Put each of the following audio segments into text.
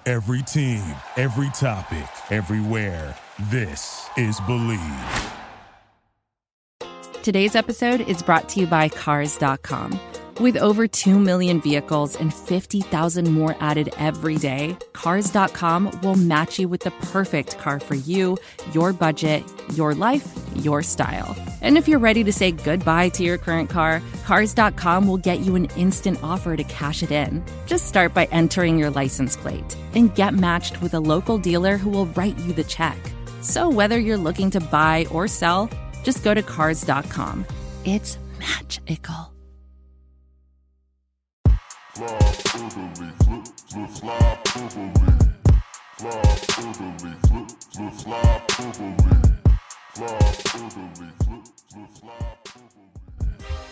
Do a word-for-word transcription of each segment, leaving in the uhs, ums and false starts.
Every team, every topic, everywhere. This is Believe. Today's episode is brought to you by Cars dot com. With over two million vehicles and fifty thousand more added every day, Cars dot com will match you with the perfect car for you, your budget, your life, your style. And if you're ready to say goodbye to your current car, Cars dot com will get you an instant offer to cash it in. Just start by entering your license plate and get matched with a local dealer who will write you the check. So whether you're looking to buy or sell, just go to Cars dot com. It's magical. Fly Italy, flip, flip, fly Italy. Fly Italy, flip, flip, fly Italy. Fly Italy, flip, flip, fly Italy.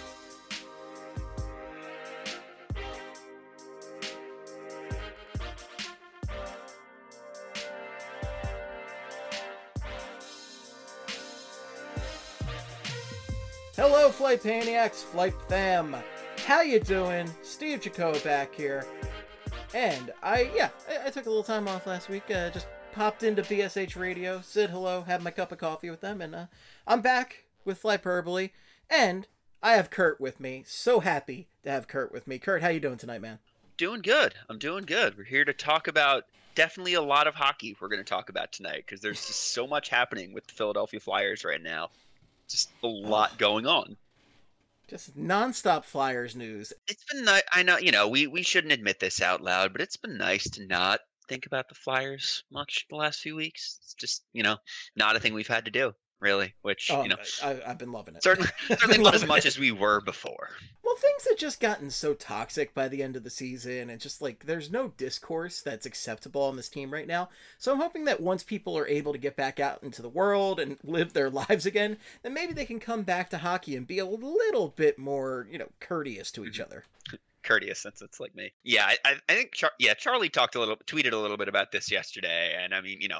Hello, Flight Paniacs, Flight Fam. How you doing? Steve Jaco back here. And I, yeah, I, I took a little time off last week. Uh, just popped into B S H Radio, said hello, had my cup of coffee with them, and uh, I'm back with Flyperbole. And I have Kurt with me. So happy to have Kurt with me. Kurt, how you doing tonight, man? Doing good. I'm doing good. We're here to talk about definitely a lot of hockey we're going to talk about tonight because there's just so much happening with the Philadelphia Flyers right now. Just a lot going on. Just nonstop Flyers news. It's been nice. I know, you know, we, we shouldn't admit this out loud, but it's been nice to not think about the Flyers much the last few weeks. It's just, you know, not a thing we've had to do, really, which, Oh, you know, I, I've been loving it. certainly, I've certainly been not as loving much it. as we were before. Well, things have just gotten so toxic by the end of the season, and just like there's no discourse that's acceptable on this team right now. So I'm hoping that once people are able to get back out into the world and live their lives again, then maybe they can come back to hockey and be a little bit more, you know, courteous to each other. Courteous, since it's like me. Yeah, I, I I think, Char- yeah, Charlie talked a little, tweeted a little bit about this yesterday, and I mean, you know,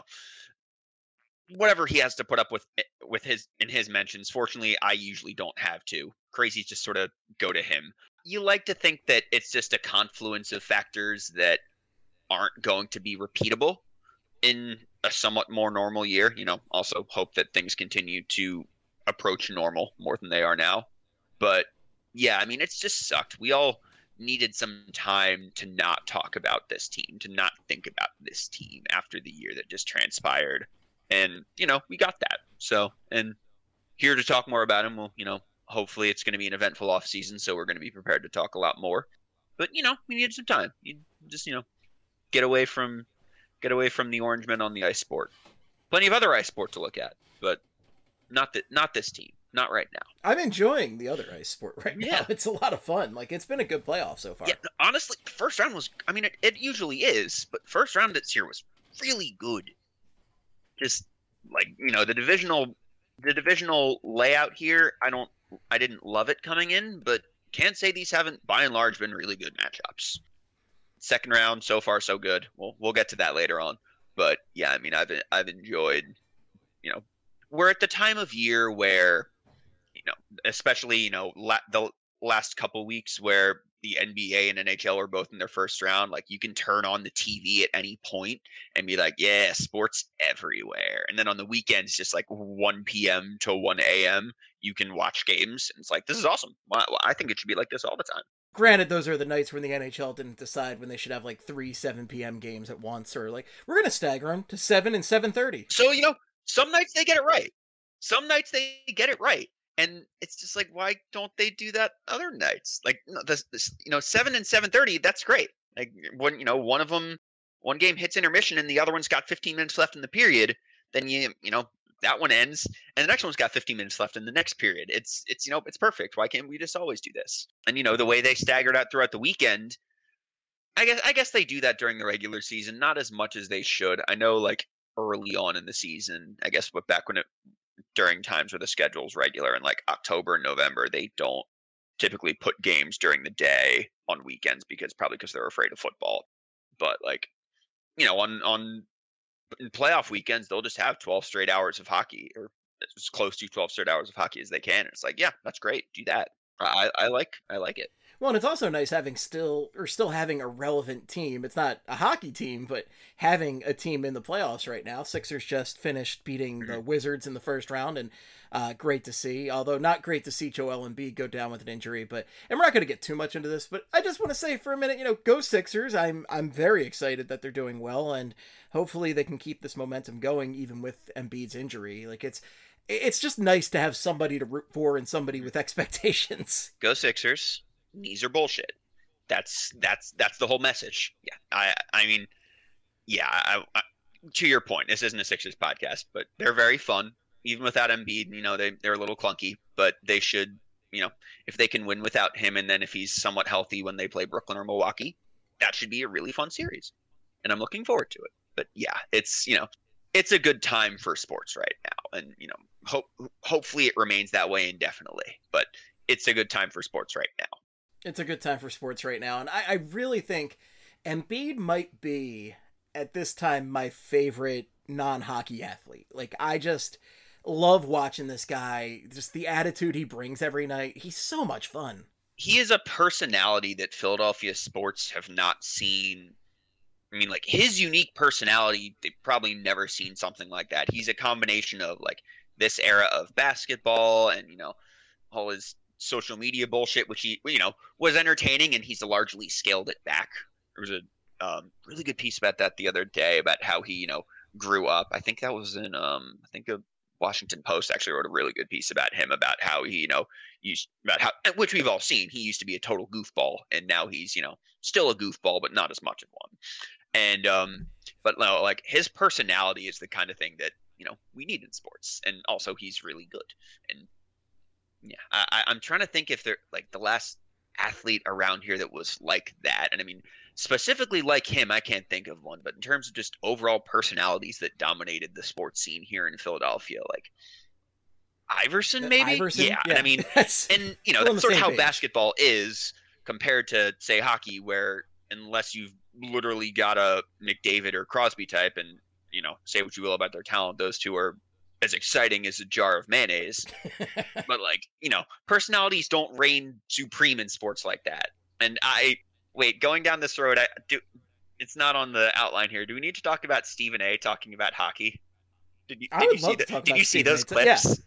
whatever he has to put up with with his in his mentions. Fortunately, I usually don't have to. Crazies just sort of go to him. You like to think that it's just a confluence of factors that aren't going to be repeatable in a somewhat more normal year. You know, also hope that things continue to approach normal more than they are now. But yeah, I mean, it's just sucked. We all needed some time to not talk about this team, to not think about this team after the year that just transpired. And, you know, we got that. So, and here to talk more about him, well, you know, hopefully it's going to be an eventful off season, so we're going to be prepared to talk a lot more. But, you know, we needed some time. You just, you know, get away from get away from the orange men on the ice sport. Plenty of other ice sport to look at, but not that not this team. Not right now. I'm enjoying the other ice sport right now. Yeah. It's a lot of fun. Like, it's been a good playoff so far. Yeah, honestly, first round was, I mean, it, it usually is, but first round this year was really good. Just like, you know, the divisional the divisional layout here, I don't I didn't love it coming in, but can't say these haven't by and large been really good matchups. Second round so far so good. We'll we'll get to that later on. But yeah, I mean, I've I've enjoyed, you know, we're at the time of year where, you know, especially, you know, la- the last couple weeks where the N B A and N H L are both in their first round, like you can turn on the T V at any point and be like, yeah, sports everywhere. And then on the weekends, just like one p.m. to one a.m., you can watch games. And it's like, this is awesome. Well, I think it should be like this all the time. Granted, those are the nights when the N H L didn't decide when they should have like three seven p.m. games at once, or like, we're going to stagger them to seven and seven thirty. So, you know, some nights they get it right. Some nights they get it right. And it's just like, why don't they do that other nights? Like, this, this, you know, seven and seven thirty. That's great. Like, when, you know, one of them, one game hits intermission and the other one's got fifteen minutes left in the period, then you, you know, that one ends and the next one's got fifteen minutes left in the next period. It's, it's, you know, it's perfect. Why can't we just always do this? And, you know, the way they staggered out throughout the weekend, I guess, I guess they do that during the regular season, not as much as they should. I know, like, early on in the season, I guess, but back when it, during times where the schedule's regular in like October and November, they don't typically put games during the day on weekends because probably because they're afraid of football. But like, you know, on, on in playoff weekends, they'll just have twelve straight hours of hockey, or as close to twelve straight hours of hockey as they can. It's like, yeah, that's great. Do that. I, I like, I like it. Well, and it's also nice having still or still having a relevant team. It's not a hockey team, but having a team in the playoffs right now. Sixers just finished beating the Wizards in the first round, and uh, great to see. Although not great to see Joel Embiid go down with an injury. But and we're not going to get too much into this. But I just want to say for a minute, you know, go Sixers. I'm I'm very excited that they're doing well, and hopefully they can keep this momentum going even with Embiid's injury. Like it's. It's just nice to have somebody to root for and somebody with expectations. Go Sixers. These are bullshit. That's that's that's the whole message. Yeah, I I mean, yeah. I, I, to your point, this isn't a Sixers podcast, but they're very fun. Even without Embiid, you know, they they're a little clunky, but they should, you know, if they can win without him, and then if he's somewhat healthy when they play Brooklyn or Milwaukee, that should be a really fun series, and I'm looking forward to it. But yeah, it's you know. It's a good time for sports right now, and you know, hope hopefully it remains that way indefinitely. But it's a good time for sports right now. It's a good time for sports right now, and I, I really think Embiid might be at this time my favorite non-hockey athlete. Like I just love watching this guy. Just the attitude he brings every night. He's so much fun. He is a personality that Philadelphia sports have not seen. I mean, like, his unique personality, they've probably never seen something like that. He's a combination of, like, this era of basketball and, you know, all his social media bullshit, which he, you know, was entertaining, and he's largely scaled it back. There was a um, really good piece about that the other day about how he, you know, grew up. I think that was in, um, I think a Washington Post actually wrote a really good piece about him, about how he, you know, used, about how, which we've all seen, he used to be a total goofball, and now he's, you know, still a goofball, but not as much of one. And, um, but no, like his personality is the kind of thing that, you know, we need in sports. And also he's really good. And yeah, I, I'm trying to think if they're like the last athlete around here that was like that. And I mean, specifically like him, I can't think of one, but in terms of just overall personalities that dominated the sports scene here in Philadelphia, like Iverson, maybe? Iverson? Yeah. Yeah. And I mean, and you know, that's sort of how page. basketball is compared to say hockey, where unless you've literally got a McDavid or Crosby type, and you know, say what you will about their talent, those two are as exciting as a jar of mayonnaise. But like, you know, personalities don't reign supreme in sports like that. And I wait, going down this road, I do. It's not on the outline here. Do we need to talk about Stephen A. talking about hockey? Did you? Did I would you see love the, to talk Did about you see Stephen those A. clips? Yeah.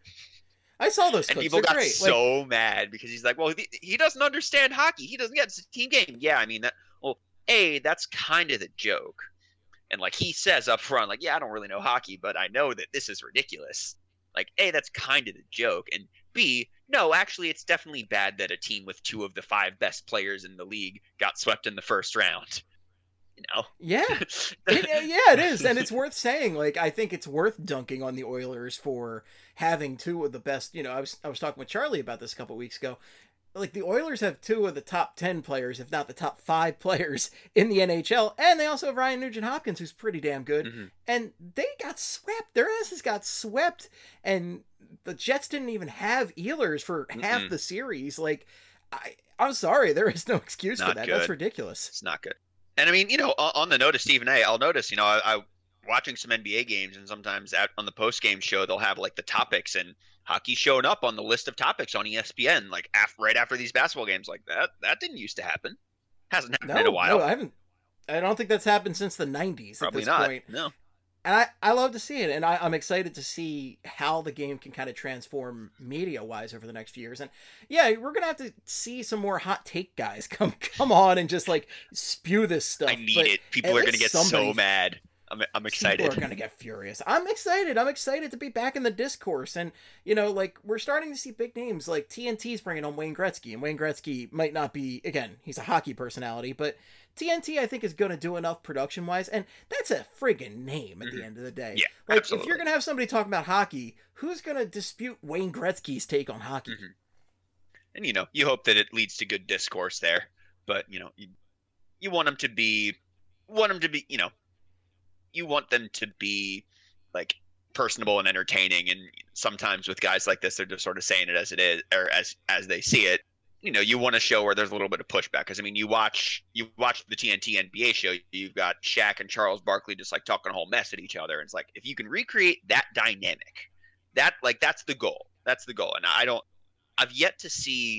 I saw those clips. And people They're got great. so like, mad because he's like, well, he, he doesn't understand hockey. He doesn't get it's a team game. Yeah, I mean that. Well, A, that's kind of the joke. And like he says up front, like, yeah, I don't really know hockey, but I know that this is ridiculous. Like, A, that's kind of the joke. And B, no, actually, it's definitely bad that a team with two of the five best players in the league got swept in the first round. You know? Yeah. It, yeah, it is. And it's worth saying, like, I think it's worth dunking on the Oilers for having two of the best, you know, I was I was talking with Charlie about this a couple weeks ago. Like, the Oilers have two of the top ten players, if not the top five players in the N H L. And they also have Ryan Nugent-Hopkins, who's pretty damn good. Mm-hmm. And they got swept. Their asses got swept. And the Jets didn't even have Ehlers for Mm-mm. half the series. Like, I, I'm sorry. There is no excuse not for that. Good. That's ridiculous. It's not good. And I mean, you know, on the note of Stephen A., I'll notice, you know, I, I watching some N B A games, and sometimes out on the post-game show, they'll have like the topics, and hockey showing up on the list of topics on E S P N, like after, right after these basketball games. Like that, that didn't used to happen. Hasn't happened no, in a while. No, I haven't. I don't think that's happened since the nineties. Probably at this not. Point. No. And I, I love to see it, and I, I'm excited to see how the game can kind of transform media-wise over the next few years. And yeah, we're gonna have to see some more hot take guys come come on and just like spew this stuff. I need it. People are gonna get so mad. I'm I'm excited. People are gonna get furious. I'm excited. I'm excited to be back in the discourse, and you know, like we're starting to see big names like T N T's bringing on Wayne Gretzky, and Wayne Gretzky might not be again. He's a hockey personality, but T N T I think is going to do enough production wise, and that's a friggin' name at mm-hmm. the end of the day. Yeah, like absolutely. If you're gonna have somebody talking about hockey, who's gonna dispute Wayne Gretzky's take on hockey? Mm-hmm. And you know, you hope that it leads to good discourse there, but you know, you you want them to be, want them to be, you know. You want them to be like personable and entertaining, and sometimes with guys like this, they're just sort of saying it as it is or as as they see it. You know, you want to show where there's a little bit of pushback, because I mean, you watch you watch the T N T N B A show, you've got Shaq and Charles Barkley just like talking a whole mess at each other, and it's like if you can recreate that dynamic, that like that's the goal. That's the goal, and I don't. I've yet to see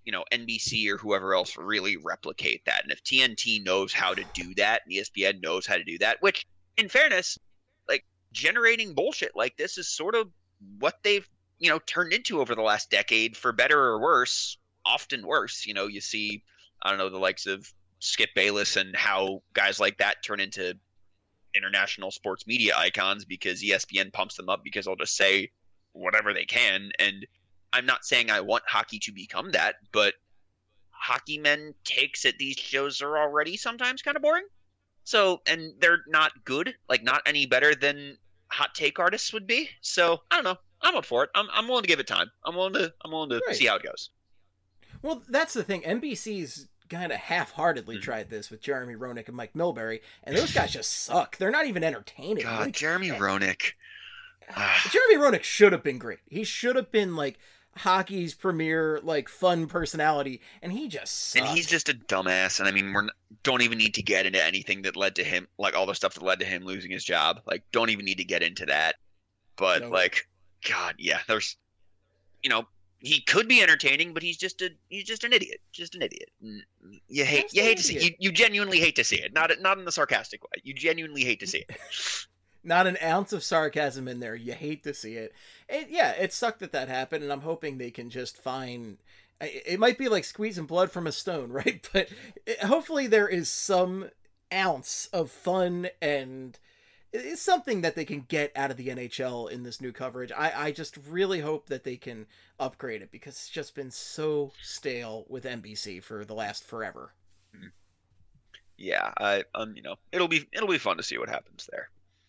you know, N B C or whoever else really replicate that. And if T N T knows how to do that, and E S P N knows how to do that, which, in fairness, like, generating bullshit like this is sort of what they've, you know, turned into over the last decade, for better or worse, often worse. You know, you see, I don't know, the likes of Skip Bayless and how guys like that turn into international sports media icons because E S P N pumps them up because they'll just say whatever they can. And I'm not saying I want hockey to become that, but hockey men takes at these shows are already sometimes kind of boring. So, and they're not good, like not any better than hot take artists would be. So I don't know. I'm up for it. I'm I'm willing to give it time. I'm willing to I'm willing to Right. see how it goes. Well, that's the thing. N B C's kind of half-heartedly Mhm. tried this with Jeremy Roenick and Mike Milbury, and those guys just suck. They're not even entertaining. God, Like, Jeremy Roenick. Ah. Jeremy Roenick should have been great. He should have been like hockey's premier, like, fun personality, and he just sucked. And he's just a dumbass. And I mean, we're not, don't even need to get into anything that led to him, like all the stuff that led to him losing his job. Like, don't even need to get into that. But No. like, God, yeah, there's, you know, he could be entertaining, but he's just a he's just an idiot, just an idiot. And you hate Just you an hate to see you, idiot. you genuinely hate to see it. Not not in the sarcastic way. You genuinely hate to see it. Not an ounce of sarcasm in there. You hate to see it. it. Yeah, it sucked that that happened, and I'm hoping they can just find. It it might be like squeezing blood from a stone, right? But it, hopefully there is some ounce of fun and it's something that they can get out of the N H L in this new coverage. I, I just really hope that they can upgrade it because it's just been so stale with N B C for the last forever. Yeah, I um you know it'll be it'll be fun to see what happens there.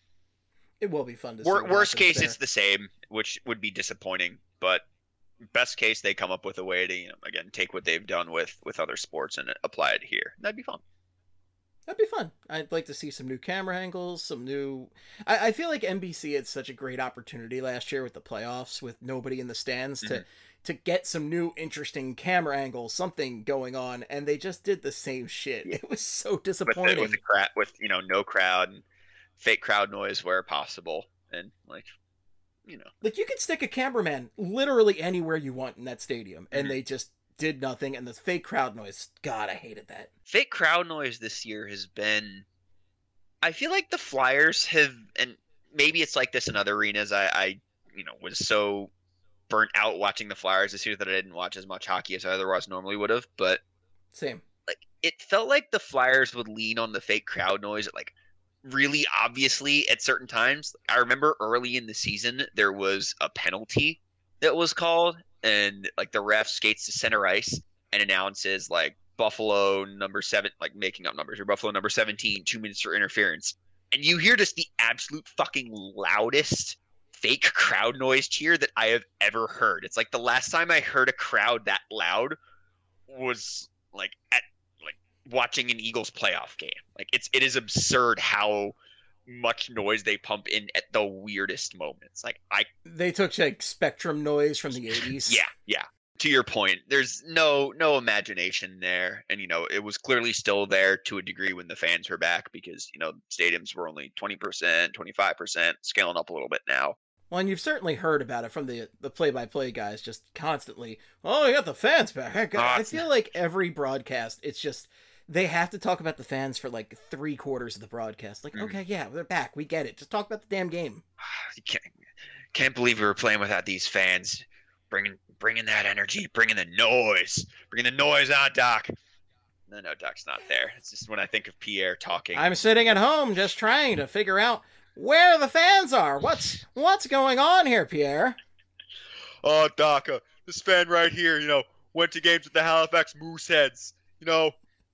It will be fun to see. Wor- what worst happens case, there. it's the same, which would be disappointing. But best case, they come up with a way to, you know, again, take what they've done with with other sports and apply it here. That'd be fun. That'd be fun. I'd like to see some new camera angles, some new. I, I feel like N B C had such a great opportunity last year with the playoffs, with nobody in the stands, to Mhm. to get some new interesting camera angles, something going on, and they just did the same shit. It was so With the, disappointing. with the crowd, with you know, no crowd and fake crowd noise where possible, and like, you know, Like, you could stick a cameraman literally anywhere you want in that stadium, and Mhm. they just did nothing. And the fake crowd noise, God, I hated that. fake crowd noise this year has been. I feel like the Flyers have, and maybe it's like this in other arenas. I, I you know, was so burnt out watching the Flyers this year that I didn't watch as much hockey as I otherwise normally would have. But Same. like, it felt like the Flyers would lean on the fake crowd noise, like really obviously at certain times. I remember early in the season there was a penalty that was called, and like the ref skates to center ice and announces like Buffalo number seven, like making up numbers, or Buffalo number seventeen, two minutes for interference, and you hear just the absolute fucking loudest fake crowd noise cheer that I have ever heard. It's like the last time I heard a crowd that loud was like at like watching an Eagles playoff game. Like, it's it is absurd how much noise they pump in at the weirdest moments. Like, I They took like Spectrum noise from the eighties. yeah, yeah. To your point, there's no no imagination there, and you know it was clearly still there to a degree when the fans were back, because you know stadiums were only twenty percent, twenty-five percent, scaling up a little bit now. Well, and you've certainly heard about it from the the play-by-play guys, just constantly. Oh, you got the fans back. I, Ah, I feel like every broadcast, it's just they have to talk about the fans for like three quarters of the broadcast. Like, Mhm. okay, yeah, they're back. We get it. Just talk about the damn game. You can't can't believe we were playing without these fans, bringing bringing that energy, bringing the noise, bringing the noise on, Doc. No, no, Doc's not there. It's just when I think of Pierre talking. I'm sitting at home just trying to figure out where the fans are. What's what's going on here, Pierre? Oh, Doc, uh, this fan right here, you know, went to games with the Halifax Mooseheads. You know,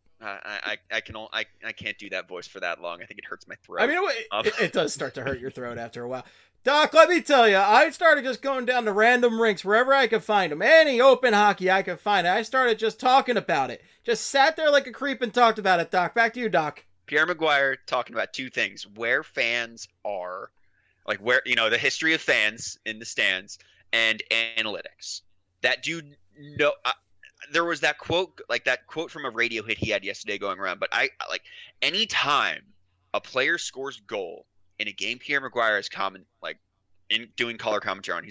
I I I can I I can't do that voice for that long. I think it hurts my throat. I mean, it, Um, it, it does start to hurt your throat after a while. Doc, let me tell you, I started just going down to random rinks wherever I could find them. Any open hockey I could find. I started just talking about it. Just sat there like a creep and talked about it, Doc. Back to you, Doc. Pierre Maguire talking about two things: where fans are, like where you know the history of fans in the stands, and analytics. That dude, no, uh, there was that quote, like that quote from a radio hit he had yesterday going around. But I like anytime a player scores goal in a game, Pierre Maguire is common, like in doing color commentary on. He's like,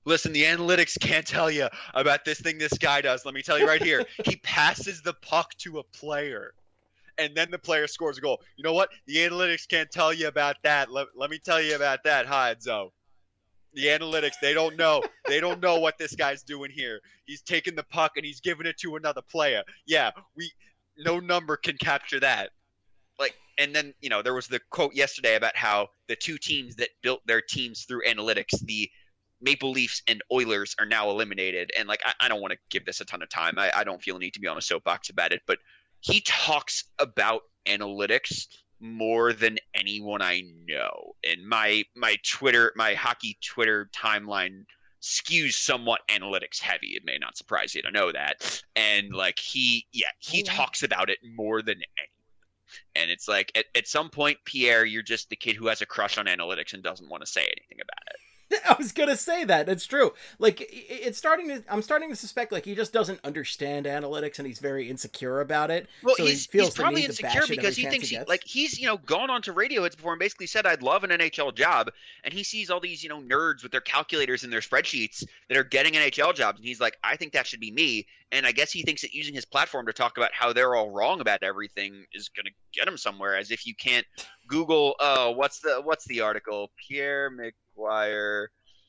listen, the analytics can't tell you about this thing this guy does. Let me tell you right here. He passes the puck to a player, and then the player scores a goal. You know what? The analytics can't tell you about that. Let, let me tell you about that, Hydzo. The analytics, they don't know. They don't know what this guy's doing here. He's taking the puck and he's giving it to another player. Yeah, we no number can capture that. Like, and then, you know, there was the quote yesterday about how the two teams that built their teams through analytics, the Maple Leafs and Oilers, are now eliminated. And like, I, I don't want to give this a ton of time. I, I don't feel a need to be on a soapbox about it, but he talks about analytics more than anyone I know. And my my Twitter, my hockey Twitter timeline skews somewhat analytics heavy. It may not surprise you to know that. And like he, yeah, he oh, talks about it more than anyone. And it's like at, at some point, Pierre, you're just the kid who has a crush on analytics and doesn't want to say anything about it. I was gonna say that. It's true. Like, it's starting to. I'm starting to suspect like he just doesn't understand analytics and he's very insecure about it. Well, so he's, he feels he's probably insecure because he thinks he, like he's you know gone onto radio hits before and basically said I'd love an N H L job, and he sees all these you know nerds with their calculators and their spreadsheets that are getting N H L jobs, and he's like, I think that should be me. And I guess he thinks that using his platform to talk about how they're all wrong about everything is gonna get him somewhere. As if you can't Google, uh, what's the what's the article? Pierre McGuire.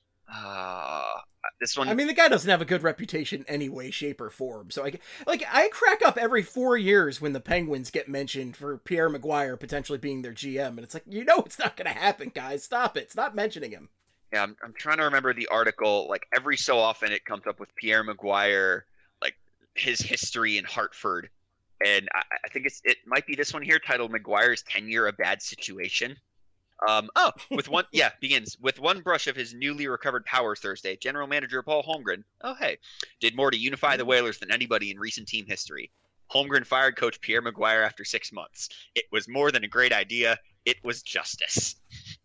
Uh, this one. I mean, the guy doesn't have a good reputation any way, shape, or form. So I like I crack up every four years when the Penguins get mentioned for Pierre McGuire potentially being their G M, and it's like, you know, it's not going to happen, guys. Stop it. Stop mentioning him. Yeah, I'm I'm trying to remember the article. Like every so often, it comes up with Pierre McGuire, like his history in Hartford, and I, I think it's it might be this one here titled "McGuire's Tenure a Bad Situation." Um, oh, with one, yeah, begins with one brush of his newly recovered powers Thursday. General Manager Paul Holmgren, oh hey, did more to unify the Whalers than anybody in recent team history. Holmgren fired coach Pierre McGuire after six months. It was more than a great idea. It was justice.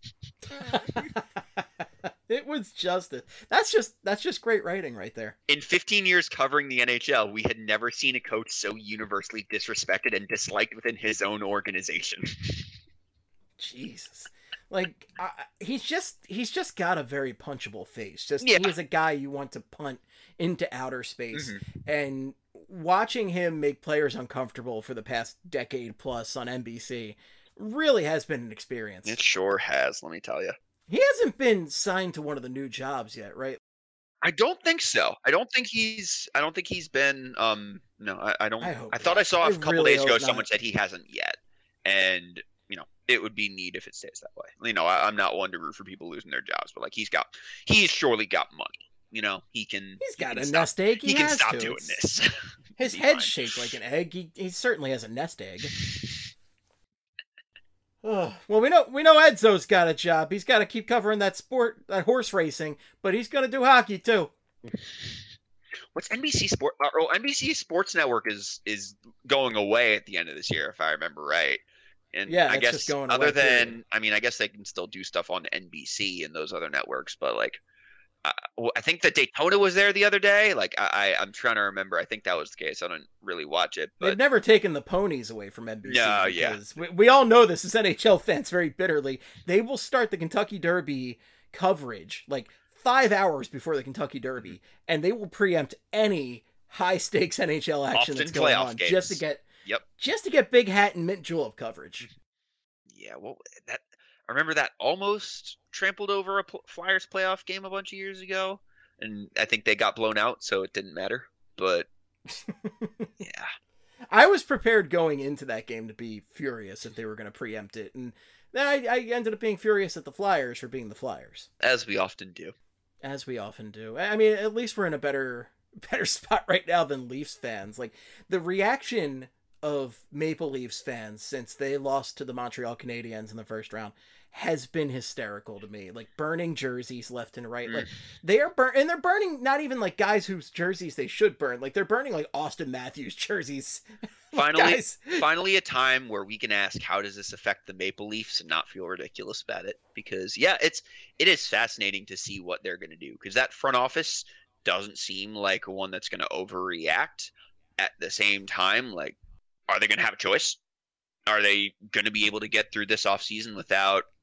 It was justice. That's just that's just great writing right there. In fifteen years covering the N H L, we had never seen a coach so universally disrespected and disliked within his own organization. Jesus. Like, uh, he's just he's just got a very punchable face. Just yeah. He's a guy you want to punt into outer space. Mm-hmm. And watching him make players uncomfortable for the past decade plus on N B C really has been an experience. It sure has, let me tell you. He hasn't been signed to one of the new jobs yet, right? I don't think so. I don't think he's. I don't think he's been. Um, no, I, I don't. I, hope I thought not. I saw a I couple really days ago hope someone not. said he hasn't yet, and you know it would be neat if it stays that way. You know, I, I'm not one to root for people losing their jobs, but like he's got, he's surely got money. You know, he can. He's got he a can nest stop, egg. He, He can has stop to. doing It's- this. His Be head's fine. shaped like an egg. He, he certainly has a nest egg. Oh, well, we know we know Edzo's got a job. He's got to keep covering that sport, that horse racing, but he's going to do hockey too. What's N B C Sport? Uh, oh, N B C Sports Network is is going away at the end of this year, if I remember right. And Yeah, I it's guess just going other away, than, period. I mean, I guess they can still do stuff on N B C and those other networks, but like, uh, well, I think that Daytona was there the other day. Like, I, I I'm trying to remember. I think that was the case. I don't really watch it, They've but never taken the ponies away from N B C. No, yeah. because we, we all know this as N H L fans very bitterly. They will start the Kentucky Derby coverage like five hours before the Kentucky Derby, and they will preempt any high stakes N H L action Often that's going playoff on games. just to get Yep. just to get big hat and mint julep coverage. Yeah, well, that I remember that almost trampled over a pl- Flyers playoff game a bunch of years ago, and I think they got blown out, so it didn't matter. But yeah, I was prepared going into that game to be furious if they were going to preempt it, and then I, I ended up being furious at the Flyers for being the Flyers, as we often do. as we often do. I mean, at least we're in a better better spot right now than Leafs fans. Like, the reaction of Maple Leafs fans since they lost to the Montreal Canadiens in the first round has been hysterical to me. Like, burning jerseys left and right. Mm. Like, they are burn and they're burning not even like guys whose jerseys they should burn. Like, they're burning like Austin Matthews jerseys. Finally, Guys. finally, a time where we can ask, how does this affect the Maple Leafs, and not feel ridiculous about it? Because yeah, it's it is fascinating to see what they're going to do, because that front office doesn't seem like one that's going to overreact. At the same time, like, are they going to have a choice? Are they going to be able to get through this offseason without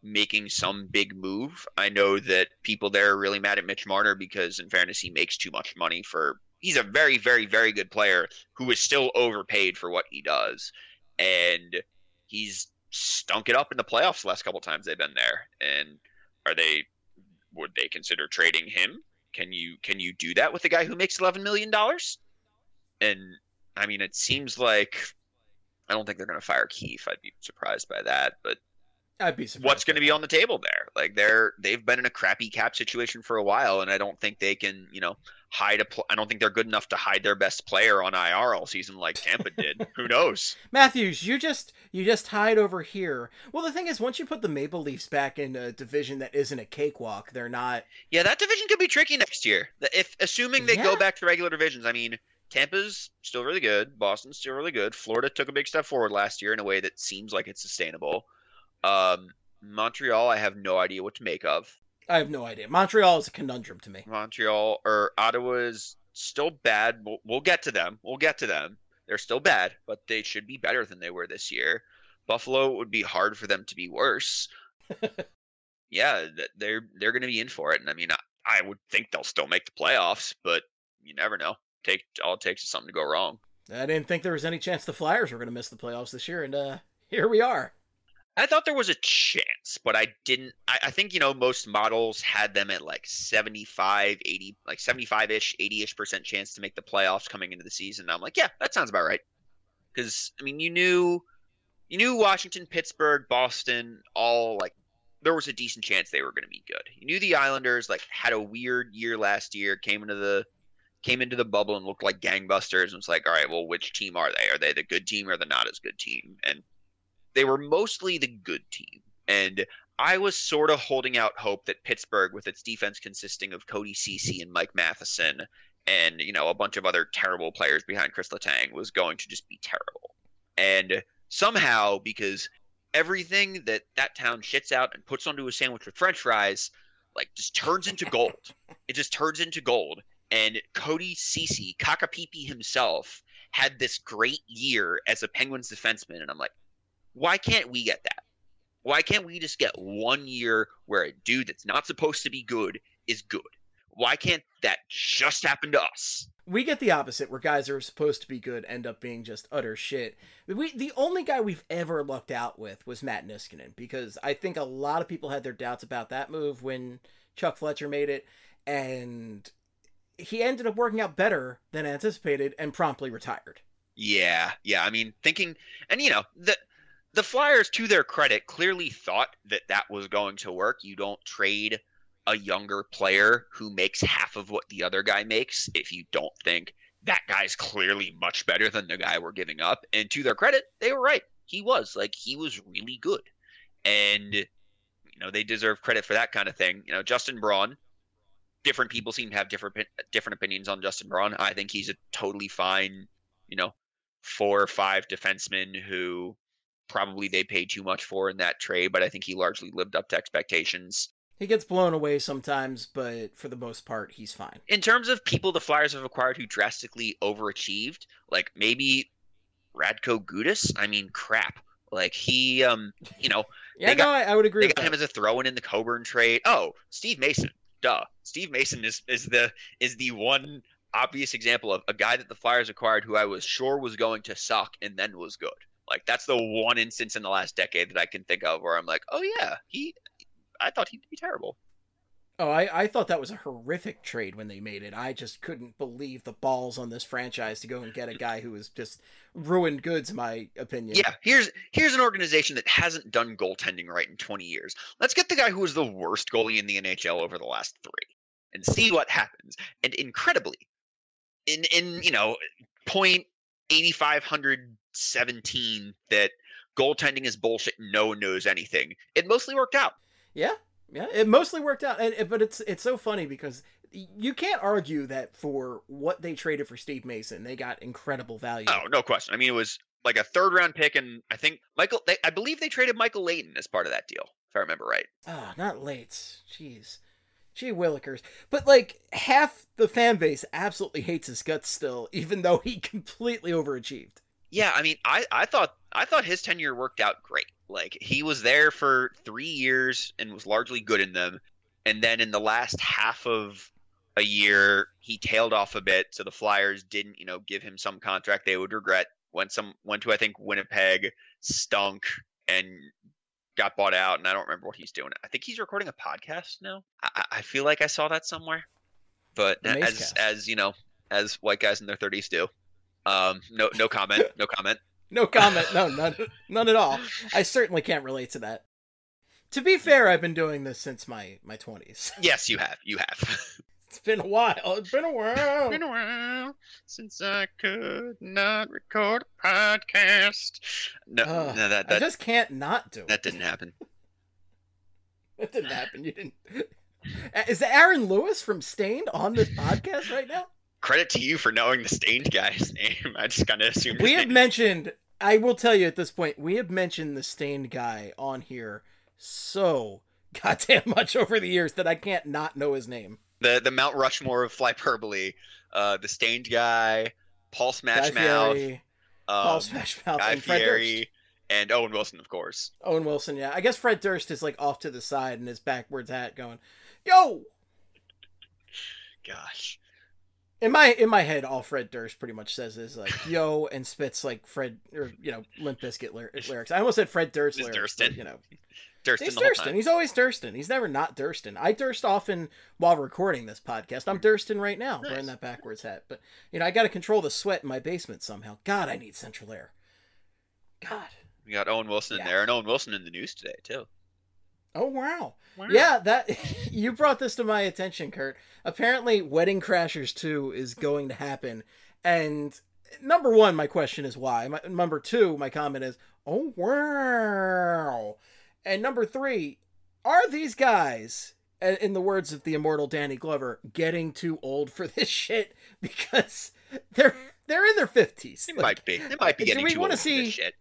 making some big move. I know that people there are really mad at Mitch Marner because, in fairness, he makes too much money for. He's a very, very, very good player who is still overpaid for what he does, and he's stunk it up in the playoffs the last couple times they've been there. And are they? Would they consider trading him? Can you can you do that with a guy who makes eleven million dollars? And I mean, it seems like I don't think they're going to fire Keefe. I'd be surprised by that, but. I'd be surprised. What's going to be on the table there? Like they're they've been in a crappy cap situation for a while, and I don't think they can, you know, hide a. Pl- I don't think they're good enough to hide their best player on I R all season like Tampa did. Who knows? Matthews, you just you just hide over here. Well, the thing is, once you put the Maple Leafs back in a division that isn't a cakewalk, they're not. Yeah, that division could be tricky next year. If assuming they Yeah. go back to regular divisions, I mean, Tampa's still really good. Boston's still really good. Florida took a big step forward last year in a way that seems like it's sustainable. Um. Montreal, I have no idea what to make of. I have no idea. Montreal is a conundrum to me. Montreal or Ottawa is still bad. We'll, we'll get to them. We'll get to them. They're still bad, but they should be better than they were this year. Buffalo, it would be hard for them to be worse. Yeah, they're they're going to be in for it, and I mean, I, I would think they'll still make the playoffs, but you never know. Take all it takes is something to go wrong. I didn't think there was any chance the Flyers were going to miss the playoffs this year, and uh, here we are. I thought there was a chance, but I didn't. I, I think, you know, most models had them at like seventy-five, eighty, like seventy-five-ish, eighty-ish percent chance to make the playoffs coming into the season. And I'm like, yeah, that sounds about right. Because, I mean, you knew, you knew Washington, Pittsburgh, Boston, all like, there was a decent chance they were going to be good. You knew the Islanders, like, had a weird year last year, came into the, came into the bubble and looked like gangbusters. And it's like, all right, well, which team are they? Are they the good team or the not as good team? And they were mostly the good team, and I was sort of holding out hope that Pittsburgh, with its defense consisting of Cody Ceci and Mike Matheson and, you know, a bunch of other terrible players behind Chris Letang, was going to just be terrible. And somehow, because everything that that town shits out and puts onto a sandwich with french fries, like, just turns into gold. It just turns into gold. And Cody Ceci, Kakapipi himself, had this great year as a Penguins defenseman, and I'm like, why can't we get that? Why can't we just get one year where a dude that's not supposed to be good is good? Why can't that just happen to us? We get the opposite, where guys are supposed to be good end up being just utter shit. We, the only guy we've ever lucked out with was Matt Niskanen, because I think a lot of people had their doubts about that move when Chuck Fletcher made it, and he ended up working out better than anticipated and promptly retired. Yeah, yeah. I mean, thinking, and you know, the the Flyers, to their credit, clearly thought that that was going to work. You don't trade a younger player who makes half of what the other guy makes if you don't think that guy's clearly much better than the guy we're giving up. And to their credit, they were right. He was. Like, he was really good. And, you know, they deserve credit for that kind of thing. You know, Justin Braun, different people seem to have different different opinions on Justin Braun. I think he's a totally fine, you know, four or five defenseman who probably they paid too much for in that trade, but I think he largely lived up to expectations. He gets blown away sometimes, but for the most part, he's fine. In terms of people the Flyers have acquired who drastically overachieved, like maybe Radko Gudas, I mean, crap. Like, he, um, you know... yeah, got, no, I, I would agree They with got that. him as a throw-in in the Coburn trade. Oh, Steve Mason. Duh. Steve Mason is, is the is the one obvious example of a guy that the Flyers acquired who I was sure was going to suck and then was good. Like, that's the one instance in the last decade that I can think of where I'm like, oh yeah, he, I thought he'd be terrible. Oh, I, I thought that was a horrific trade when they made it. I just couldn't believe the balls on this franchise to go and get a guy who was just ruined goods, in my opinion. Yeah, here's here's an organization that hasn't done goaltending right in twenty years. Let's get the guy who was the worst goalie in the N H L over the last three and see what happens. And incredibly, in, in you know, point eighty-five hundred seventeen that goaltending is bullshit, no one knows anything, it mostly worked out. Yeah, yeah, it mostly worked out. And but it's it's so funny because you can't argue that for what they traded for Steve Mason, they got incredible value. Oh, no question. I mean, it was like a third round pick, and I think Michael, they, I believe they traded Michael Layton as part of that deal, if I remember right. Ah, oh, not Lates. Jeez. Gee willikers. But, like, half the fan base absolutely hates his guts still, even though he completely overachieved. Yeah, I mean, I, I thought I thought his tenure worked out great. Like he was there for three years and was largely good in them, and then in the last half of a year, he tailed off a bit. So the Flyers didn't, you know, give him some contract they would regret. Went some went to I think Winnipeg, stunk, and got bought out. And I don't remember what he's doing. I think he's recording a podcast now. I, I feel like I saw that somewhere. But The as Macecast. as you know, as white guys in their thirties do. Um, no, no comment. No comment. No comment. No, none, none at all. I certainly can't relate to that. To be fair, I've been doing this since my my twenties. Yes, you have. You have. It's been a while. It's been a while. Been a while since I could not record a podcast. No, Ugh, no, that I that just can't not do it. that didn't happen. That didn't happen. You didn't. Is Aaron Lewis from Stained on this podcast right now? Credit to you for knowing the Stained guy's name. I just kind of assumed. We his have name. mentioned. I will tell you at this point. We have mentioned the Stained guy on here so goddamn much over the years that I can't not know his name. the the Mount Rushmore of Flyperbole. Uh, the Stained guy, Paul Smash Guy Mouth, Fieri, um, Paul Smash Mouth, Guy and Fred Durst. Fieri, and Owen Wilson, of course. Owen Wilson, yeah. I guess Fred Durst is like off to the side in his backwards hat, going, "Yo." Gosh. In my in my head, all Fred Durst pretty much says is like "yo" and spits like Fred or you know Limp Bizkit lyr- lyrics. I almost said Fred Durst It's lyrics, Durstin. but, you know, Durstin he's the whole Durstin. time. He's always Durstin. He's never not Durstin. I Durst often while recording this podcast. I'm Durstin right now, Nice. wearing that backwards hat. But you know, I got to control the sweat in my basement somehow. God, I need central air. God. We got Owen Wilson Yeah. in there, and Owen Wilson in the news today too. Oh wow. Yeah, that you brought this to my attention, Kurt. Apparently, Wedding Crashers two is going to happen, and number one, my question is why. My, number two, my comment is, oh wow. And number three, are these guys, a- in the words of the immortal Danny Glover, getting too old for this shit? Because they're they're in their fifties. It might be. It might be do getting we too wanna old for this see- shit.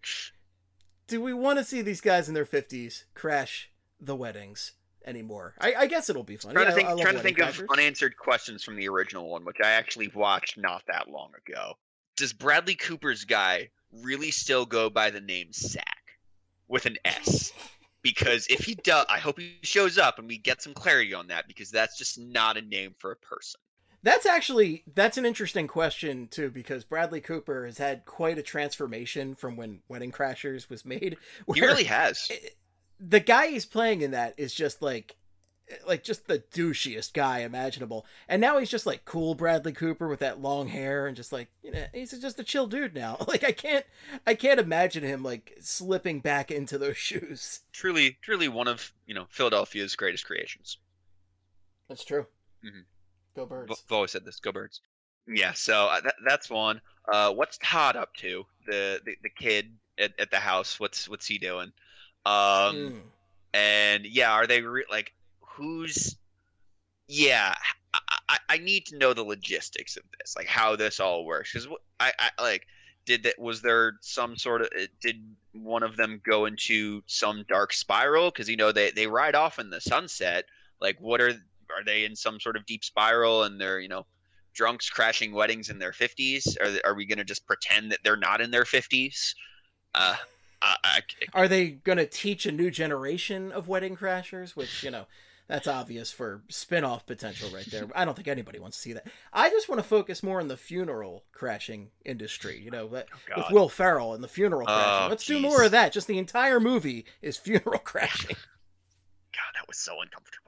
Do we want to see these guys in their fifties crash the weddings anymore? I, I guess it'll be fun. Trying Yeah, to think, I love trying to Wedding think of Crashers. unanswered questions from the original one, which I actually watched not that long ago. Does Bradley Cooper's guy really still go by the name Sack with an S? Because if he does, I hope he shows up and we get some clarity on that, because that's just not a name for a person. That's actually that's an interesting question too, because Bradley Cooper has had quite a transformation from when Wedding Crashers was made. He where really has. The guy he's playing in that is just like like just the douchiest guy imaginable. And now he's just like cool Bradley Cooper with that long hair and just like, you know, he's just a chill dude now. Like I can't I can't imagine him like slipping back into those shoes. Truly, truly one of, you know, Philadelphia's greatest creations. That's true. Mhm. Go Birds. I've always said this. Go Birds. Yeah, so uh, that, that's one. Uh, what's Todd up to? The the, the kid at, at the house. What's what's he doing? Um, Mm. and yeah, are they re- like who's? Yeah, I, I I need to know the logistics of this, like how this all works. Because I, I like did that. Was there some sort of did one of them go into some dark spiral? Because you know they they ride off in the sunset. Like what are are they in some sort of deep spiral and they're you know drunks crashing weddings in their fifties? Are are we gonna just pretend that they're not in their fifties? Uh, I, I, Are they going to teach a new generation of Wedding Crashers? Which, you know, that's obvious for spin-off potential right there. I don't think anybody wants to see that. I just want to focus more on the funeral crashing industry, you know, that, God. with Will Ferrell and the funeral crashing. Oh, Let's do jeez. more of that. Just the entire movie is funeral crashing. God, that was so uncomfortable.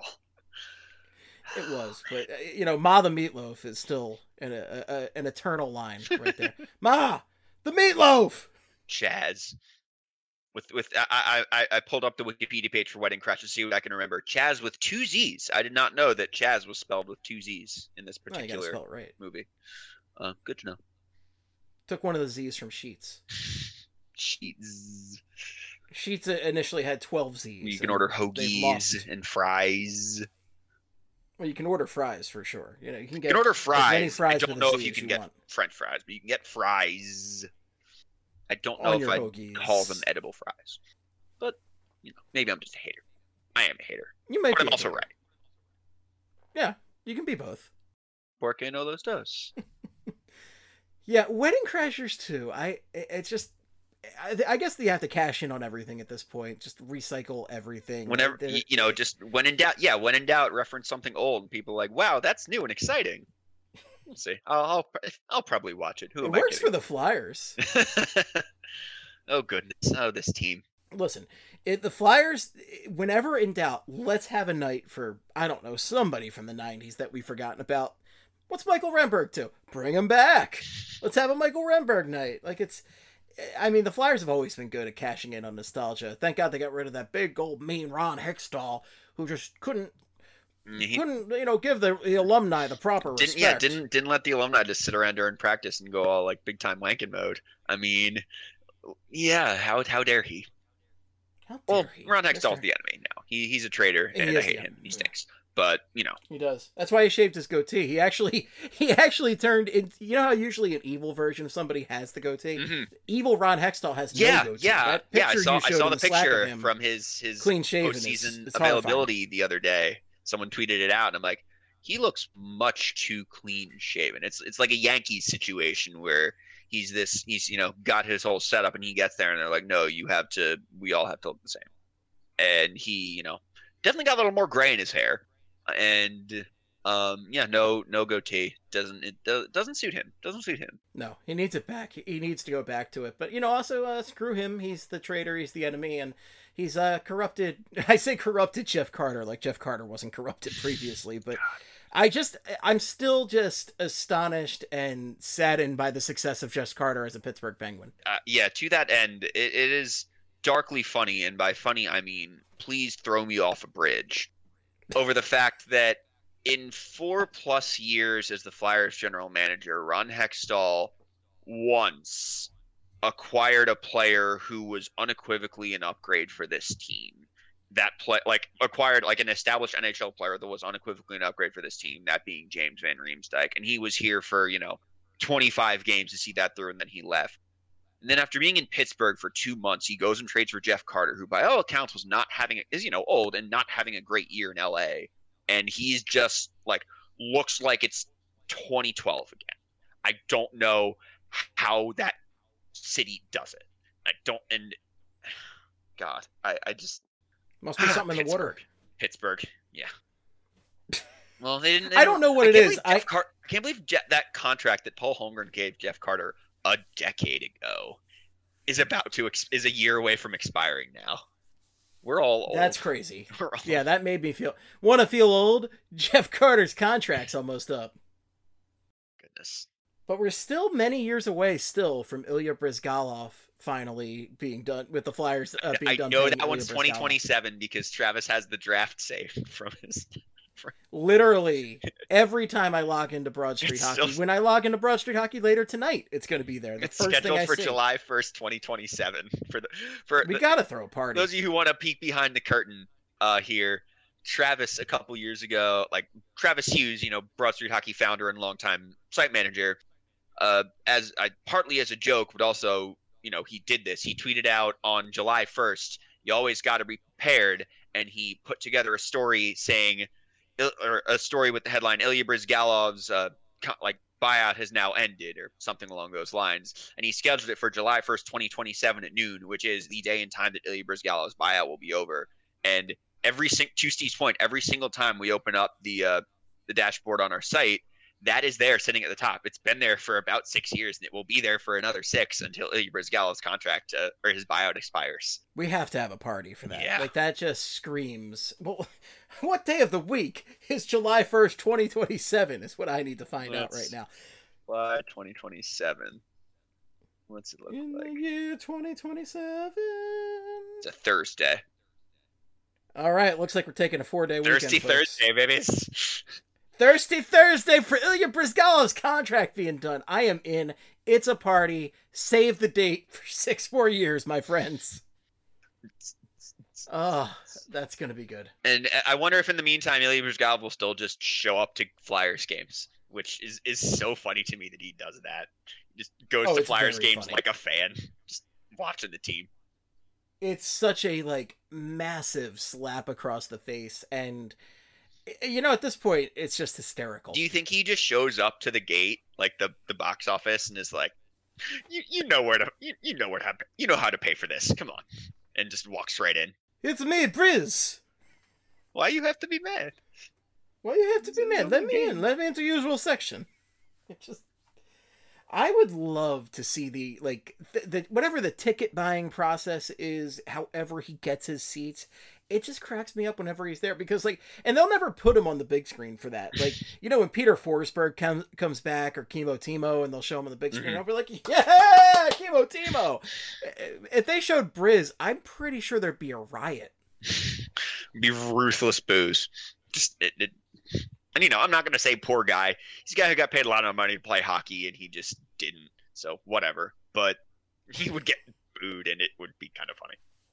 It was, but, uh, you know, Ma the Meatloaf is still an, a, a, an eternal line right there. Ma, the Meatloaf! Chaz. With with I, I I pulled up the Wikipedia page for Wedding Crash to see what I can remember. Chaz with two Z's. I did not know that Chaz was spelled with two Z's in this Oh, you gotta particular spell it right. movie. Uh, good to know. Took one of the Z's from Sheets. Cheese. Sheets initially had twelve Z's. You can and order they've lost. hoagies and fries. Well, you can order fries for sure. You know, you can get You can order as many fries. fries I don't with a know Z if you as can you get want. French fries, but you can get fries. I don't know On if your I hoagies. call them edible fries, but you know, maybe I'm just a hater. I am a hater, You might but be I'm a also hater. right. Yeah, you can be both. Porque no los dos. Yeah, Wedding Crashers too. I it's just I, I guess they have to cash in on everything at this point. Just recycle everything. Whenever They're, you, you know, just when in doubt, yeah, when in doubt, reference something old. And people are like, wow, that's new and exciting. We'll see. I'll I'll, I'll probably watch it. Who it am works I for the Flyers. Oh goodness! Oh, this team. Listen, it, the Flyers, whenever in doubt, let's have a night for, I don't know, somebody from the nineties that we've forgotten about. What's Michael Renberg to? Bring him back. Let's have a Michael Renberg night. Like, it's, I mean, the Flyers have always been good at cashing in on nostalgia. Thank God they got rid of that big old mean Ron Hextall, who just couldn't, he, couldn't, you know, give the, the alumni the proper didn't, respect. Yeah, didn't didn't let the alumni just sit around during practice and go all like big time wanking mode. I mean, yeah, how how dare he? How dare Well, he? Ron Hextall's Mister the enemy now. He he's a traitor, He and is I the hate enemy, him. He yeah. stinks. But you know, He does. That's why he shaved his goatee. He actually, he actually turned in. You know how usually an evil version of somebody has the goatee. mm-hmm. Evil Ron Hextall has yeah, no goatee. yeah, That yeah. I picture saw you I showed saw in the Slack of picture him, from his his clean shaven. postseason It's, it's availability the other day. Someone tweeted it out, and I'm like, he looks much too clean shaven. It's it's like a Yankees situation where he's this he's you know got his whole setup, and he gets there, and they're like, no, you have to. We all have to look the same. And he, you know, definitely got a little more gray in his hair, and um, yeah, no, no goatee doesn't it do, doesn't suit him. Doesn't suit him. No, he needs it back. He needs to go back to it. But you know, also uh, screw him. He's the traitor. He's the enemy, and he's uh corrupted. I say corrupted Jeff Carter, like Jeff Carter wasn't corrupted previously, but. I just, I'm still just astonished and saddened by the success of Jeff Carter as a Pittsburgh Penguin. Uh, yeah, to that end, it, it is darkly funny, and by funny I mean please throw me off a bridge over the fact that in four plus years as the Flyers general manager, Ron Hextall once acquired a player who was unequivocally an upgrade for this team. That play, like acquired like an established N H L player that was unequivocally an upgrade for this team, that being James Van Riemsdyk, and he was here for you know twenty-five games to see that through, and then he left. And then after being in Pittsburgh for two months, he goes and trades for Jeff Carter, who by all accounts was not having is you know old and not having a great year in L A. And he's just like looks like it's twenty twelve again. I don't know how that city does it. I don't, and God, I, I just. Must be something in the water. Pittsburgh, yeah. Well, they didn't. They I don't know what I it can't is. I, I, Car- I can't believe Je- that contract that Paul Holmgren gave Jeff Carter a decade ago is about to ex- is a year away from expiring now. We're all old. That's crazy. We're all Yeah, that made me feel. Want to feel old? Jeff Carter's contract's almost up. Goodness. But we're still many years away still from Ilya Brizgalov finally being done with the Flyers uh, being I done. know paying that one's Ilya twenty Brizgalov. twenty-seven because Travis has the draft saved from his. Literally, every time I log into Broad Street It's Hockey, still- when I log into Broad Street Hockey later tonight, it's going to be there. The It's first thing scheduled I for see. July first, twenty twenty-seven. For the for We the, got to throw a party. those of you who want to peek behind the curtain uh, here, Travis a couple years ago, like Travis Hughes, you know, Broad Street Hockey founder and longtime site manager, uh, as I partly as a joke, but also, you know, he did this. He tweeted out on July first, "You always got to be prepared," and he put together a story saying, or a story with the headline "Ilya Brizgalov's uh, co- like buyout has now ended," or something along those lines, and he scheduled it for July first, twenty twenty-seven at noon, which is the day and time that Ilya Brizgalov's buyout will be over. And every sing- to Steve's point, every single time we open up the uh, the dashboard on our site, that is there sitting at the top. It's been there for about six years, and it will be there for another six until Ilya Brizgalov's contract uh, or his buyout expires. We have to have a party for that. Yeah. Like, that just screams. Well, what day of the week is July first, twenty twenty-seven is what I need to find out Let's- right now. July twenty twenty-seven. What's it look In like? the year twenty twenty-seven. It's a Thursday. All right, looks like we're taking a four-day weekend, Thirsty folks. Thursday, baby. Thirsty Thursday for Ilya Brizgalov's contract being done. I am in. It's a party. Save the date for six more years, my friends. Oh, that's going to be good. And I wonder if in the meantime, Ilya Brizgalov will still just show up to Flyers games, which is, is so funny to me that he does that. He just goes Oh, to it's Flyers very games funny. like a fan, just watching the team. It's such a, like, massive slap across the face, and You know, at this point, it's just hysterical. Do you think he just shows up to the gate, like the, the box office, and is like, you you know where to you, you know where to you know how to pay for this? Come on, and just walks right in. It's me, Briz. Why you have to be mad? Why you have to be mad? Let me in. Let me into usual section. It just. I would love to see the, like, the, the whatever the ticket buying process is, however he gets his seats, it just cracks me up whenever he's there, because, like, and they'll never put him on the big screen for that. Like, you know, when Peter Forsberg comes comes back, or Chemo Timo, and they'll show him on the big screen, Mm-hmm. I'll be like, yeah, Chemo Timo! If they showed Briz, I'm pretty sure there'd be a riot. Be ruthless boos. Just, it, it, and, you know, I'm not going to say poor guy. He's a guy who got paid a lot of money to play hockey, and he just didn't. So, whatever. But he would get booed, and it would be kind of funny.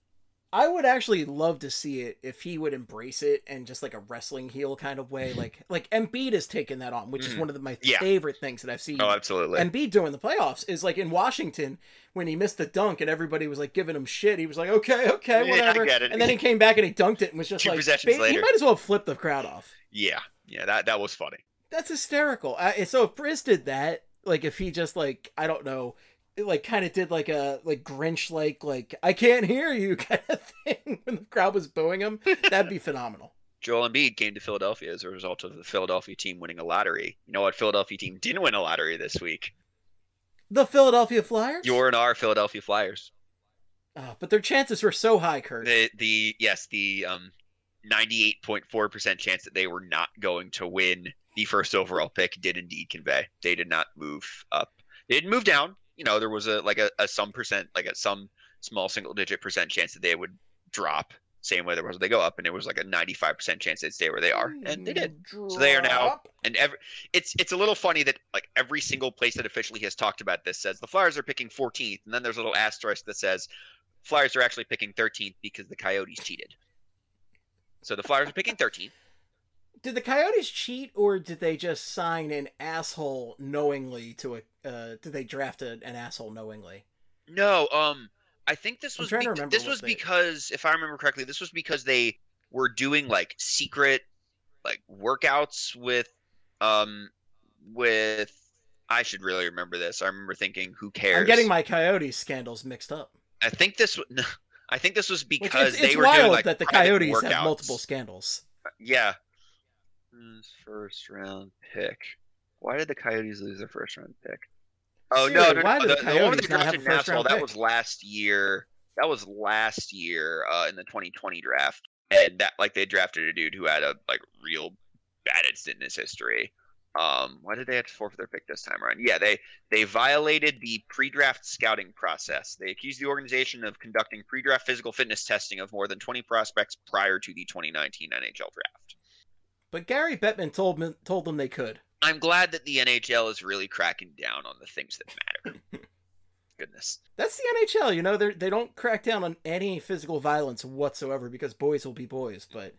I would actually love to see it if he would embrace it in just like a wrestling heel kind of way. Like, like Embiid has taken that on, which is one of the, my Yeah. favorite things that I've seen. Oh, absolutely. Embiid doing the playoffs is like in Washington when he missed the dunk and everybody was like giving him shit. He was like, okay, okay, Yeah, I whatever. get it. And then he came back and he dunked it and was just Two like, possessions ba- later. he might as well flip the crowd off. Yeah. Yeah, that, that was funny. That's hysterical. I, so if Briz did that, like if he just like, I don't know, like kind of did like a like Grinch like like I can't hear you kind of thing when the crowd was booing him, that'd be phenomenal. Joel Embiid came to Philadelphia as a result of the Philadelphia team winning a lottery. You know what Philadelphia team didn't win a lottery this week? The Philadelphia Flyers? Your and our Philadelphia Flyers. Oh, but their chances were so high, Kurt. The the yes, the um ninety-eight point four percent chance that they were not going to win the first overall pick did indeed convey. They did not move up. They didn't move down. You know, there was a like a, a some percent, like a some small single digit percent chance that they would drop. Same way there was they go up, and it was like a ninety-five percent chance they'd stay where they are, and they did. So they are now, and every it's it's a little funny that like every single place that officially has talked about this says the Flyers are picking fourteenth, and then there's a little asterisk that says Flyers are actually picking thirteenth because the Coyotes cheated. So the Flyers are picking thirteenth. Did the Coyotes cheat, or did they just sign an asshole knowingly to a? Uh, did they draft a, an asshole knowingly? No, um, I think this I'm was trying to be- remember this what was they- because, if I remember correctly, this was because they were doing like secret like workouts with um with I should really remember this. I remember thinking, who cares? I'm getting my Coyotes scandals mixed up. I think this was no, I think this was Which because it's, they it's were wild doing like that the private Coyotes workouts. have multiple scandals. Yeah. First round pick. Why did the Coyotes lose their first round pick? Oh no, Seriously, no, why no. did The, the the one Coyotes they not have drafted a in first Nashville, round that pick? was last year. That was last year uh, in the twenty twenty draft, and that like they drafted a dude who had a like real bad incident in his history. Um, why did they have to forfeit their pick this time around? Yeah, they they violated the pre-draft scouting process. They accused the organization of conducting pre-draft physical fitness testing of more than twenty prospects prior to the twenty nineteen N H L draft. But Gary Bettman told me, told them they could. I'm glad that the N H L is really cracking down on the things that matter. Goodness. That's the N H L, you know. They they don't crack down on any physical violence whatsoever because boys will be boys. But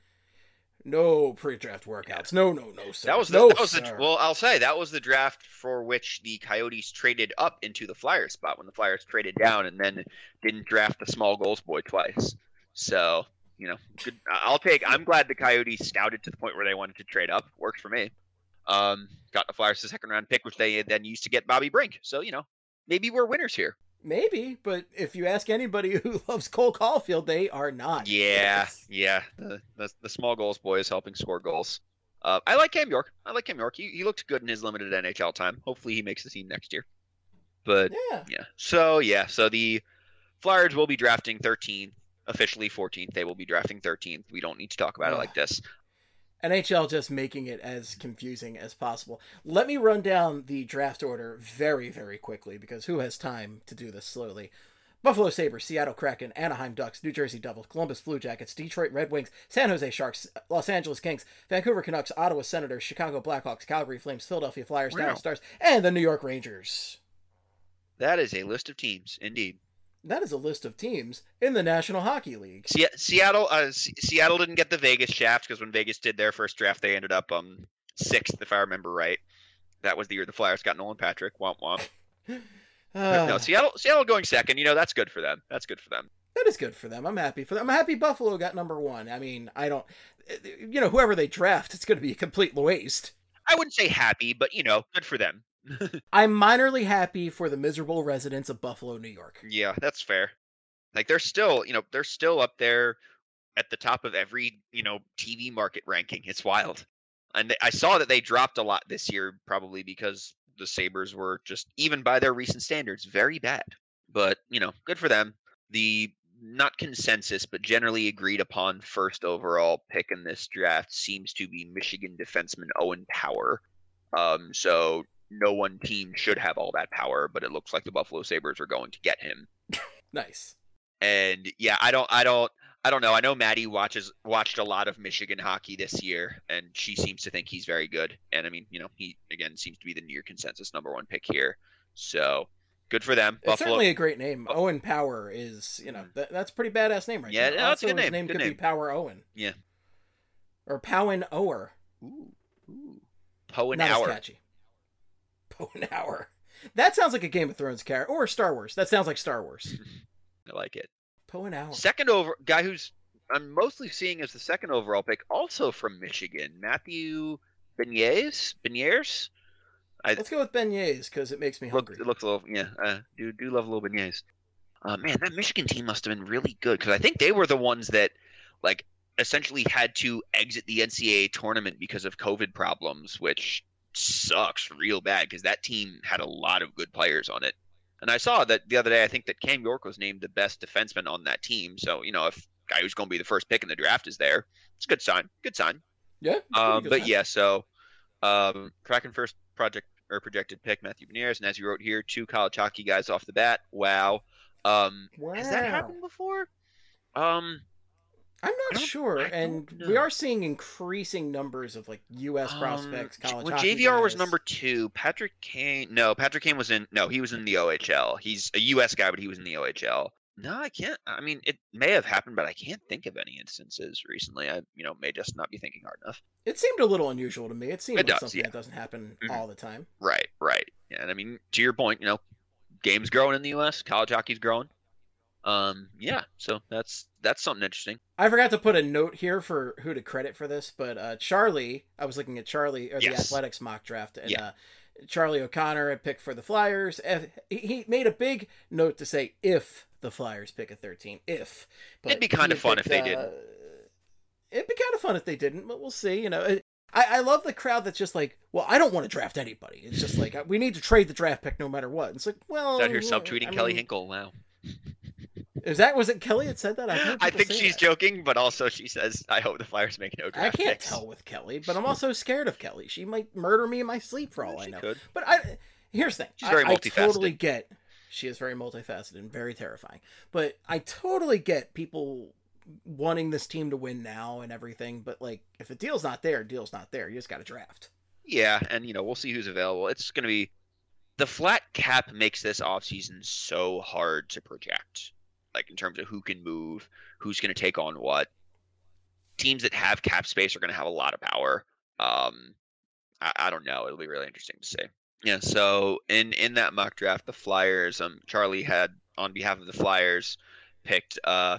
no pre-draft workouts. No, no, no, sir. That was the, no, that was the sir. well. I'll say that was the draft for which the Coyotes traded up into the Flyers spot when the Flyers traded down and then didn't draft the small goals boy twice. So you know, good, I'll take. I'm glad the Coyotes scouted to the point where they wanted to trade up. Worked for me. Um, got the Flyers the second round pick, which they then used to get Bobby Brink. So you know, maybe we're winners here. Maybe, but if you ask anybody who loves Cole Caulfield, they are not. Yeah, Yes. yeah. The, the the small goals boy is helping score goals. Uh, I like Cam York. I like Cam York. He he looked good in his limited N H L time. Hopefully, he makes the team next year. But Yeah. yeah. So yeah. So the Flyers will be drafting thirteenth, officially fourteenth. They will be drafting thirteenth. We don't need to talk about it Ugh. like this. N H L just making it as confusing as possible. Let me run down the draft order very, very quickly because who has time to do this slowly? Buffalo Sabres, Seattle Kraken, Anaheim Ducks, New Jersey Devils, Columbus Blue Jackets, Detroit Red Wings, San Jose Sharks, Los Angeles Kings, Vancouver Canucks, Ottawa Senators, Chicago Blackhawks, Calgary Flames, Philadelphia Flyers, Wow. Dallas Stars, and the New York Rangers. That is a list of teams, indeed. That is a list of teams in the National Hockey League. Se- Seattle, uh, S- Seattle didn't get the Vegas shaft because when Vegas did their first draft, they ended up um sixth, if I remember right. That was the year the Flyers got Nolan Patrick. Womp womp. But Uh, no, Seattle, Seattle going second. You know, that's good for them. That's good for them. That That is good for them. I'm happy for them. I'm happy Buffalo got number one. I mean, I don't, you know, whoever they draft, it's going to be a complete waste. I wouldn't say happy, but, you know, good for them. I'm minorly happy for the miserable residents of Buffalo, New York. Yeah, that's fair. Like, they're still, you know, they're still up there at the top of every, you know, T V market ranking. It's wild. And they, I saw that they dropped a lot this year, probably because the Sabres were just, even by their recent standards, very bad. But, you know, good for them. The not consensus, but generally agreed upon first overall pick in this draft seems to be Michigan defenseman Owen Power. Um, so no one team should have all that power, but it looks like the Buffalo Sabres are going to get him. Nice. And yeah, I don't, I don't, I don't know. I know Maddie watches watched a lot of Michigan hockey this year, and she seems to think he's very good. And I mean, you know, he again seems to be the near consensus number one pick here. So good for them. It's Buffalo. certainly a great name. Oh. Owen Power is, you know, that, that's a pretty badass name right Yeah, now. no, that's a good his name. name Good could name. be Power Owen. Yeah. Or Powen Ower. Ooh, ooh. Poe and Not Hour. as catchy. Powen Hour. That sounds like a Game of Thrones character. Or Star Wars. That sounds like Star Wars. I like it. Powen Hour. Second over guy who's I'm mostly seeing as the second overall pick, also from Michigan, Matthew Beniers. Beniers. I, Let's go with beignets because it makes me look, hungry. it looks a little, yeah. Uh, do do love a little beignets. Uh, man, that Michigan team must have been really good because I think they were the ones that, like, essentially had to exit the N C double A tournament because of COVID problems, which sucks real bad because that team had a lot of good players on it. And I saw that the other day. I think that Cam York was named the best defenseman on that team. So you know, if guy who's going to be the first pick in the draft is there, it's a good sign. Good sign. Yeah. Um, good but sign. yeah, so um, Kraken first project or projected pick Matthew Beniers, and as you wrote here, two college hockey guys off the bat. Wow. Um, Wow. Has that happened before? Um, I'm I not don't- sure, I and don't we know. are seeing increasing numbers of like U S prospects, um, college well, hockey J V R was guys. number two. Patrick Kane. No, Patrick Kane was in. No, he was in the O H L. He's a U S guy, but he was in the O H L. No, I can't. I mean, it may have happened, but I can't think of any instances recently. I, you know, may just not be thinking hard enough. It seemed a little unusual to me. It seemed It like does, something yeah. that doesn't happen Mhm. all the time. Right, right. Yeah, and I mean, to your point, you know, games growing in the U S, college hockey's growing. Um, yeah, so that's that's something interesting. I forgot to put a note here for who to credit for this, but uh, Charlie, I was looking at Charlie, or the Yes. Athletics mock draft, and Yeah. uh, Charlie O'Connor had picked for the Flyers. and He he made a big note to say if the Flyers pick a thirteen, if. But It'd be he kinda had fun if they uh, didn't. It'd be kind of fun if they didn't, but we'll see. You know, It- I, I love the crowd that's just like, well, I don't want to draft anybody. It's just like, we need to trade the draft pick no matter what. It's like, well, Out here yeah, subtweeting I Kelly mean, Hinkle. Wow. Is that was it Kelly that said that? I've heard I people think say she's that. joking, but also she says, "I hope the Flyers make no I draft can't picks." tell with Kelly, but I'm also scared of Kelly. She might murder me in my sleep for all I She know. could. But I here's the thing. She's very I, I multifaceted. totally get she is very multifaceted and very terrifying. But I totally get people wanting this team to win now and everything. But like, if a deal's not there, deal's not there. You just got to draft. Yeah, and you know we'll see who's available. It's going to be the flat cap makes this offseason so hard to project, like in terms of who can move, who's going to take on what. Teams that have cap space are going to have a lot of power. Um, I, I don't know. It'll be really interesting to see. Yeah. So in in that mock draft, the Flyers, um, Charlie had on behalf of the Flyers picked uh,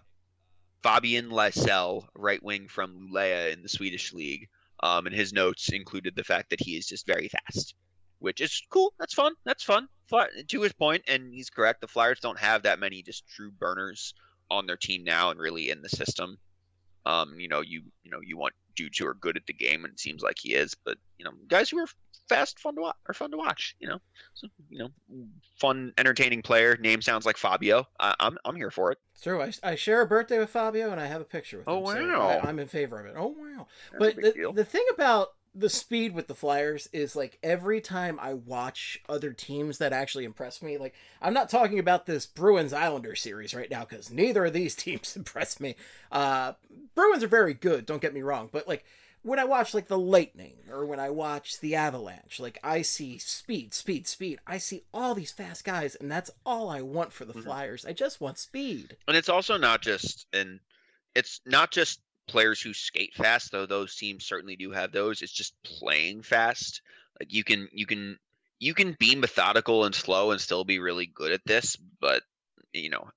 Fabian Lysell, right wing from Luleå in the Swedish league. Um, and his notes included the fact that he is just very fast, which is cool. That's fun. That's fun. Fly, to his point, and he's correct. The Flyers don't have that many just true burners on their team now, and really in the system. Um, you know, you you know, you want dudes who are good at the game, and it seems like he is. But you know, guys who are fast, fun to watch, are fun to watch. You know, so you know, fun, entertaining player. Name sounds like Fabio. I, I'm I'm here for it. It's true. I, I share a birthday with Fabio, and I have a picture with Oh, him. So wow. I, I'm in favor of it. Oh wow! That's But a big the, deal. the thing about the speed with the Flyers is like every time I watch other teams that actually impress me, like I'm not talking about this Bruins Islanders series right now because neither of these teams impress me. Uh, Bruins are very good, don't get me wrong, but like when I watch like the Lightning or when I watch the Avalanche, like I see speed, speed, speed. I see all these fast guys, and that's all I want for the Mhm. Flyers. I just want speed. And it's also not just and it's not just players who skate fast, though those teams certainly do have those. It's just playing fast. Like you can you can you can be methodical and slow and still be really good at this, but you know,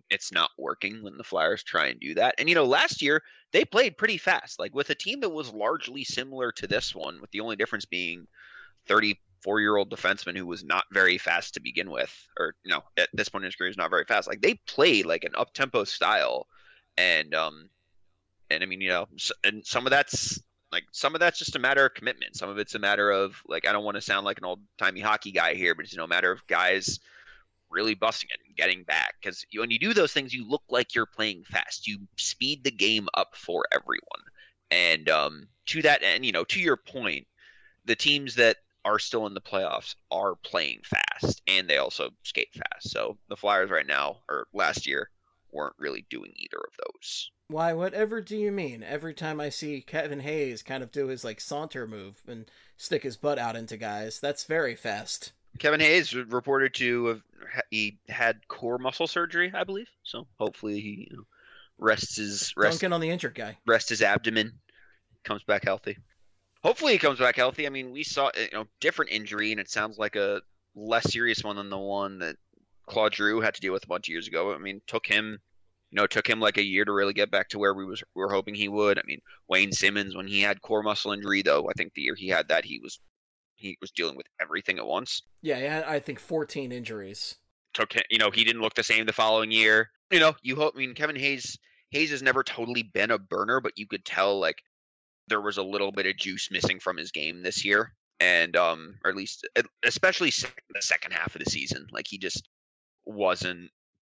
it's not working when the Flyers try and do that. And, you know, last year they played pretty fast, like with a team that was largely similar to this one, with the only difference being thirty-four-year-old defenseman who was not very fast to begin with, or, you know, at this point in his career is not very fast. Like, they played like an up-tempo style. And, um, and I mean, you know, and some of that's like, some of that's just a matter of commitment. Some of it's a matter of, like, I don't want to sound like an old-timey hockey guy here, but it's, you know, a matter of guys really busting it and getting back. Because when you do those things, you look like you're playing fast. You speed the game up for everyone. And um, to that end, you know, to your point, the teams that are still in the playoffs are playing fast, and they also skate fast. So the Flyers right now, or last year, weren't really doing either of those. Why, whatever do you mean? Every time I see Kevin Hayes kind of do his like saunter move and stick his butt out into guys, that's very fast. Kevin Hayes reported to have he had core muscle surgery, I believe. So hopefully he you know, rests his rest, Dunking on the injured guy. Rest his abdomen, comes back healthy. Hopefully he comes back healthy. I mean, we saw you know different injury, and it sounds like a less serious one than the one that Claude Giroux had to deal with a bunch of years ago. I mean, took him, you know, took him like a year to really get back to where we was we were hoping he would. I mean, Wayne Simmons, when he had core muscle injury, though, I think the year he had that, he was he was dealing with everything at once. Yeah, he had, I think, fourteen injuries. Took him, you know, he didn't look the same the following year. You know, you hope. I mean, Kevin Hayes Hayes has never totally been a burner, but you could tell like there was a little bit of juice missing from his game this year, and um, or at least especially the second half of the season, like he just wasn't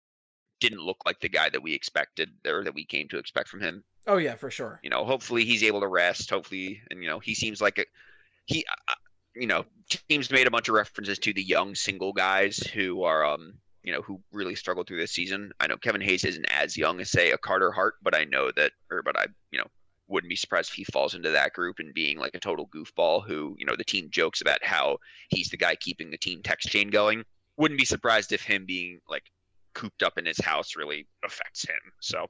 didn't look like the guy that we expected or that we came to expect from him. Oh yeah, for sure. You know, hopefully he's able to rest. Hopefully, and you know, he seems like a he. Uh, you know, teams made a bunch of references to the young single guys who are, um, you know, who really struggled through this season. I know Kevin Hayes isn't as young as, say, a Carter Hart, but I know that, or, but I, you know, wouldn't be surprised if he falls into that group and being like a total goofball who, you know, the team jokes about how he's the guy keeping the team text chain going. Wouldn't be surprised if him being like cooped up in his house really affects him. So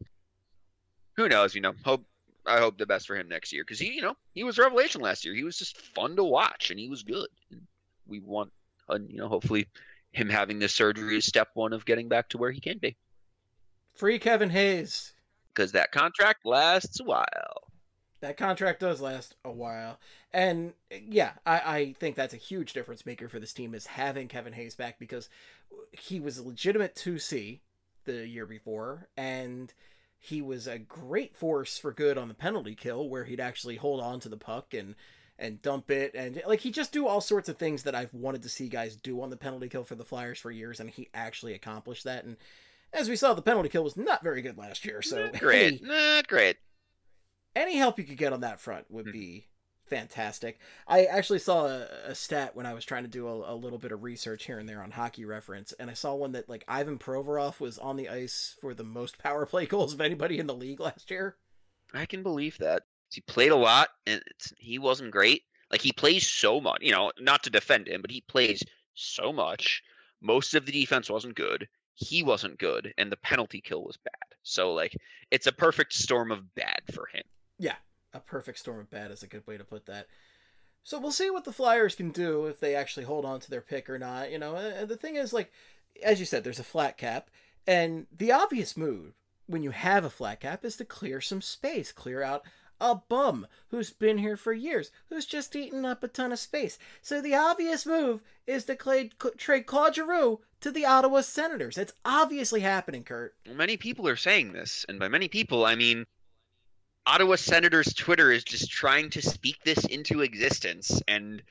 who knows, you know, hope, I hope the best for him next year because he, you know, he was a revelation last year. He was just fun to watch, and he was good. And we want, uh, you know, hopefully him having this surgery is step one of getting back to where he can be. Free Kevin Hayes, because that contract lasts a while. That contract does last a while, and yeah, I, I think that's a huge difference maker for this team is having Kevin Hayes back because he was a legitimate two C the year before, and he was a great force for good on the penalty kill where he'd actually hold on to the puck and, and dump it. And like, he just do all sorts of things that I've wanted to see guys do on the penalty kill for the Flyers for years. And he actually accomplished that. And as we saw, the penalty kill was not very good last year. So not great, any, not great. Any help you could get on that front would be fantastic. I actually saw a, a stat when I was trying to do a, a little bit of research here and there on Hockey Reference, and I saw one that like Ivan Provorov was on the ice for the most power play goals of anybody in the league last year. I can believe that. He played a lot, and it's, he wasn't great. Like, he plays so much, you know, not to defend him, but he plays so much. Most of the defense wasn't good. He wasn't good, and the penalty kill was bad. So, like, it's a perfect storm of bad for him. Yeah. A perfect storm of bad is a good way to put that. So we'll see what the Flyers can do if they actually hold on to their pick or not. You know, and the thing is, like, as you said, there's a flat cap. And the obvious move when you have a flat cap is to clear some space. Clear out a bum who's been here for years, who's just eaten up a ton of space. So the obvious move is to trade, trade Claude Giroux to the Ottawa Senators. It's obviously happening, Kurt. Many people are saying this. And by many people, I mean Ottawa Senators Twitter is just trying to speak this into existence, and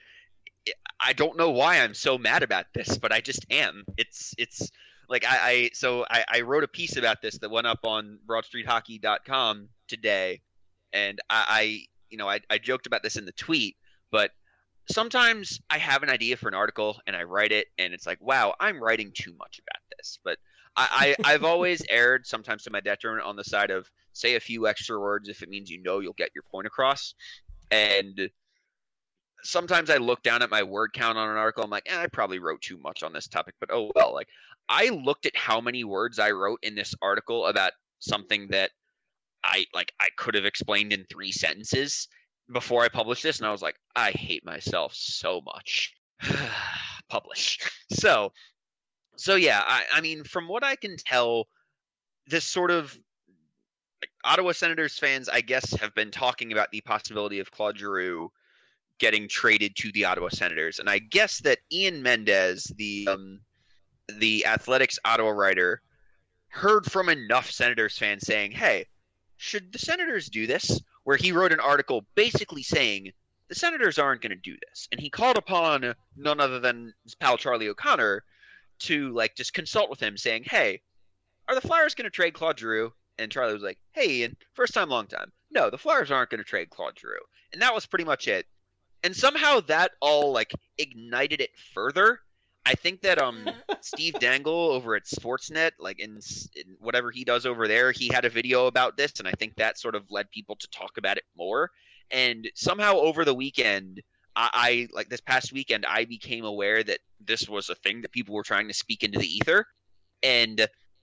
I don't know why I'm so mad about this, but I just am. It's it's like I, I so I, I wrote a piece about this that went up on broad street hockey dot com today, and I, I you know I, I joked about this in the tweet, but sometimes I have an idea for an article and I write it, and it's like, wow, I'm writing too much about this, but I, I I've always erred sometimes to my detriment on the side of say a few extra words if it means you know you'll get your point across. And sometimes I look down at my word count on an article. I'm like, eh, I probably wrote too much on this topic, but oh well. Like, I looked at how many words I wrote in this article about something that I like I could have explained in three sentences before I published this, and I was like, I hate myself so much. Publish. So, so yeah, I, I mean, from what I can tell, this sort of like, Ottawa Senators fans, I guess, have been talking about the possibility of Claude Giroux getting traded to the Ottawa Senators, and I guess that Ian Mendez, the um, the Athletics Ottawa writer, heard from enough Senators fans saying, "Hey, should the Senators do this?" Where he wrote an article basically saying the Senators aren't going to do this, and he called upon none other than his pal Charlie O'Connor to like just consult with him, saying, "Hey, are the Flyers going to trade Claude Giroux?" And Charlie was like, "Hey, Ian, first time, long time. No, the Flyers aren't going to trade Claude Giroux." And that was pretty much it. And somehow that all like ignited it further. I think that um Steve Dangle over at Sportsnet, like in, in whatever he does over there, he had a video about this, and I think that sort of led people to talk about it more. And somehow over the weekend, I, I like this past weekend, I became aware that this was a thing that people were trying to speak into the ether, and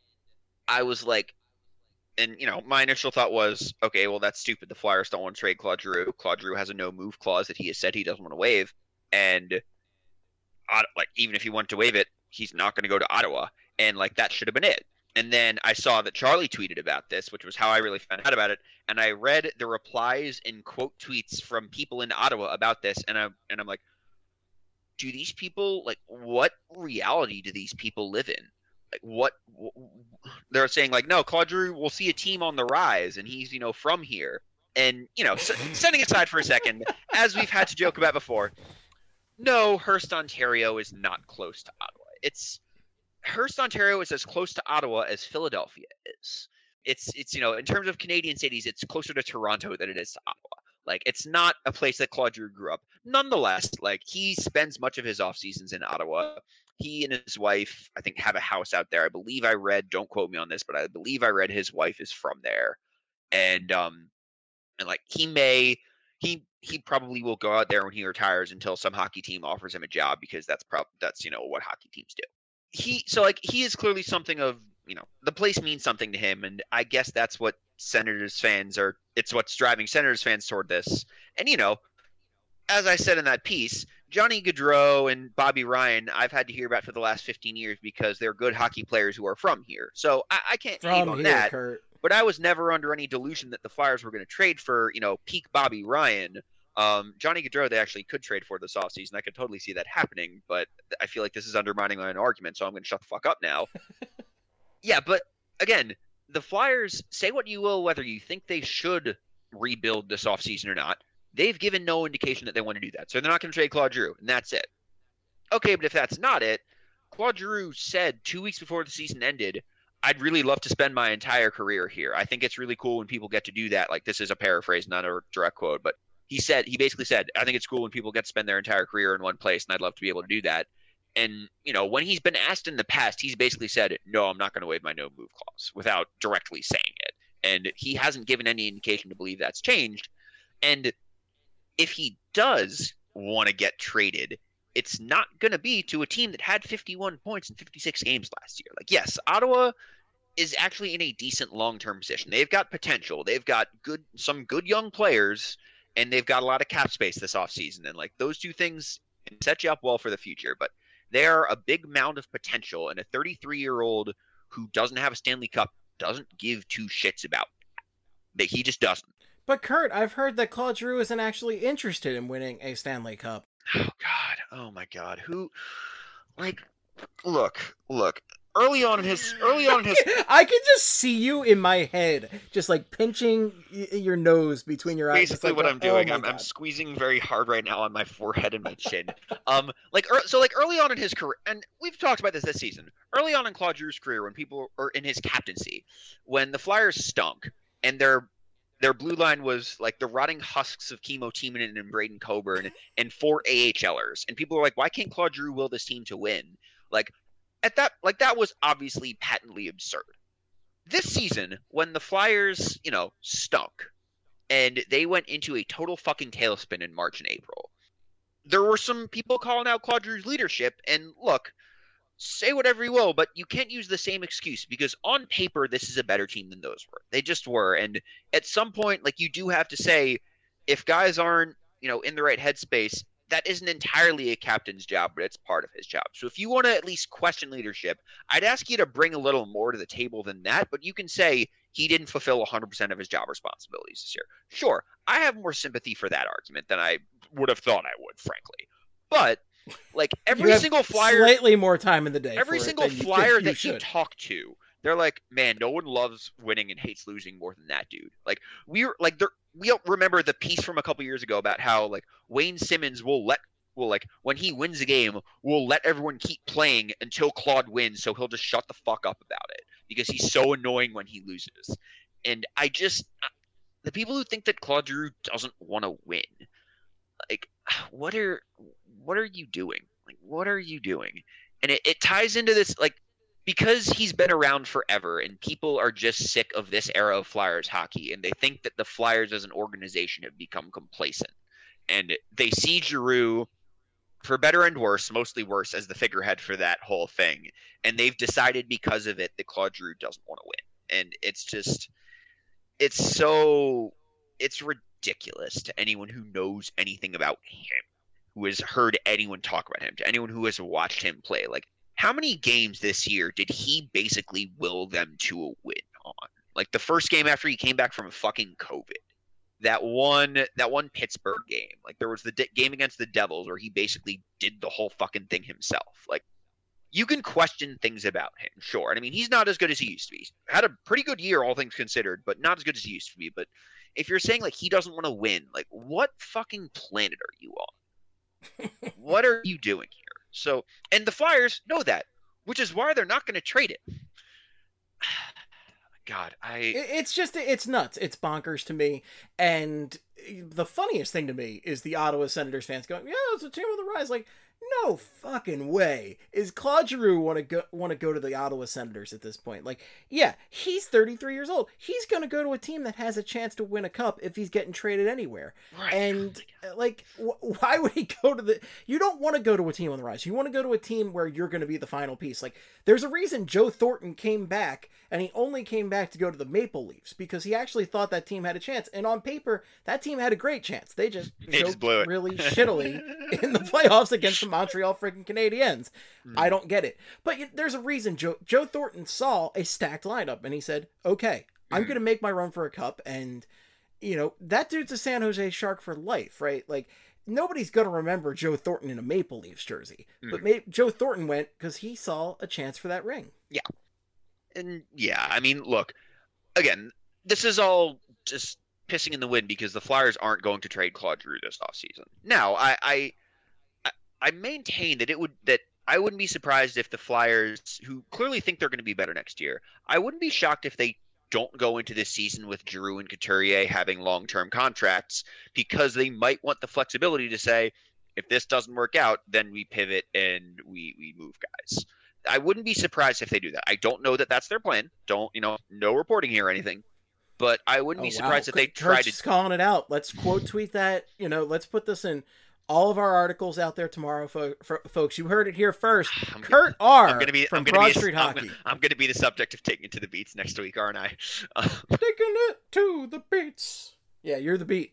I was like, and you know, my initial thought was, okay, well that's stupid. The Flyers don't want to trade Claude Giroux. Claude Giroux has a no move clause that he has said he doesn't want to waive, and like even if he wanted to waive it, he's not going to go to Ottawa, and like that should have been it. And then I saw that Charlie tweeted about this, which was how I really found out about it, and I read the replies and quote tweets from people in Ottawa about this, and I and I'm like, do these people like what reality do these people live in? Like what they're saying, like, no, Claude Giroux will see a team on the rise, and he's you know from here, and you know s- setting aside for a second, as we've had to joke about before. No, Hearst, Ontario is not close to Ottawa. It's Hearst, Ontario is as close to Ottawa as Philadelphia is. It's it's you know in terms of Canadian cities, it's closer to Toronto than it is to Ottawa. Like it's not a place that Claude Giroux grew up. Nonetheless, like he spends much of his off seasons in Ottawa. He and his wife, I think, have a house out there. I believe I read. Don't quote me on this, but I believe I read his wife is from there, and um, and like he may. He he probably will go out there when he retires until some hockey team offers him a job, because that's prob that's you know what hockey teams do. He so like he is clearly something of you know the place means something to him, and I guess that's what Senators fans are. It's what's driving Senators fans toward this. And you know, as I said in that piece, Johnny Gaudreau and Bobby Ryan, I've had to hear about for the last fifteen years because they're good hockey players who are from here. So I, I can't hate on here, that. Kurt. But I was never under any delusion that the Flyers were going to trade for, you know, peak Bobby Ryan. Um, Johnny Gaudreau, they actually could trade for this offseason. I could totally see that happening, but I feel like this is undermining my own argument, so I'm going to shut the fuck up now. Yeah, but again, the Flyers, say what you will, whether you think they should rebuild this offseason or not, they've given no indication that they want to do that. So they're not going to trade Claude Giroux, and that's it. Okay, but if that's not it, Claude Giroux said two weeks before the season ended, I'd really love to spend my entire career here. I think it's really cool when people get to do that. Like, this is a paraphrase, not a direct quote, but he said, he basically said, I think it's cool when people get to spend their entire career in one place, and I'd love to be able to do that. And, you know, when he's been asked in the past, he's basically said, no, I'm not going to waive my no move clause without directly saying it. And he hasn't given any indication to believe that's changed. And if he does want to get traded, it's not going to be to a team that had fifty-one points in fifty-six games last year. Like, yes, Ottawa is actually in a decent long-term position. They've got potential. They've got good, some good young players, and they've got a lot of cap space this offseason. And like those two things can set you up well for the future. But they are a big mound of potential, and a thirty-three-year-old who doesn't have a Stanley Cup doesn't give two shits about that. He just doesn't. But Kurt, I've heard that Claude Giroux isn't actually interested in winning a Stanley Cup. Oh God! Oh my God! Who? Like, look, look. Early on in his, early on in his, I can just see you in my head, just like pinching y- your nose between your eyes. Basically, like, what oh, I'm doing, oh I'm, my I'm God. squeezing very hard right now on my forehead and my chin. um, like, er, so like early on in his career, and we've talked about this this season. Early on in Claude Giroux's career, when people, or in his captaincy, when the Flyers stunk and their their blue line was like the rotting husks of Kimmo Timonen and Braden Coburn and four AHLers, and people were like, why can't Claude Giroux will this team to win? Like. At that, like that was obviously patently absurd. This season, when the Flyers, you know, stunk, and they went into a total fucking tailspin in March and April, there were some people calling out Claude Giroux's leadership. And look, say whatever you will, but you can't use the same excuse, because on paper, this is a better team than those were. They just were. And at some point, like, you do have to say, if guys aren't, you know, in the right headspace, that isn't entirely a captain's job, but it's part of his job. So if you want to at least question leadership, I'd ask you to bring a little more to the table than that, but you can say he didn't fulfill one hundred percent of his job responsibilities this year. Sure, I have more sympathy for that argument than I would have thought I would, frankly. But like every single flyer, slightly more time in the day. Every single flyer that you talk to, they're like, man, no one loves winning and hates losing more than that dude. Like we're like, we don't remember the piece from a couple years ago about how like Wayne Simmons will let, will like when he wins a game, will let everyone keep playing until Claude wins, so he'll just shut the fuck up about it because he's so annoying when he loses. And I just, the people who think that Claude Giroux doesn't want to win, like, what are, what are you doing? Like, what are you doing? And it, it ties into this, like, because he's been around forever and people are just sick of this era of Flyers hockey and they think that the Flyers as an organization have become complacent. And they see Giroux, for better and worse, mostly worse, as the figurehead for that whole thing. And they've decided because of it that Claude Giroux doesn't want to win. And it's just, it's so, it's ridiculous to anyone who knows anything about him, who has heard anyone talk about him, to anyone who has watched him play. Like, how many games this year did he basically will them to a win on? Like the first game after he came back from fucking COVID, that one, that one Pittsburgh game. Like there was the de- game against the Devils where he basically did the whole fucking thing himself. Like you can question things about him, sure. And I mean, he's not as good as he used to be. He's had a pretty good year, all things considered, but not as good as he used to be. But if you're saying like he doesn't want to win, like what fucking planet are you on? What are you doing here? So, and the Flyers know that, which is why they're not going to trade it. God, I... It's just, it's nuts. It's bonkers to me. And the funniest thing to me is the Ottawa Senators fans going, yeah, it's a team on the rise. Like, no fucking way is Claude Giroux want to go want to go to the Ottawa Senators at this point. Like, yeah, he's thirty-three years old. He's going to go to a team that has a chance to win a cup if he's getting traded anywhere. Right. And like, wh- why would he go to the? You don't want to go to a team on the rise. You want to go to a team where you're going to be the final piece. Like, there's a reason Joe Thornton came back, and he only came back to go to the Maple Leafs because he actually thought that team had a chance. And on paper, that team had a great chance. They just they just blew it really shittily in the playoffs against the Montreal freaking Canadiens. Mm. I don't get it. But there's a reason Joe, Joe Thornton saw a stacked lineup and he said, okay, I'm mm. going to make my run for a cup. And, you know, that dude's a San Jose Shark for life, right? Like, nobody's going to remember Joe Thornton in a Maple Leafs jersey. Mm. But Ma- Joe Thornton went because he saw a chance for that ring. Yeah. And, yeah, I mean, look, again, this is all just pissing in the wind because the Flyers aren't going to trade Claude Giroux this offseason. Now, I... I I maintain that it would that I wouldn't be surprised if the Flyers, who clearly think they're going to be better next year, I wouldn't be shocked if they don't go into this season with Giroux and Couturier having long-term contracts because they might want the flexibility to say, if this doesn't work out, then we pivot and we, we move guys. I wouldn't be surprised if they do that. I don't know that that's their plan. Don't, you know, no reporting here or anything. But I wouldn't oh, be surprised wow. if they Kurt's tried to... calling it out. Let's quote tweet that. You know, let's put this in all of our articles out there tomorrow, fo- for, folks. You heard it here first. I'm Kurt gonna, R. I'm gonna be, from I'm gonna Broad be, Street I'm Hockey. Gonna, I'm going to be the subject of taking it to the beats next week, aren't I? Uh, taking it to the beats. Yeah, you're the beat.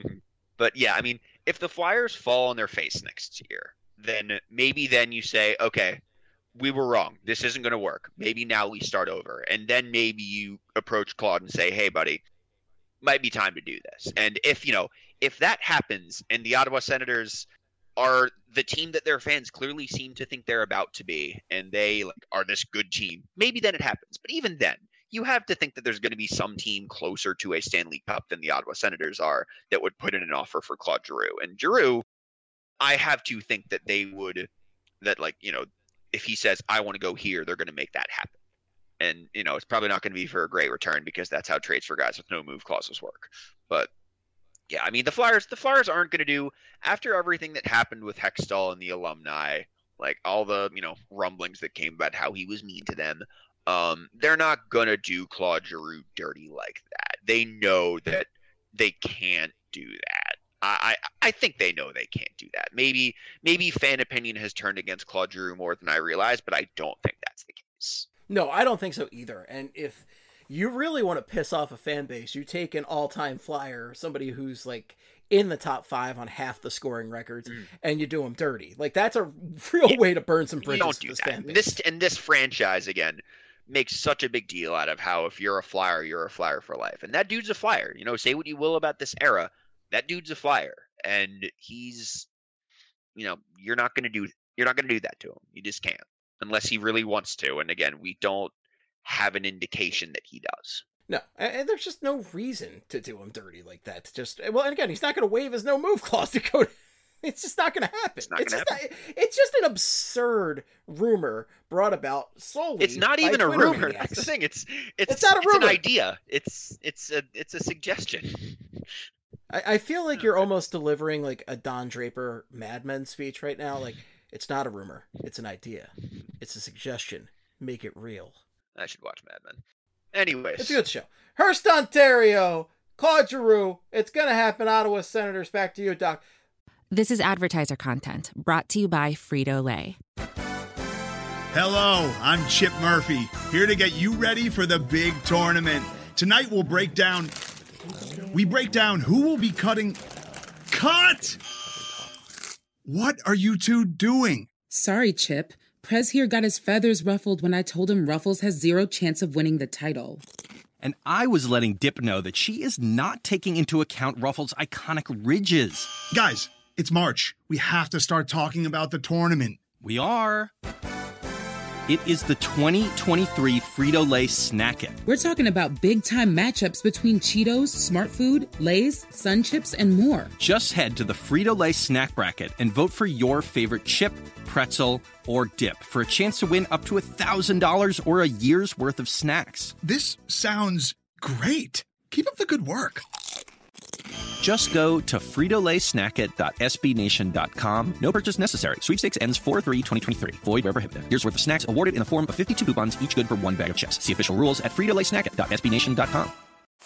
But yeah, I mean, if the Flyers fall on their face next year, then maybe then you say, okay, we were wrong. This isn't going to work. Maybe now we start over. And then maybe you approach Claude and say, hey, buddy, might be time to do this. And if, you know, if that happens and the Ottawa Senators are the team that their fans clearly seem to think they're about to be, and they like are this good team, maybe then it happens. But even then, you have to think that there's going to be some team closer to a Stanley Cup than the Ottawa Senators are that would put in an offer for Claude Giroux. And Giroux, I have to think that they would, that like, you know, if he says, I want to go here, they're going to make that happen. And, you know, it's probably not going to be for a great return because that's how trades for guys with no move clauses work. But yeah, I mean, the Flyers, the Flyers aren't going to do, after everything that happened with Hextall and the alumni, like all the, you know, rumblings that came about how he was mean to them, um, they're not going to do Claude Giroux dirty like that. They know that they can't do that. I, I, I think they know they can't do that. Maybe, maybe fan opinion has turned against Claude Giroux more than I realize, but I don't think that's the case. No, I don't think so either. And if, you really want to piss off a fan base, you take an all-time flyer, somebody who's like in the top five on half the scoring records, mm. and you do them dirty. Like that's a real yeah. way to burn some bridges. You don't do this that. Fan base. This and this franchise again makes such a big deal out of how if you're a flyer, you're a flyer for life, and that dude's a flyer. You know, say what you will about this era, that dude's a flyer, and he's, you know, you're not gonna do you're not gonna do that to him. You just can't unless he really wants to. And again, we don't have an indication that he does. No, and there's just no reason to do him dirty like that. To just well, and again, he's not going to waive his no move clause to go. To, it's just not going to happen. It's not it's going to happen. Not, it's just an absurd rumor brought about solely. It's not even a Twitter rumor. maniacs. That's the thing. It's it's it's not a it's rumor. an idea. It's it's a it's a suggestion. I, I feel like you're almost delivering like a Don Draper Mad Men speech right now. Like it's not a rumor. It's an idea. It's a suggestion. Make it real. I should watch Mad Men. Anyways. It's a good show. Hearst, Ontario. Claude Giroux. It's going to happen. Ottawa Senators. Back to you, Doc. This is advertiser content brought to you by Frito-Lay. Hello, I'm Chip Murphy, here to get you ready for the big tournament. Tonight we'll break down... We break down who will be cutting... Cut! What are you two doing? Sorry, Chip. Prez here got his feathers ruffled when I told him Ruffles has zero chance of winning the title. And I was letting Dip know that she is not taking into account Ruffles' iconic ridges. Guys, it's March. We have to start talking about the tournament. We are. It is the twenty twenty-three Frito-Lay Snack It. We're talking about big-time matchups between Cheetos, Smart Food, Lay's, Sun Chips, and more. Just head to the Frito-Lay Snack Bracket and vote for your favorite chip, pretzel, or dip for a chance to win up to one thousand dollars or a year's worth of snacks. This sounds great. Keep up the good work. Just go to frito lay snack it dot s b nation dot com. No purchase necessary. Sweepstakes ends four three twenty twenty-three. Void where prohibited. Year's worth of snacks awarded in the form of fifty-two coupons, each good for one bag of chips. See official rules at frito lay snack it dot s b nation dot com.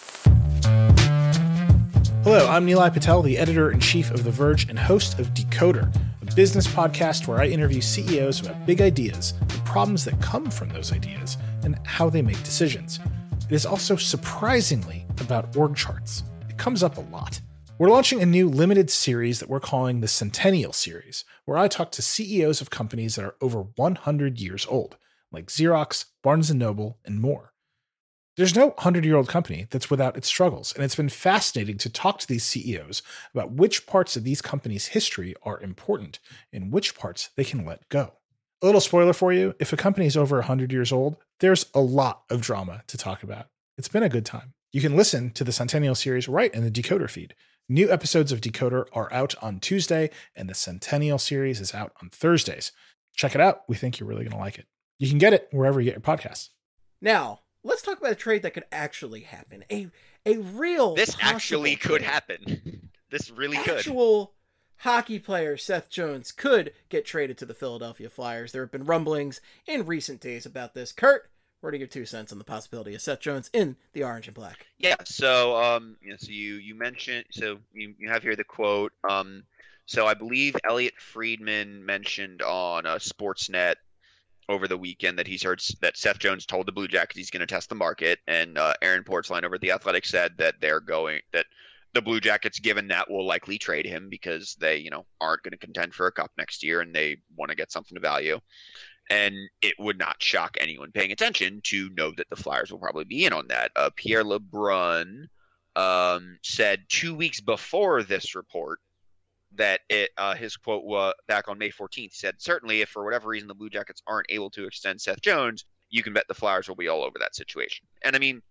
Hello, I'm Nilay Patel, the editor-in-chief of The Verge and host of Decoder, a business podcast where I interview C E Os about big ideas, the problems that come from those ideas, and how they make decisions. It is also surprisingly about org charts. It comes up a lot. We're launching a new limited series that we're calling the Centennial Series, where I talk to C E Os of companies that are over one hundred years old, like Xerox, Barnes and Noble, and more. There's no hundred-year-old company that's without its struggles, and it's been fascinating to talk to these C E Os about which parts of these companies' history are important and which parts they can let go. A little spoiler for you, if a company is over one hundred years old, there's a lot of drama to talk about. It's been a good time. You can listen to the Centennial Series right in the Decoder feed. New episodes of Decoder are out on Tuesday, and the Centennial Series is out on Thursdays. Check it out. We think you're really going to like it. You can get it wherever you get your podcasts. Now, let's talk about a trade that could actually happen. A a real This actually could trade. happen. This really Actual could. Actual hockey player Seth Jones could get traded to the Philadelphia Flyers. There have been rumblings in recent days about this. Kurt, what are your two cents on the possibility of Seth Jones in the orange and black? Yeah, so um, you know, so you you mentioned, so you, you have here the quote. Um, so I believe Elliot Friedman mentioned on uh, Sportsnet over the weekend that he's heard that Seth Jones told the Blue Jackets he's going to test the market, and uh, Aaron Portzline over at the Athletic said that they're going that the Blue Jackets, given that, will likely trade him because they, you know, aren't going to contend for a cup next year and they want to get something of value. And it would not shock anyone paying attention to know that the Flyers will probably be in on that. Uh, Pierre LeBrun um, said two weeks before this report that it uh, his quote was back on May fourteenth. He said, certainly if for whatever reason the Blue Jackets aren't able to extend Seth Jones, you can bet the Flyers will be all over that situation. And I mean,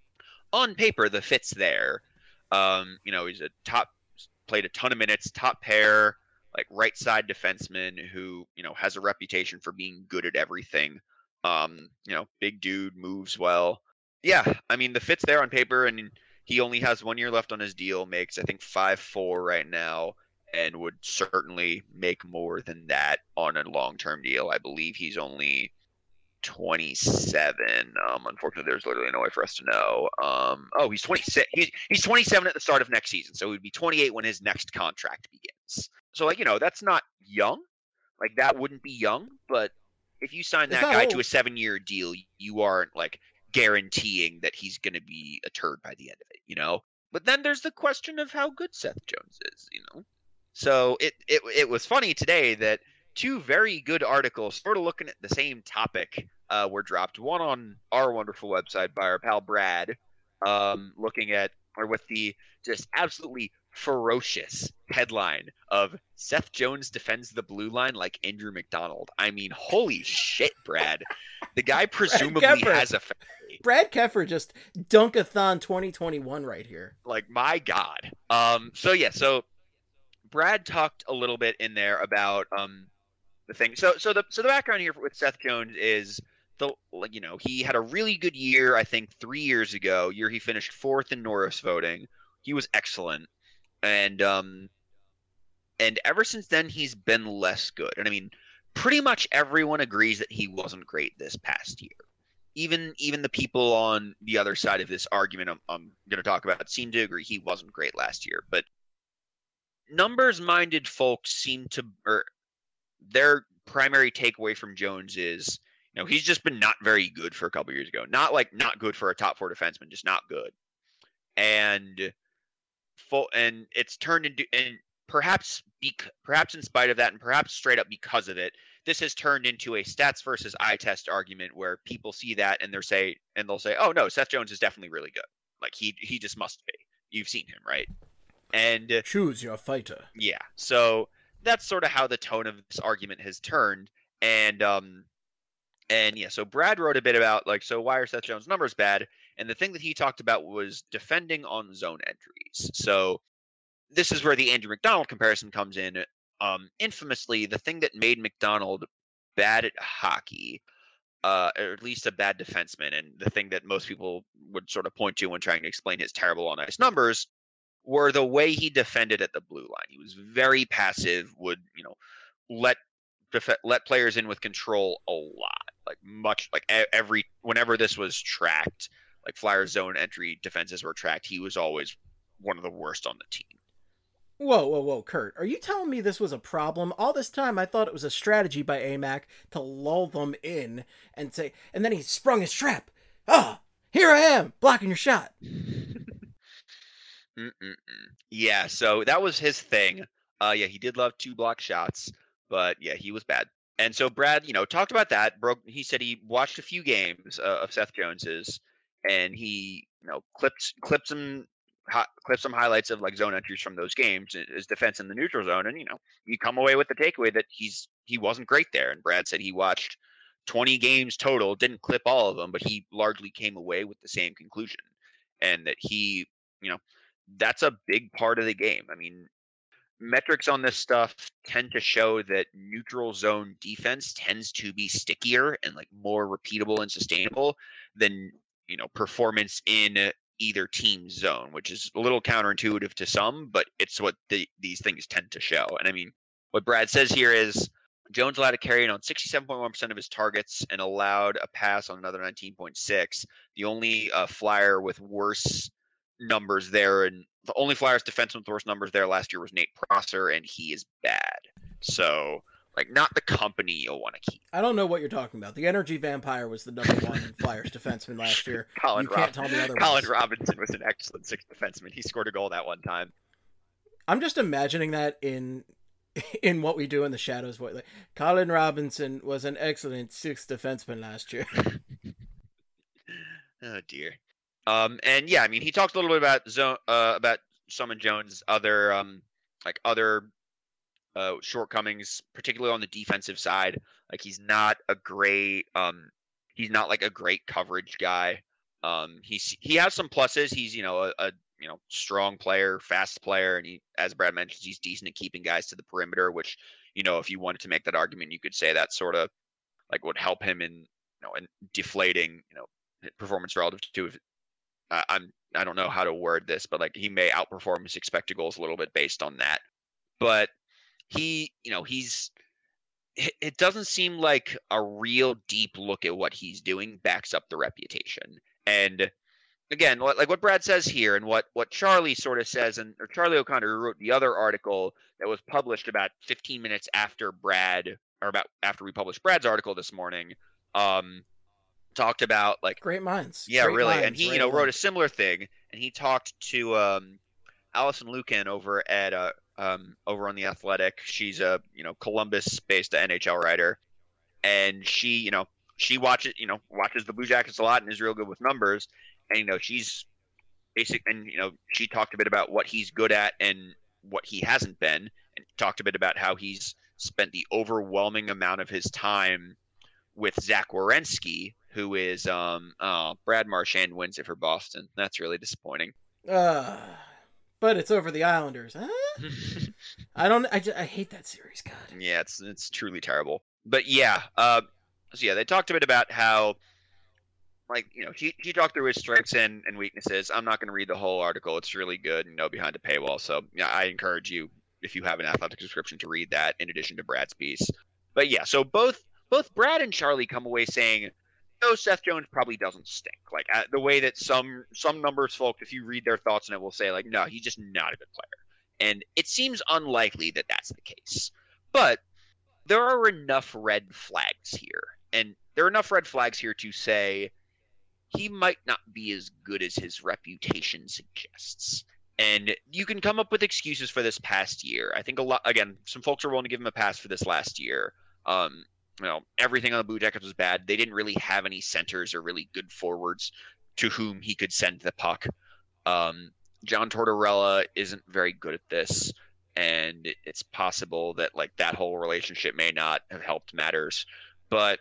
on paper, the fit's there. Um, you know, he's a top, played a ton of minutes, top pair, like right side defenseman who, you know, has a reputation for being good at everything. Um, you know, big dude, moves well. Yeah, I mean, the fit's there on paper, and he only has one year left on his deal, makes, I think, five four right now, and would certainly make more than that on a long-term deal. I believe he's only twenty-seven. Um, unfortunately, there's literally no way for us to know. Um, oh, he's twenty-six. He's, he's twenty-seven at the start of next season, so he would be twenty-eight when his next contract begins. So, like, you know, that's not young. Like, that wouldn't be young, but if you sign that guy old. to a seven-year deal, you aren't, like, guaranteeing that he's going to be a turd by the end of it, you know? But then there's the question of how good Seth Jones is, you know? So it, it, it was funny today that two very good articles sort of looking at the same topic uh, were dropped. One on our wonderful website by our pal Brad, um, looking at, or with the just absolutely ferocious headline of Seth Jones defends the blue line like Andrew McDonald. I mean, holy shit, Brad. The guy presumably has a family. Brad Keffer just Dunkathon twenty twenty-one right here. Like, my God. Um, so, yeah, so Brad talked a little bit in there about um, the thing. So, so the so the background here with Seth Jones is the you know he had a really good year. I think three years ago, year he finished fourth in Norris voting. He was excellent, and um, and ever since then he's been less good. And I mean, pretty much everyone agrees that he wasn't great this past year. Even even the people on the other side of this argument I'm, I'm going to talk about seem to agree he wasn't great last year. But numbers-minded folks seem to, or their primary takeaway from Jones is, you know, he's just been not very good for a couple years ago. Not like not good for a top four defenseman, just not good. And full, and it's turned into, and perhaps bec- perhaps in spite of that, and perhaps straight up because of it, this has turned into a stats versus eye test argument where people see that and they're say and they'll say, "Oh no, Seth Jones is definitely really good. Like he he just must be. You've seen him, right?" And choose your fighter. Yeah. So that's sort of how the tone of this argument has turned. And um and yeah, so Brad wrote a bit about like, so why are Seth Jones' numbers bad? And the thing that he talked about was defending on zone entries. So this is where the Andrew McDonald comparison comes in. Um, infamously, the thing that made McDonald bad at hockey, uh, or at least a bad defenseman, and the thing that most people would sort of point to when trying to explain his terrible on ice numbers, were the way he defended at the blue line. He was very passive, would, you know, let def- let players in with control a lot, like much like every whenever this was tracked, like Flyers zone entry defenses were tracked, he was always one of the worst on the team. Whoa, whoa, whoa, Kurt, are you telling me this was a problem? All this time I thought it was a strategy by A M A C to lull them in and say, and then he sprung his trap. Ah, here I am, blocking your shot. Mm-mm-mm. Yeah, so that was his thing. Uh, yeah, he did love two block shots, but yeah, he was bad. And so Brad, you know, talked about that. Broke. He said he watched a few games uh, of Seth Jones's, and he, you know, clipped clipped some hi- clipped some highlights of like zone entries from those games, his defense in the neutral zone, and you know, you come away with the takeaway that he's he wasn't great there. And Brad said he watched twenty games total, didn't clip all of them, but he largely came away with the same conclusion, and that he, you know, that's a big part of the game. I mean, metrics on this stuff tend to show that neutral zone defense tends to be stickier and like more repeatable and sustainable than, you know, performance in either team's zone, which is a little counterintuitive to some, but it's what the, these things tend to show. And I mean, what Brad says here is Jones allowed a carry in on sixty-seven point one percent of his targets and allowed a pass on another nineteen point six. The only uh, Flyer with worse numbers there, and the only Flyers defenseman with worse numbers there last year was Nate Prosser, and he is bad. So, like, not the company you'll want to keep. I don't know what you're talking about. The Energy Vampire was the number one Flyers defenseman last year. Colin you Rob- can't tell me otherwise. Colin Robinson was an excellent sixth defenseman. He scored a goal that one time. I'm just imagining that in in What We Do in the Shadows voice. Like, Colin Robinson was an excellent sixth defenseman last year. Oh dear. Um, and yeah, I mean, he talked a little bit about zone, uh, about some of Jones' other, um, like other uh, shortcomings, particularly on the defensive side. Like he's not a great, um, he's not like a great coverage guy. Um, he's he has some pluses. He's you know a, a you know strong player, fast player, and he, as Brad mentions, he's decent at keeping guys to the perimeter. Which, you know, if you wanted to make that argument, you could say that sort of like would help him in you know in deflating you know performance relative to. Uh, I'm I don't know how to word this, but like he may outperform his expected goals a little bit based on that. But he, you know, he's it doesn't seem like a real deep look at what he's doing backs up the reputation. And again, like what Brad says here, and what what Charlie sort of says, and or Charlie O'Connor, who wrote the other article that was published about fifteen minutes after Brad, or about after we published Brad's article this morning. Um, talked about like great minds. Yeah, great really. minds, And he, right you know, away. wrote a similar thing, and he talked to um, Allison Lucan over at uh, um, over on the Athletic. She's a you know Columbus-based N H L writer, and she, you know, she watches, you know, watches the Blue Jackets a lot and is real good with numbers. And you know, she's basic, and you know, she talked a bit about what he's good at and what he hasn't been, and talked a bit about how he's spent the overwhelming amount of his time with Zach Werenski, who is um uh, Brad Marchand wins it for Boston. That's really disappointing. Uh, but it's over the Islanders. Huh? I don't. I, just, I hate that series. God. Yeah, it's it's truly terrible. But yeah, uh, so yeah, they talked a bit about how, like, you know, he he talked through his strengths and, and weaknesses. I'm not going to read the whole article. It's really good, you know, behind a paywall. So yeah, I encourage you, if you have an Athletic subscription, to read that in addition to Brad's piece. But yeah, so both both Brad and Charlie come away saying, no, Seth Jones probably doesn't stink. Like uh, the way that some some numbers folks, if you read their thoughts on it, will say like, no, he's just not a good player. And it seems unlikely that that's the case. But there are enough red flags here. And there are enough red flags here to say he might not be as good as his reputation suggests. And you can come up with excuses for this past year. I think a lot, again, some folks are willing to give him a pass for this last year. Um, you know, everything on the Blue Jackets was bad. They didn't really have any centers or really good forwards to whom he could send the puck. Um, John Tortorella isn't very good at this, and it's possible that like that whole relationship may not have helped matters. But,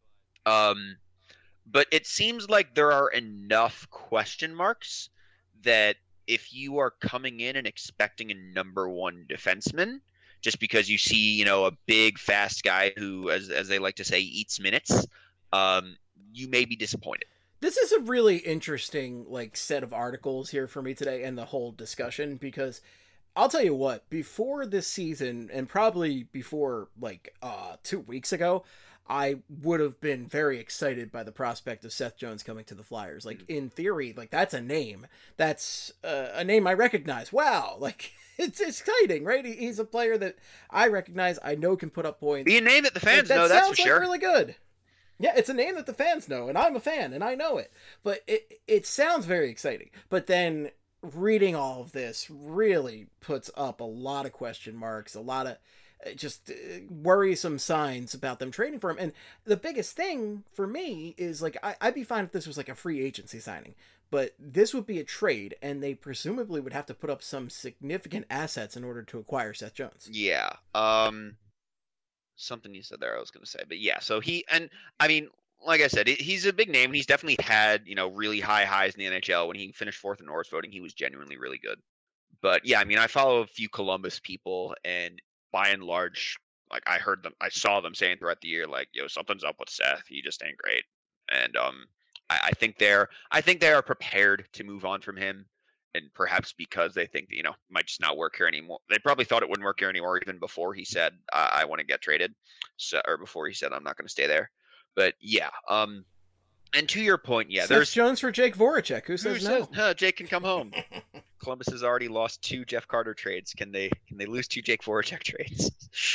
um, but it seems like there are enough question marks that if you are coming in and expecting a number one defenseman, just because you see, you know, a big, fast guy who, as as they like to say, eats minutes, um, you may be disappointed. This is a really interesting, like, set of articles here for me today and the whole discussion, because I'll tell you what, before this season, and probably before, like, uh, two weeks ago, I would have been very excited by the prospect of Seth Jones coming to the Flyers. Like, in theory, like, that's a name. That's uh, a name I recognize. Wow, like, it's exciting, right? He's a player that I recognize, I know can put up points. Be a name that the fans that know, that's for sounds like sure. really good. Yeah, it's a name that the fans know, and I'm a fan, and I know it. But it it sounds very exciting. But then reading all of this really puts up a lot of question marks, a lot of just worrisome signs about them trading for him. And the biggest thing for me is, like, I, I'd be fine if this was like a free agency signing, but this would be a trade, and they presumably would have to put up some significant assets in order to acquire Seth Jones. Yeah. Um, something you said there I was going to say, but yeah, so he, and I mean, like I said, he's a big name. He's definitely had, you know, really high highs in the N H L. When he finished fourth in Norris voting, he was genuinely really good. But yeah, I mean, I follow a few Columbus people, and by and large, like I heard them, I saw them saying throughout the year, like, yo, something's up with Seth. He just ain't great. And um, I, I think they're, I think they are prepared to move on from him. And perhaps because they think that, you know, it might just not work here anymore. They probably thought it wouldn't work here anymore even before he said, I, I want to get traded. So, or before he said, I'm not going to stay there. But yeah. Um, and to your point, yeah, Seth there's Jones for Jake Voracek. Who says who no? says, huh, Jake can come home. Columbus has already lost two Jeff Carter trades. Can they, can they lose two Jake Voracek trades?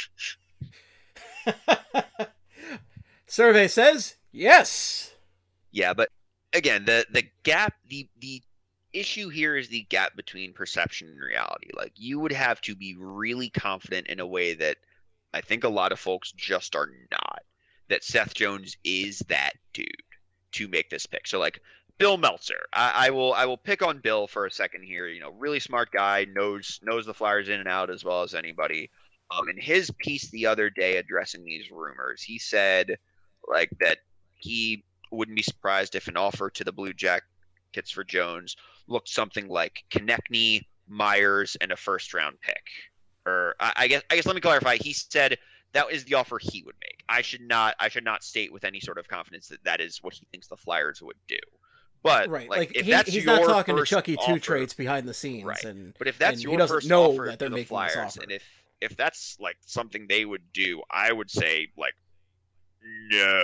Survey says yes. Yeah. But again, the, the gap, the, the, issue here is the gap between perception and reality. Like, you would have to be really confident in a way that I think a lot of folks just are not, that Seth Jones is that dude to make this pick. So like Bill Meltzer, I, I will I will pick on Bill for a second here. You know, really smart guy, knows knows the Flyers in and out as well as anybody. Um, in his piece the other day addressing these rumors, he said like that he wouldn't be surprised if an offer to the Blue Jackets for Jones looked something like Konechny, Myers, and a first round pick. Or I, I guess I guess let me clarify. He said that is the offer he would make. I should not I should not state with any sort of confidence that that is what he thinks the Flyers would do. But right, like, like if he, that's he's your not talking to first Chucky offer, two trades behind the scenes, right? And but if that's and your he doesn't first know offer that they're to the making Flyers, this offer. and if if that's like something they would do, I would say like no,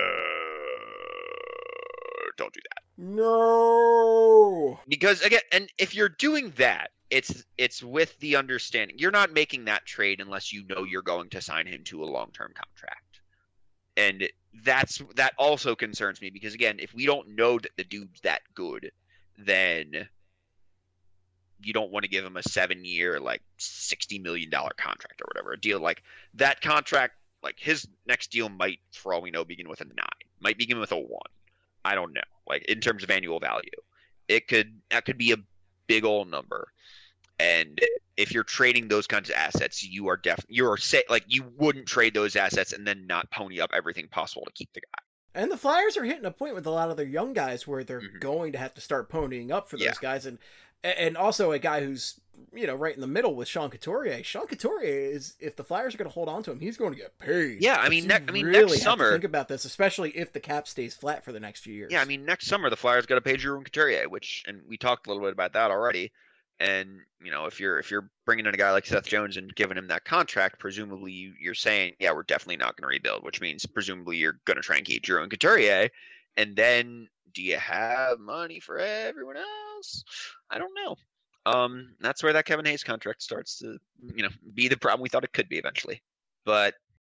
don't do that. No, because again, and if you're doing that, it's it's with the understanding you're not making that trade unless you know you're going to sign him to a long-term contract. And that's that also concerns me because again, if we don't know that the dude's that good, then you don't want to give him a seven-year, like sixty million dollar contract or whatever. A deal like that contract, like his next deal might, for all we know, begin with a nine, might begin with a one. I don't know. Like in terms of annual value, it could that could be a big old number. And if you're trading those kinds of assets, you are definitely you're say like you wouldn't trade those assets and then not pony up everything possible to keep the guy. And the Flyers are hitting a point with a lot of their young guys where they're Mm-hmm. going to have to start ponying up for those Yeah. guys, and and also a guy who's you know right in the middle with Sean Couturier. Sean Couturier is, if the Flyers are going to hold on to him, he's going to get paid. Yeah, I mean, So ne- you I mean, really next have to summer- think about this, especially if the cap stays flat for the next few years. Yeah, I mean, next summer the Flyers got to pay Giroux and Couturier, which, and we talked a little bit about that already. And you know, if you're if you're bringing in a guy like Seth Jones and giving him that contract, presumably you, you're saying, yeah, we're definitely not going to rebuild, which means presumably you're going to try and keep Giroux and Couturier. And then, do you have money for everyone else? I don't know. Um, that's where that Kevin Hayes contract starts to, you know, be the problem we thought it could be eventually. But,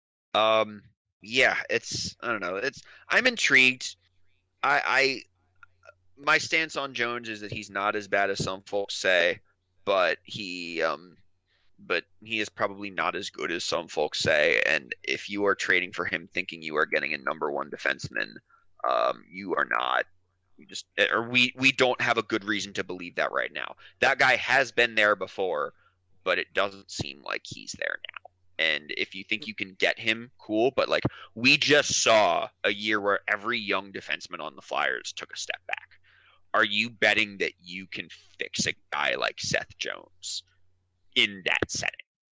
um, yeah, it's I don't know. It's I'm intrigued. I, I my stance on Jones is that he's not as bad as some folks say, but he um, but he is probably not as good as some folks say. And if you are trading for him thinking you are getting a number one defenseman, um, you are not. You just or we we don't have a good reason to believe that right now. That guy has been there before, but it doesn't seem like he's there now. And if you think you can get him, cool. But like we just saw a year where every young defenseman on the Flyers took a step back. Are you betting that you can fix a guy like Seth Jones in that setting?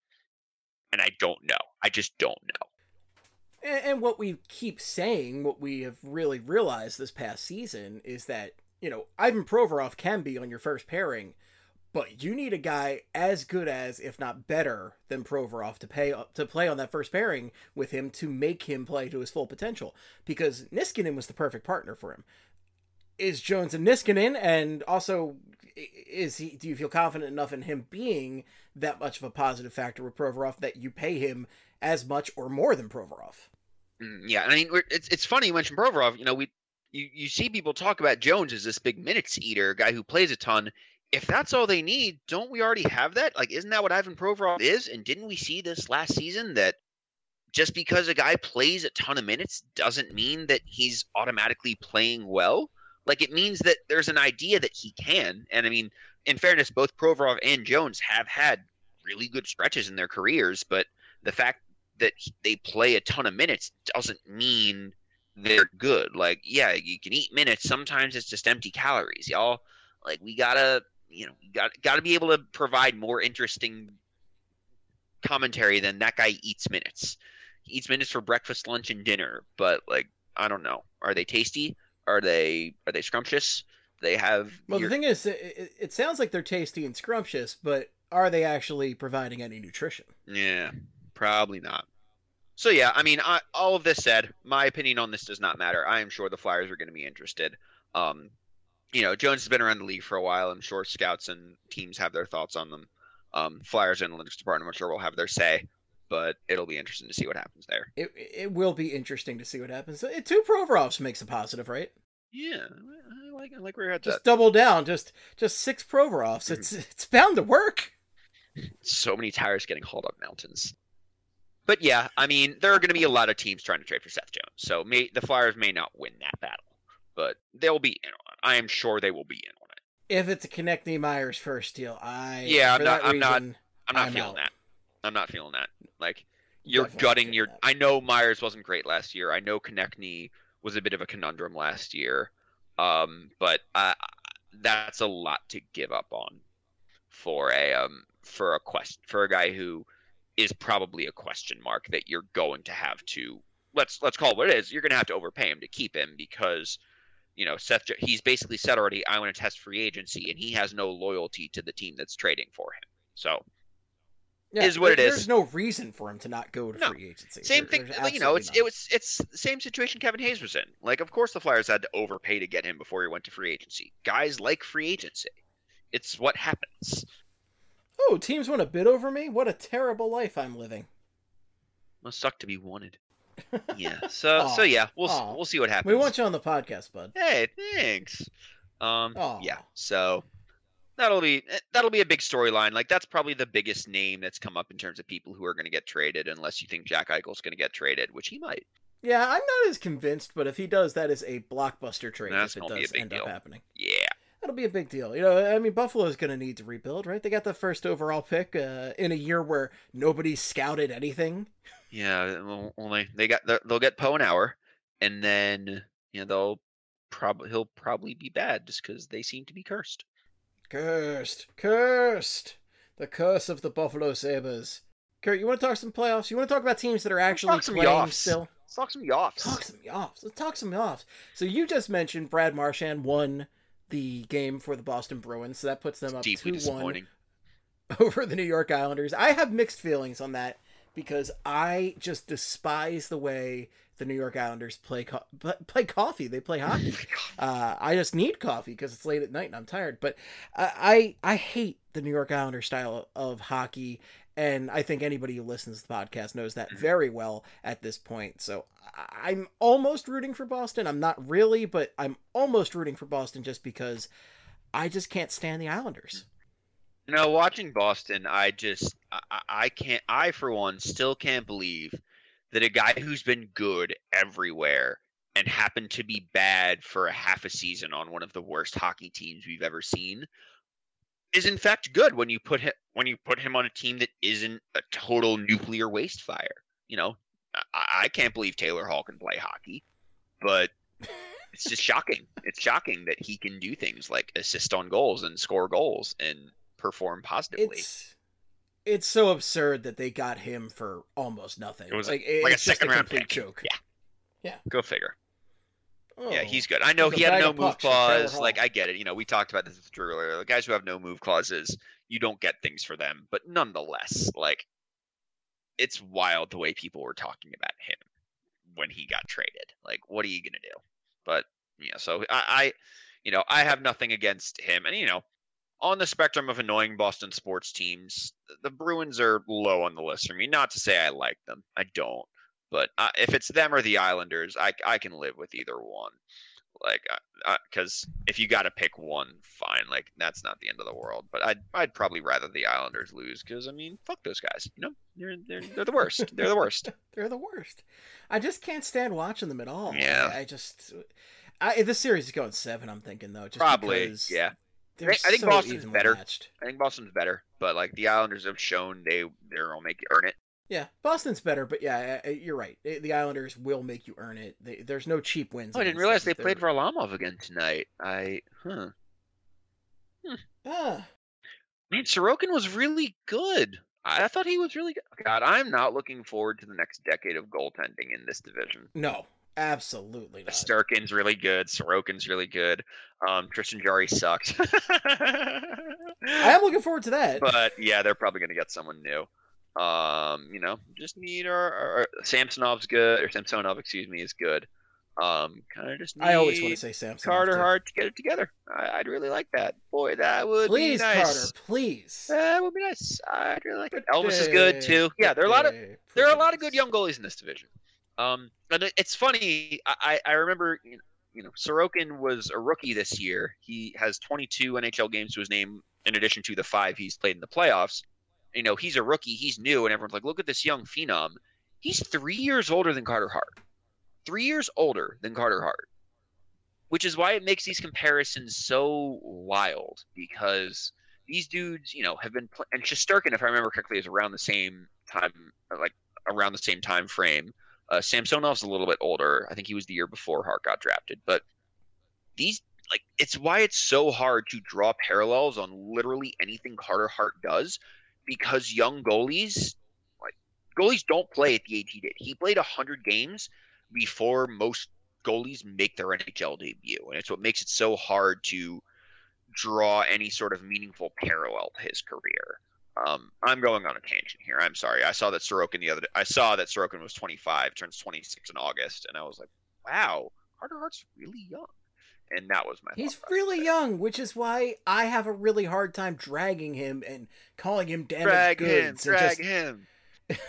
And I don't know. I just don't know. And, and what we keep saying, what we have really realized this past season is that, you know, Ivan Provorov can be on your first pairing, but you need a guy as good as, if not better than Provorov to pay to play on that first pairing with him to make him play to his full potential. Because Niskanen was the perfect partner for him. Is Jones a Niskanen? And also, is he? Do you feel confident enough in him being that much of a positive factor with Provorov that you pay him as much or more than Provorov? Mm, yeah, I mean, we're, it's it's funny you mentioned Provorov. You know, we you, you see people talk about Jones as this big minutes eater, guy who plays a ton. If that's all they need, don't we already have that? Like, isn't that what Ivan Provorov is? And didn't we see this last season that just because a guy plays a ton of minutes doesn't mean that he's automatically playing well? Like, it means that there's an idea that he can. And I mean, in fairness, both Provorov and Jones have had really good stretches in their careers, but the fact that they play a ton of minutes doesn't mean they're good. Like, yeah, you can eat minutes. Sometimes it's just empty calories, y'all. Like, we gotta, you know, got gotta be able to provide more interesting commentary than that guy eats minutes. He eats minutes for breakfast, lunch, and dinner. But like, I don't know. Are they tasty? Are they are they scrumptious? They have. Well, your... the thing is, it, it sounds like they're tasty and scrumptious, but are they actually providing any nutrition? Yeah, probably not. So yeah, I mean, I, all of this said, my opinion on this does not matter. I am sure the Flyers are going to be interested. Um, you know, Jones has been around the league for a while. I'm sure scouts and teams have their thoughts on them. Um, Flyers analytics department, I'm sure, will have their say, but it'll be interesting to see what happens there. It it will be interesting to see what happens. It, two Provorovs makes a positive, right? Yeah, I like I like where you're at. Just that. double down. Just just six Provorovs. It's it's bound to work. So many tires getting hauled up mountains. But yeah, I mean, there are going to be a lot of teams trying to trade for Seth Jones, so may, the Flyers may not win that battle, but they'll be in on it. I am sure they will be in on it. If it's a Konechny Myers first deal, I yeah, I'm not. I'm I'm not. I'm not I'm feeling out. that. I'm not feeling that. Like you're Definitely gutting not your. feeling I know Myers wasn't great last year. I know Konechny was a bit of a conundrum last year, um, but uh, that's a lot to give up on for a um for a quest for a guy who is probably a question mark that you're going to have to let's let's call it what it is. You're going to have to overpay him to keep him because, you know, Seth he's basically said already, I want to test free agency, and he has no loyalty to the team that's trading for him. So Yeah, is what it there- is. There's no reason for him to not go to No. free agency. Same There- thing, there's you know. It's absolutely it was it's the same situation Kevin Hayes was in. Like, of course, the Flyers had to overpay to get him before he went to free agency. Guys like free agency. It's what happens. none. Oh, teams want to bid over me? What a terrible life I'm living. Must suck to be wanted. Yeah. So Aw. so yeah, we'll Aw. we'll see what happens. We want you on the podcast, bud. Hey, thanks. Um, Aw. yeah. So that'll be that'll be a big storyline. Like that's probably the biggest name that's come up in terms of people who are going to get traded, unless you think Jack Eichel's going to get traded, which he might. Yeah, I'm not as convinced, but if he does, that is a blockbuster trade. That's if it gonna be does a big end deal. up happening. Yeah. That'll be a big deal. You know, I mean, Buffalo's going to need to rebuild, right? They got the first overall pick uh, in a year where nobody scouted anything. Yeah. Well, only they got they'll get Poe an hour, and then you know they'll probably he'll probably be bad just because they seem to be cursed. Cursed. Cursed. The curse of the Buffalo Sabres. Kurt, you want to talk some playoffs? You want to talk about teams that are actually talk some playing Yoffs. still? Let's talk some Yoffs. Talk some Yoffs. Let's talk some Yoffs. So you just mentioned Brad Marchand won the game for the Boston Bruins, so that puts them up Deeply two one disappointing. over the New York Islanders. I have mixed feelings on that because I just despise the way the New York Islanders play co- play coffee. They play hockey. Uh, I just need coffee because it's late at night and I'm tired. But I, I I hate the New York Islanders style of hockey, and I think anybody who listens to the podcast knows that very well at this point. So I'm almost rooting for Boston. I'm not really, but I'm almost rooting for Boston just because I just can't stand the Islanders. You know, watching Boston, I just I, I can't I for one still can't believe that a guy who's been good everywhere and happened to be bad for a half a season on one of the worst hockey teams we've ever seen is in fact good when you put him when you put him on a team that isn't a total nuclear waste fire. You know, I, I can't believe Taylor Hall can play hockey, but it's just shocking. It's shocking that he can do things like assist on goals and score goals and perform positively. It's it's so absurd that they got him for almost nothing. It was like, like a it's just second a round complete pick. joke. Yeah, Yeah. Go figure. Oh. Yeah, he's good. I know Like a he had bag no of move pucks from Taylor clause. Hall. Like I get it. You know, we talked about this with Drew earlier. The guys who have no move clauses, you don't get things for them. But nonetheless, like it's wild the way people were talking about him when he got traded. Like, what are you gonna do? But yeah, so I, I you know, I have nothing against him. And you know, on the spectrum of annoying Boston sports teams, the Bruins are low on the list for me. Not to say I like them. I don't. But uh, if it's them or the Islanders, I, I can live with either one. Like, because uh, uh, if you got to pick one, fine. Like, that's not the end of the world. But I'd I'd probably rather the Islanders lose because I mean, fuck those guys. You know, they're they're they're the worst. They're the worst. They're the worst. I just can't stand watching them at all. Yeah. I, I just, I this series is going seven. I'm thinking though, just Probably. because Yeah. they're I think so Boston's evenly better. matched. I think Boston's better, but like the Islanders have shown they they're gonna make you earn it. Yeah, Boston's better, but yeah, I- I- you're right. The Islanders will make you earn it. They, there's no cheap wins. Oh, I didn't against realize they them. played They're- Varlamov again tonight. I huh. Ah, Man, Sorokin was really good. I, I thought he was really good. God, I'm not looking forward to the next decade of goaltending in this division. no, absolutely not. Sturkin's really good. Sorokin's really good. Um, Tristan Jarry sucked. I am looking forward to that. But yeah, they're probably going to get someone new. Um, you know, just need our, our, our Samsonov's good, or Samsonov, excuse me, is good. Um, kind of just need I always want to say Samson. Carter Hart to get it together. I, I'd really like that. Boy, that would Please, be nice. Carter, please. That would be nice. I'd really like it. Pretty, Elvis is good too. Yeah, there are a lot of pretty, there are a pretty lot of good nice. young goalies in this division. Um, and it, it's funny. I I remember you know, you know Sorokin was a rookie this year. He has twenty-two N H L games to his name in addition to the five he's played in the playoffs. You know, he's a rookie. He's new, and everyone's like, "Look at this young phenom." He's three years older than Carter Hart. Three years older than Carter Hart, which is why it makes these comparisons so wild because these dudes, you know, have been pl- and Shesterkin, if I remember correctly, is around the same time, like around the same time frame. Uh, Samsonov's a little bit older. I think he was the year before Hart got drafted. But these, like, it's why it's so hard to draw parallels on literally anything Carter Hart does because young goalies, like goalies, don't play at the age he did. He played one hundred games before most goalies make their N H L debut, and it's what makes it so hard to draw any sort of meaningful parallel to his career. Um, I'm going on a tangent here. I'm sorry. I saw that Sorokin the other day. I saw that Sorokin was twenty-five, turns twenty-six in August, and I was like, "Wow, Carter Hart's really young." And that was my. He's thought really process. young, which is why I have a really hard time dragging him and calling him damaged Drag goods. him, and drag just- him.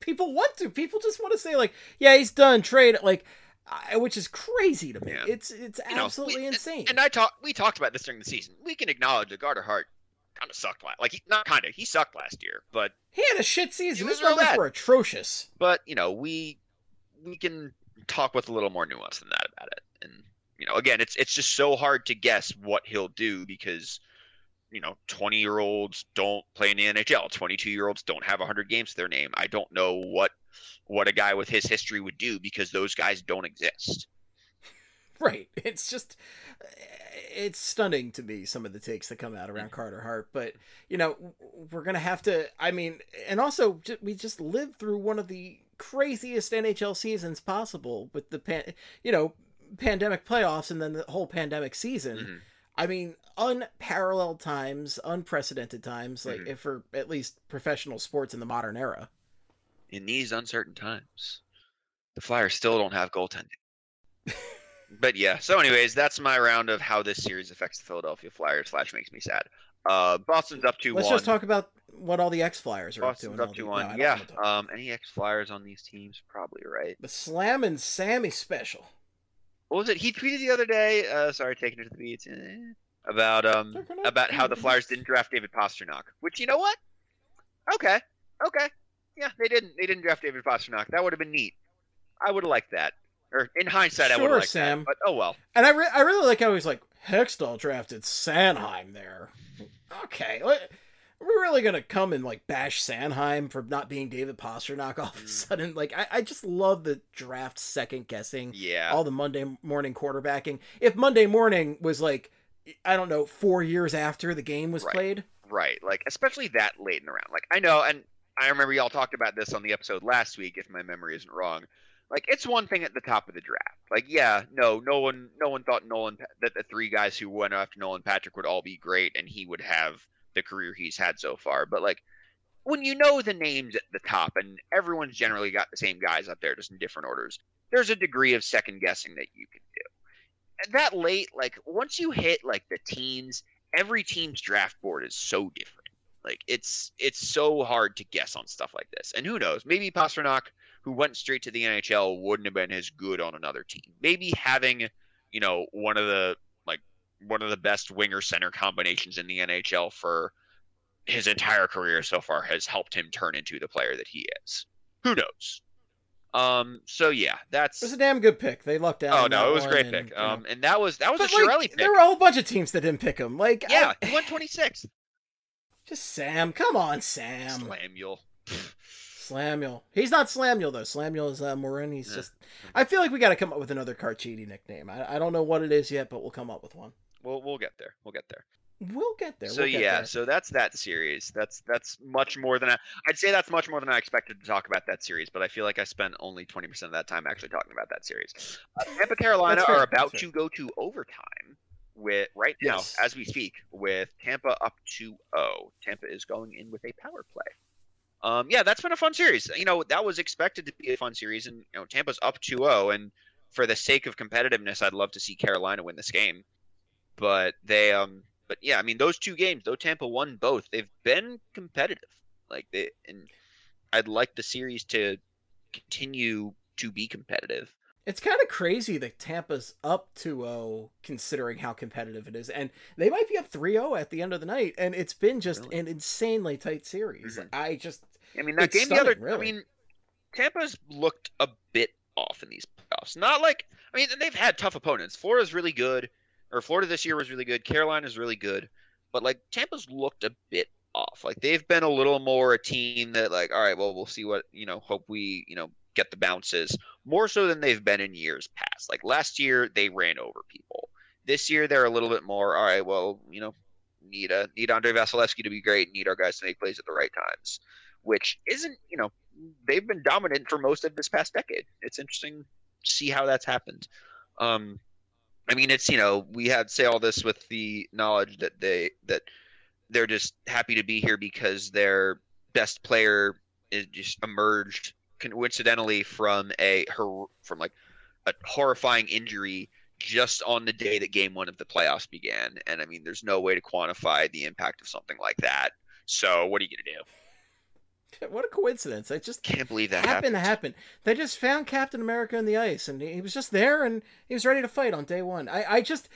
people want to. People just want to say like, yeah, he's done, trade it, like, I, which is crazy to me. Yeah. It's it's You know, absolutely we- insane. And, and I talked, we talked about this during the season. We can acknowledge that Carter Hart kind of sucked last. Like, he, not kind of, he sucked last year. But, he had a shit season. He was His real numbers bad. were atrocious. but you know, we we can talk with a little more nuance than that about it. And you know, again, it's it's just so hard to guess what he'll do because you know, twenty year olds don't play in the N H L. twenty-two year olds don't have one hundred games to their name. I don't know what what a guy with his history would do because those guys don't exist. Right. It's just, it's stunning to me, some of the takes that come out around Carter Hart. But, you know, we're going to have to, I mean, and also we just lived through one of the craziest N H L seasons possible with the, pan, you know, pandemic playoffs and then the whole pandemic season. Mm-hmm. I mean, unparalleled times, unprecedented times, like Mhm. if for at least professional sports in the modern era. In these uncertain times, the Flyers still don't have goaltending. But yeah, so anyways, that's my round of how this series affects the Philadelphia Flyers slash makes me sad. Uh, Boston's up two one. Let's just talk about what all the X-Flyers are Boston's up to. up two No, one. I don't Yeah. wanna talk- Um, any X-Flyers on these teams? Probably right. The Slam and Sammy special. What was it? He tweeted the other day. Uh, sorry, taking it to the beats. eh, About um Taking it about to how the the Flyers beats. didn't draft David Pastrnak. Which, you know what? Okay, okay, yeah, they didn't. They didn't draft David Pastrnak. That would have been neat. I would have liked that. Or in hindsight, I would Sure, have liked Sam. that. But oh well. And I, re- I really like how he's like, Hextall drafted Sanheim there. Okay, what- we're really gonna come and like bash Sanheim for not being David Pastrnak all of a Mm. sudden. Like, I, I just love the draft second guessing. Yeah. All the Monday morning quarterbacking. If Monday morning was like, I don't know, four years after the game was Right. played. Right, like especially that late in the round. Like I know, and I remember y'all talked about this on the episode last week, if my memory isn't wrong. Like it's one thing at the top of the draft. Like yeah, no, no one, no one thought Nolan that the three guys who went after Nolan Patrick would all be great, and he would have the career he's had so far. But like when you know the names at the top, and everyone's generally got the same guys up there, just in different orders, there's a degree of second guessing that you can do. And that late, like once you hit like the teens. Every team's draft board is so different. Like it's it's so hard to guess on stuff like this. And who knows? Maybe Pastrnak, who went straight to the N H L, wouldn't have been as good on another team. Maybe having, you know, one of the like one of the best winger center combinations in the N H L for his entire career so far has helped him turn into the player that he is. Who knows? Um. So yeah, that's. It was a damn good pick. They lucked out. Oh on no, that it was a one great and, pick. you know. Um, and that was that was But, a Chiarelli like, pick. there were a whole bunch of teams that didn't pick him. Like, Yeah, I- he went twenty-sixth. just Sam. Come on, Sam. Slamuel. Slamuel. He's not Slamuel though. Slamuel is uh, Morin. He's Yeah. just. I feel like we got to come up with another Carchidi nickname. I, I don't know what it is yet, but we'll come up with one. We'll we'll get there. We'll get there. We'll get there. So we'll get yeah, there. so that's that series. That's that's much more than I, I'd say that's much more than I expected to talk about that series. But I feel like I spent only twenty percent of that time actually talking about that series. Uh, Tampa, Carolina That's fair, are about that's to go to overtime with right now Yes. as we speak with Tampa up two oh. Tampa is going in with a power play. Um, yeah, that's been a fun series. You know, that was expected to be a fun series, and you know, Tampa's up two oh, and for the sake of competitiveness, I'd love to see Carolina win this game. But they, um, but yeah, I mean, those two games, though Tampa won both, they've been competitive. Like they, and I'd like the series to continue to be competitive. It's kind of crazy that Tampa's up two oh considering how competitive it is. And they might be up three oh at the end of the night. And it's been just Really? an insanely tight series. Mhm. I just... I mean, that It's game the other, stunning, really. I mean, Tampa's looked a bit off in these playoffs. Not like, I mean, they've had tough opponents. Florida's really good, or Florida this year was really good. Carolina's really good, but like Tampa's looked a bit off. Like they've been a little more a team that like, all right, well, we'll see what, you know, hope we, you know, get the bounces more so than they've been in years past. Like last year they ran over people. This year they're a little bit more, all right, well, you know, need a need Andre Vasilevsky to be great, need our guys to make plays at the right times, which isn't, you know, they've been dominant for most of this past decade. It's interesting to see how that's happened. Um, I mean, it's, you know, we had say all this with the knowledge that they that they're just happy to be here because their best player is just emerged coincidentally from a her from like a horrifying injury just on the day that game one of the playoffs began. And I mean, there's no way to quantify the impact of something like that. So what are you gonna do? What a coincidence. It just Can't believe that happened to happened. happen. They just found Captain America in the ice, and he was just there, and he was ready to fight on day one. I, I just...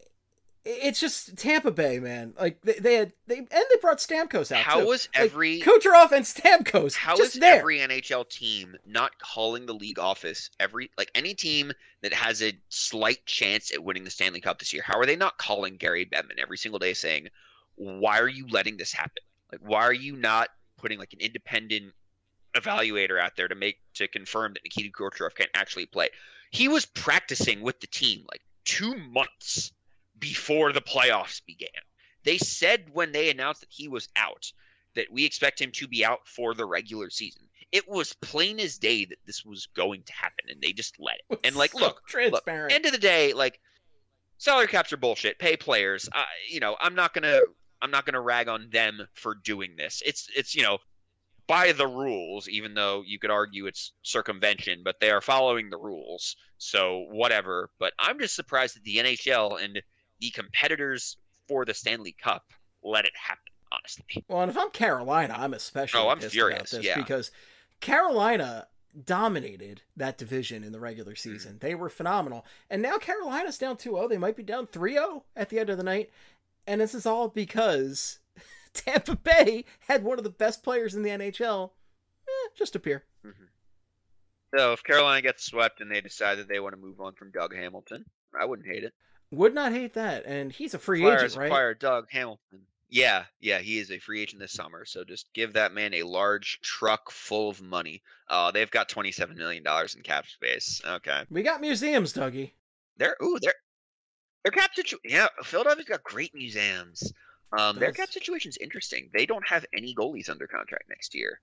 It's just Tampa Bay, man. Like, they, they had... they And they brought Stamkos out, How too. was Like, every... Kucherov and Stamkos How just is there. every N H L team not calling the league office every like any team that has a slight chance at winning the Stanley Cup this year? How are they not calling Gary Bettman every single day saying, "Why are you letting this happen? Like, why are you not putting like an independent evaluator out there to make to confirm that Nikita Kucherov can actually play?" He was practicing with the team like two months before the playoffs began. They said when they announced that he was out that we expect him to be out for the regular season. It was plain as day that this was going to happen, and they just let it. And like, So look, look, transparent. end of the day, like salary caps are bullshit. Pay players. Uh, you know, I'm not gonna, I'm not gonna rag on them for doing this. It's, it's, you know, by the rules, even though you could argue it's circumvention, but they are following the rules. So whatever. But I'm just surprised that the N H L and the competitors for the Stanley Cup let it happen. Honestly. Well, and if I'm Carolina, I'm especially Oh, I'm pissed furious, about this yeah. because Carolina dominated that division in the regular Mm. season. They were phenomenal. And now Carolina's down two oh. They might be down three oh at the end of the night. And this is all because Tampa Bay had one of the best players in the N H L eh, just appear. Mm-hmm. So if Carolina gets swept and they decide that they want to move on from Doug Hamilton, I wouldn't hate it. Would not hate that. And he's a free Flyers agent, right? acquire Doug Hamilton. Yeah, yeah, he is a free agent this summer. So just give that man a large truck full of money. Uh, they've got twenty-seven million dollars in cap space. Okay. We got museums, Dougie. They're ooh, they're their cap situation. Yeah, Philadelphia's got great museums. Um, their cap situation's interesting. They don't have any goalies under contract next year,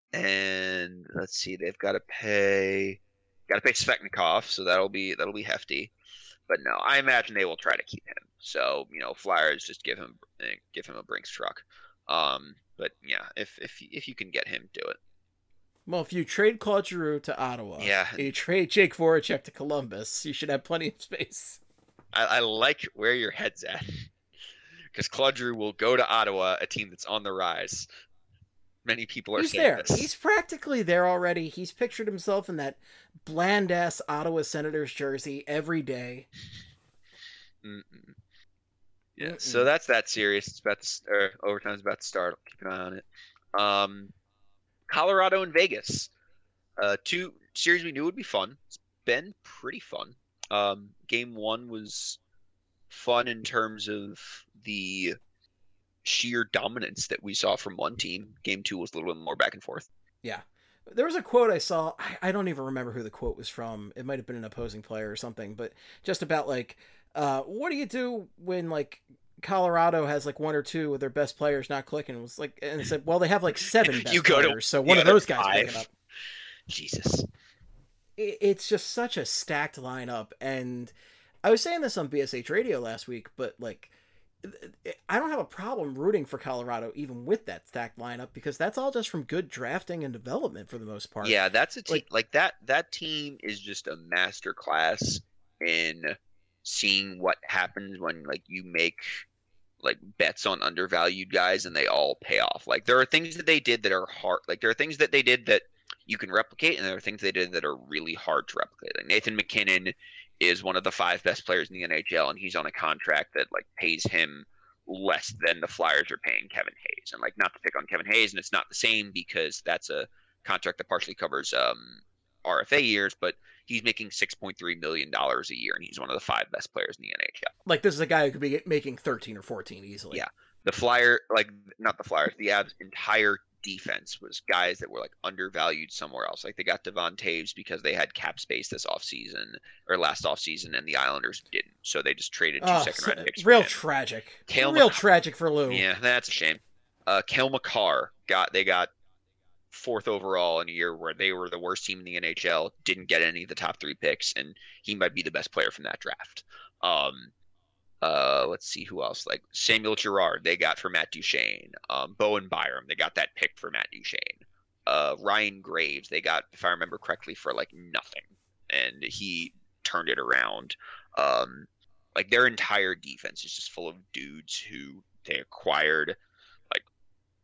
and let's see, they've got to pay, got to pay Svechnikov, so that'll be that'll be hefty. But no, I imagine they will try to keep him. So you know, Flyers just give him give him a Brinks truck. Um, but yeah, if if if you can get him, do it. Well, if you trade Claude Giroux to Ottawa, Yeah. and you trade Jake Voracek to Columbus, you should have plenty of space. I, I like where your head's at, because Claude Giroux will go to Ottawa, a team that's on the rise. Many people are He's saying there. this. He's practically there already. He's pictured himself in that bland ass Ottawa Senators jersey every day. Mm-mm. Yeah, so that's that series. It's about to, or overtime's about to start. I'll keep an eye on it. Um, Colorado and Vegas, uh, two series we knew would be fun. It's been pretty fun. Um, game one was fun in terms of the sheer dominance that we saw from one team. Game two was a little bit more back and forth. Yeah. There was a quote I saw. I, I don't even remember who the quote was from. It might have been an opposing player or something, but just about like, uh, what do you do when like Colorado has like one or two of their best players not clicking? It was like, and it said, well, they have like seven best You go to players, so one the of those other guys five. pick it up. Jesus. It, it's just such a stacked lineup, and I was saying this on B S H Radio last week, but like, I don't have a problem rooting for Colorado even with that stacked lineup because that's all just from good drafting and development for the most part. Yeah, that's a team Like- like, that. That team is just a master class in seeing what happens when like you make like bets on undervalued guys and they all pay off. Like there are things that they did that are hard. Like there are things that they did that you can replicate, and there are things they did that are really hard to replicate. Like Nathan McKinnon is one of the five best players in the N H L, and he's on a contract that like pays him less than the Flyers are paying Kevin Hayes. And like, not to pick on Kevin Hayes, and it's not the same because that's a contract that partially covers um, R F A years, but he's making six point three million dollars a year, and he's one of the five best players in the N H L. Like this is a guy who could be making thirteen or fourteen easily. Yeah. The Flyer, like not the Flyers, the Avs' entire defense was guys that were like undervalued somewhere else. Like they got Devon Taves because they had cap space this offseason or last offseason, and the Islanders didn't. So they just traded two Oh, second so- round picks. for real him. tragic. Cale real McCarr- tragic for Lou. Yeah, that's a shame. Uh, Cale McCarr got they got fourth overall in a year where they were the worst team in the N H L, didn't get any of the top three picks, and he might be the best player from that draft. Um, uh, let's see who else. Like Samuel Girard, they got for Matt Duchene. Um, Bowen Byram, they got that pick for Matt Duchene. Uh, Ryan Graves, they got, if I remember correctly, for like nothing, and he turned it around. Um, like their entire defense is just full of dudes who they acquired like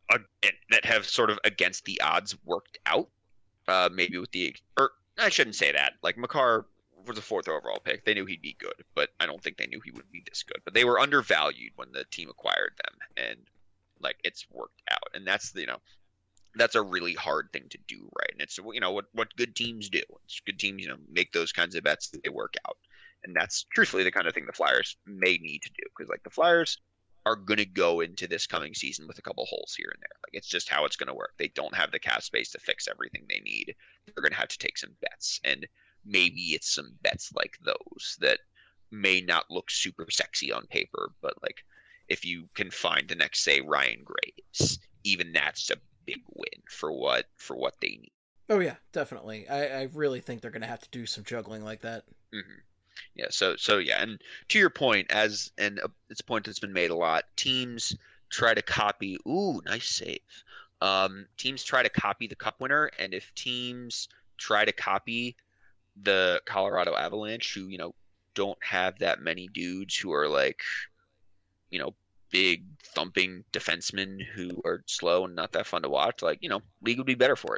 uh, that have sort of against the odds worked out. Uh, maybe with the or I shouldn't say that. Like Makar was a fourth overall pick. They knew he'd be good, but I don't think they knew he would be this good. But they were undervalued when the team acquired them, and like it's worked out. And that's you know that's a really hard thing to do, right? And it's you know what what good teams do. It's good teams you know make those kinds of bets that they work out. And that's truthfully the kind of thing the Flyers may need to do, because like the Flyers are going to go into this coming season with a couple holes here and there. Like it's just how it's going to work. They don't have the cap space to fix everything they need. They're going to have to take some bets, and maybe it's some bets like those that may not look super sexy on paper, but like if you can find the next, say, Ryan Graves, even that's a big win for what for what they need. Oh yeah, definitely. I, I really think they're going to have to do some juggling like that. Mm-hmm. Yeah, so so yeah, and to your point, as and uh, it's a point that's been made a lot. Teams try to copy. Ooh, nice save. Um, teams try to copy the Cup winner, and if teams try to copy the Colorado Avalanche, who you know don't have that many dudes who are like, you know, big thumping defensemen who are slow and not that fun to watch, like you know, league would be better for it.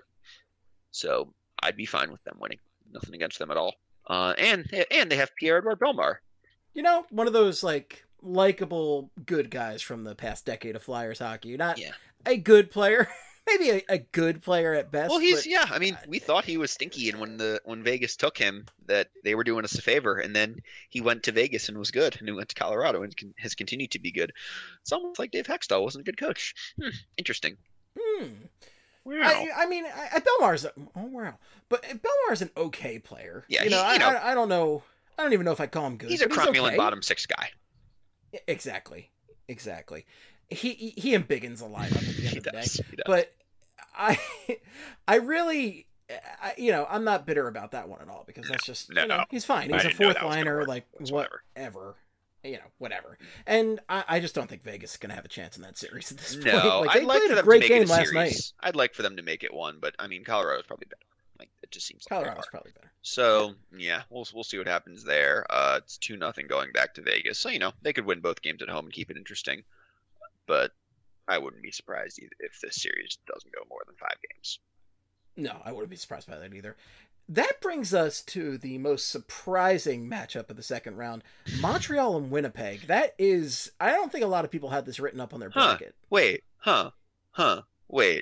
So I'd be fine with them winning. Nothing against them at all. Uh, and and they have Pierre-Edouard Bellemare. You know, one of those like likable good guys from the past decade of Flyers hockey. Not yeah. a good player, maybe a, a good player at best. Well, he's but, yeah. I mean, we thought he was stinky, and when the when Vegas took him, that they were doing us a favor, and then he went to Vegas and was good, and he went to Colorado and can, has continued to be good. It's almost like Dave Hextall wasn't a good coach. Hmm, interesting. Hmm. Wow. I, I mean, I, Bellemar's a, oh wow, but Bellemar's an okay player. Yeah, you know, he, you I, know I, I don't know. I don't even know if I'd call him good. He's a crummy okay. bottom six guy. Exactly, exactly. He he, he embiggens a lineup at the end he of the does. day. He does. But I I really, I, you know, I'm not bitter about that one at all, because that's just no, you know, he's fine. He's I a didn't know fourth that was gonna liner, work like whatsoever. whatever. You know, whatever. And I, I just don't think Vegas is going to have a chance in that series at this point. No, like, I'd they like played for a them great to make game it a last series. night. I'd like for them to make it one, but I mean, Colorado's probably better. Like it just seems like Colorado's probably better. So yeah, we'll we'll see what happens there. Uh, it's two nothing going back to Vegas, so you know they could win both games at home and keep it interesting. But I wouldn't be surprised if this series doesn't go more than five games. No, I wouldn't be surprised by that either. That brings us to the most surprising matchup of the second round, Montreal and Winnipeg. That is, I don't think a lot of people had this written up on their Huh. bracket. Wait, huh, huh, wait.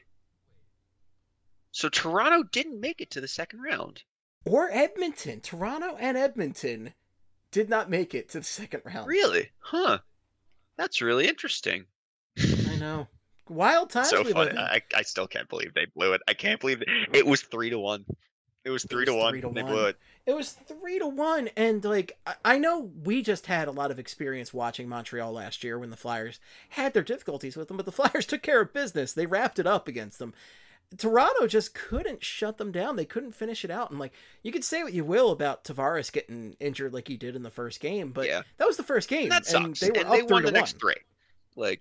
So Toronto didn't make it to the second round. Or Edmonton. Toronto and Edmonton did not make it to the second round. Really? Huh. That's really interesting. I know. Wild times. So we funny. live in. I, I still can't believe they blew it. I can't believe it. It was three to one. It was three It was to one. three to They one. blew it. It was three to one, and like I, I know we just had a lot of experience watching Montreal last year when the Flyers had their difficulties with them, but the Flyers took care of business. They wrapped it up against them. Toronto just couldn't shut them down. They couldn't finish it out, and like you could say what you will about Tavares getting injured like he did in the first game, but Yeah. that was the first game, And that sucks. and they were and up they three won to the next one. three. Like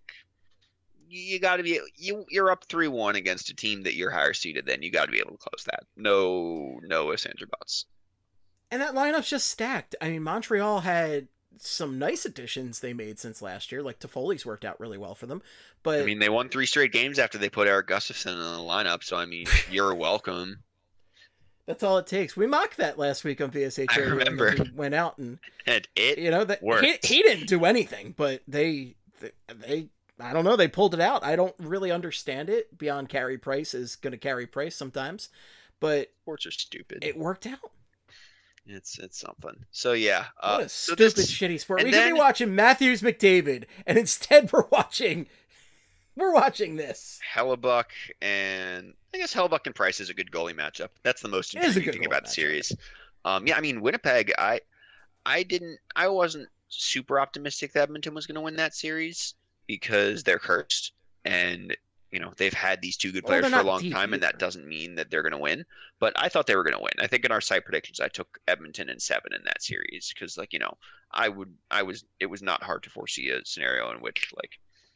you, you got to be you. You're up three one against a team that you're higher seeded. Then you got to be able to close that. No, no ifs, ands, or buts. And that lineup's just stacked. I mean, Montreal had some nice additions they made since last year. Like Toffoli's worked out really well for them. But I mean, they won three straight games after they put Eric Gustafsson in the lineup. So I mean, you're welcome. that's all it takes. We mocked that last week on V S H I Radio. and remember. then we went out and And it you know that he, worked. he didn't do anything, but they, they they I don't know, they pulled it out. I don't really understand it beyond Carey Price is going to carry Price sometimes, but Sports are stupid. it worked out. It's it's something. So yeah. Uh, What a so stupid, this- shitty sport. and We could then- be watching Matthews McDavid, and instead we're watching, we're watching this. Hellebuck and I guess Hellebuck and Price is a good goalie matchup. That's the most It is a intriguing good thing about goalie the matchup. series. Um, yeah, I mean Winnipeg. I I didn't. I wasn't super optimistic that Edmonton was going to win that series because they're cursed, and you know they've had these two good Well, players they're for a not long deep time, and that either. doesn't mean that they're going to win. But I thought they were going to win. I think in our site predictions, I took Edmonton in seven in that series because, like you know, I would. I was. It was not hard to foresee a scenario in which like.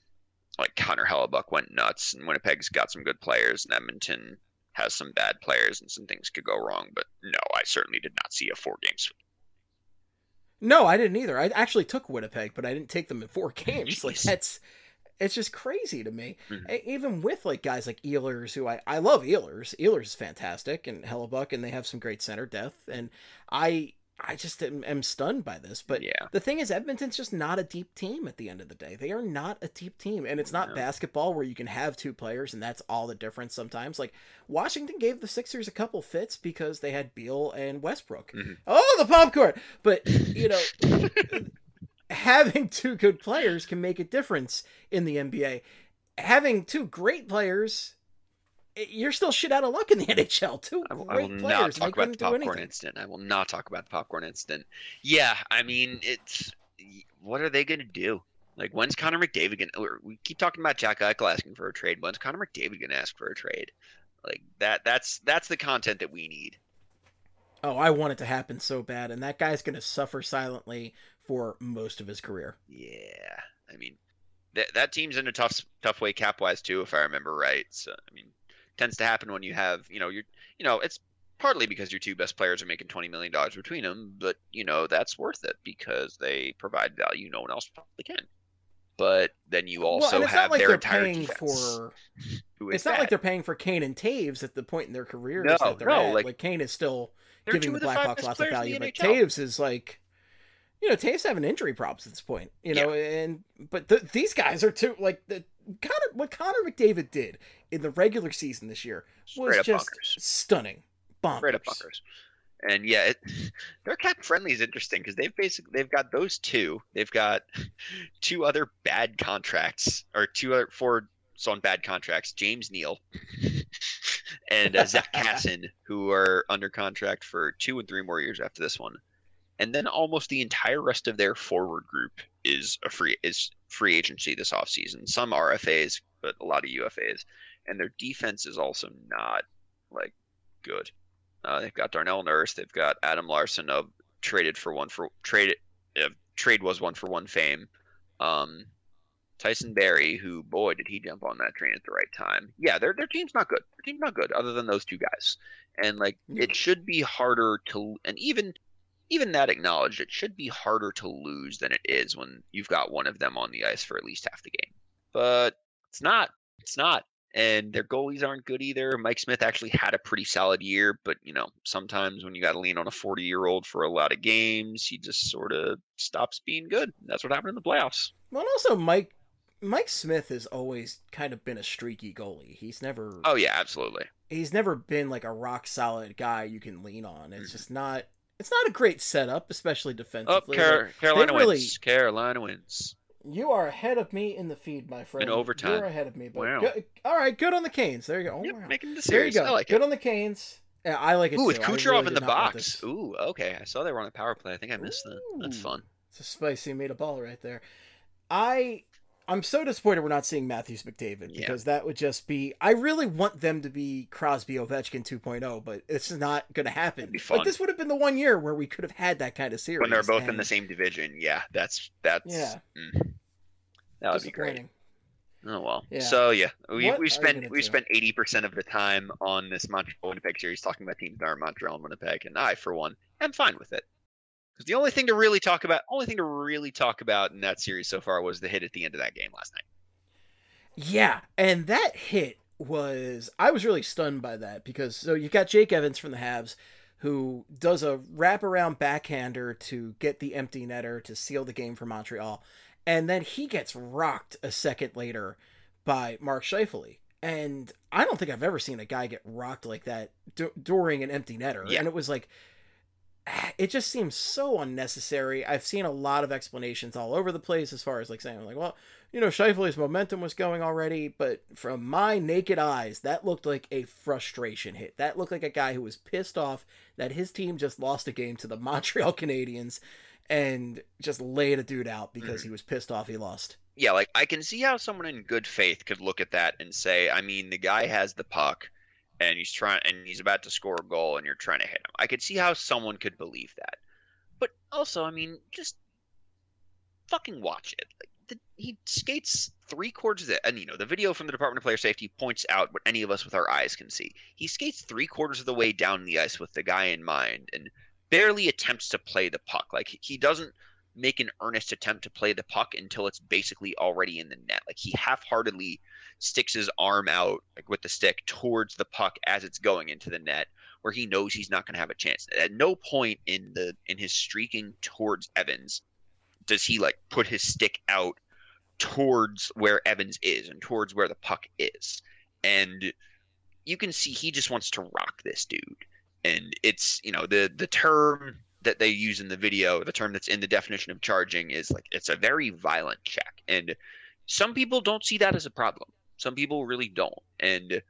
Like Connor Hellebuck went nuts, and Winnipeg's got some good players, and Edmonton has some bad players, and some things could go wrong. But no, I certainly did not see a four-game sweep. No, I didn't either. I actually took Winnipeg, but I didn't take them in four games. Like Jeez. that's It's just crazy to me. Mhm. E- Even with like guys like Ehlers, who I, I love Ehlers. Ehlers is fantastic, and Hellebuck, and they have some great center depth. And I I just am, am stunned by this. But Yeah. the thing is, Edmonton's just not a deep team at the end of the day. They are not a deep team. And it's not No. basketball where you can have two players and that's all the difference sometimes. Like Washington gave the Sixers a couple fits because they had Beal and Westbrook. Mhm. Oh, the popcorn! But, you know, having two good players can make a difference in the N B A. Having two great players, you're still shit out of luck in the N H L. Two I will, great I will players, not and they talk about couldn't the do popcorn anything. incident. I will not talk about the popcorn incident. Yeah, I mean, it's what are they going to do? Like, when's Connor McDavid going to... We keep talking about Jack Eichel asking for a trade. When's Connor McDavid going to ask for a trade? Like, that. that's that's the content that we need. Oh, I want it to happen so bad, and that guy's going to suffer silently for most of his career. Yeah, I mean, that that team's in a tough tough way cap-wise, too, if I remember right. So, I mean, tends to happen when you have, you know, you're, you know, it's partly because your two best players are making twenty million dollars between them, but, you know, that's worth it because they provide value no one else probably can. But then you Well, also and it's have not like their they're entire paying defense. for. Who is It's not that? like they're paying for Kane and Taves at the point in their careers No, that they're no, at. like- Like, Kane is still They're giving two the of the five Blackhawks best lots of players in value, the but N H L. Taves is like, you know, Taves having injury problems at this point, you know, and but the, these guys are too like the Connor what Connor McDavid did in the regular season this year was Straight up just bonkers. stunning, bonkers. Straight up bunkers. And yeah, it, their cap friendly is interesting because they've basically they've got those two. They've got two other bad contracts or two other four on bad contracts. James Neal and uh, Zach Casson, who are under contract for two and three more years after this one. And then almost the entire rest of their forward group is a free is free agency this offseason. Some R F As, but a lot of U F As. And their defense is also not like good. Uh, they've got Darnell Nurse. They've got Adam Larson of traded for one for trade. Uh, trade was one for one fame. Um, Tyson Barrie, who boy did he jump on that train at the right time. Yeah, their their team's not good. Their team's not good other than those two guys. And like it should be harder to and even even that acknowledged, it should be harder to lose than it is when you've got one of them on the ice for at least half the game. But it's not. It's not. And their goalies aren't good either. Mike Smith actually had a pretty solid year, but you know, sometimes when you got to lean on a forty-year-old for a lot of games, he just sort of stops being good. That's what happened in the playoffs. Well, and also Mike Mike Smith has always kind of been a streaky goalie. He's never Oh yeah, absolutely. he's never been like a rock solid guy you can lean on. It's just not it's not a great setup, especially Oh, defensively. Car- Like, Carolina they really- wins. Carolina wins. You are ahead of me in the feed, my friend. In overtime. You're ahead of me. But Wow. go- all right, good on the Canes. There you go. Oh, Yep, wow. making the There you series. go. I like good it. on the Canes. Yeah, I like it Ooh, with too. I Kucherov really in did the not want box. this. Ooh, okay. I saw they were on a power play. I think I missed that. That's Ooh. fun. It's a spicy made a ball right there. I I'm so disappointed we're not seeing Matthews McDavid Yeah. because that would just be. I really want them to be Crosby Ovechkin two point oh, but it's not going to happen. It'd be fun. Like this would have been the one year where we could have had that kind of series When they're both in and the same division, yeah, that's that's Yeah. mm, that would be great. disappointing. Oh well. Yeah. So yeah, we What are we you spent gonna we do? spent eighty percent of the time on this Montreal Winnipeg series talking about teams that are Montreal and Winnipeg, and I, for one, am fine with it. Because the only thing to really talk about, only thing to really talk about in that series so far was the hit at the end of that game last night. Yeah, and that hit was I was really stunned by that because so you've got Jake Evans from the Habs who does a wraparound backhander to get the empty netter to seal the game for Montreal, and then he gets rocked a second later by Mark Scheifele. And I don't think I've ever seen a guy get rocked like that d- during an empty netter. Yeah. And it was like, it just seems so unnecessary. I've seen a lot of explanations all over the place as far as like saying like, well, you know, Scheifele's momentum was going already, but from my naked eyes, that looked like a frustration hit. That looked like a guy who was pissed off that his team just lost a game to the Montreal Canadiens and just laid a dude out because he was pissed off he lost. Yeah, like I can see how someone in good faith could look at that and say, I mean, the guy has the puck and he's trying and he's about to score a goal and you're trying to hit him. I could see how someone could believe that. But also, I mean, just fucking watch it. Like the, he skates three quarters of the, and you know, the video from the Department of Player Safety points out what any of us with our eyes can see. He skates three quarters of the way down the ice with the guy in mind and barely attempts to play the puck. Like he doesn't make an earnest attempt to play the puck until it's basically already in the net. Like he half-heartedly sticks his arm out like with the stick towards the puck as it's going into the net, where he knows he's not going to have a chance. At no point in the in his streaking towards Evans does he like put his stick out towards where Evans is and towards where the puck is. And you can see he just wants to rock this dude. And it's, you know, the the term that they use in the video, the term that's in the definition of charging is like, it's a very violent check. And some people don't see that as a problem. Some people really don't. And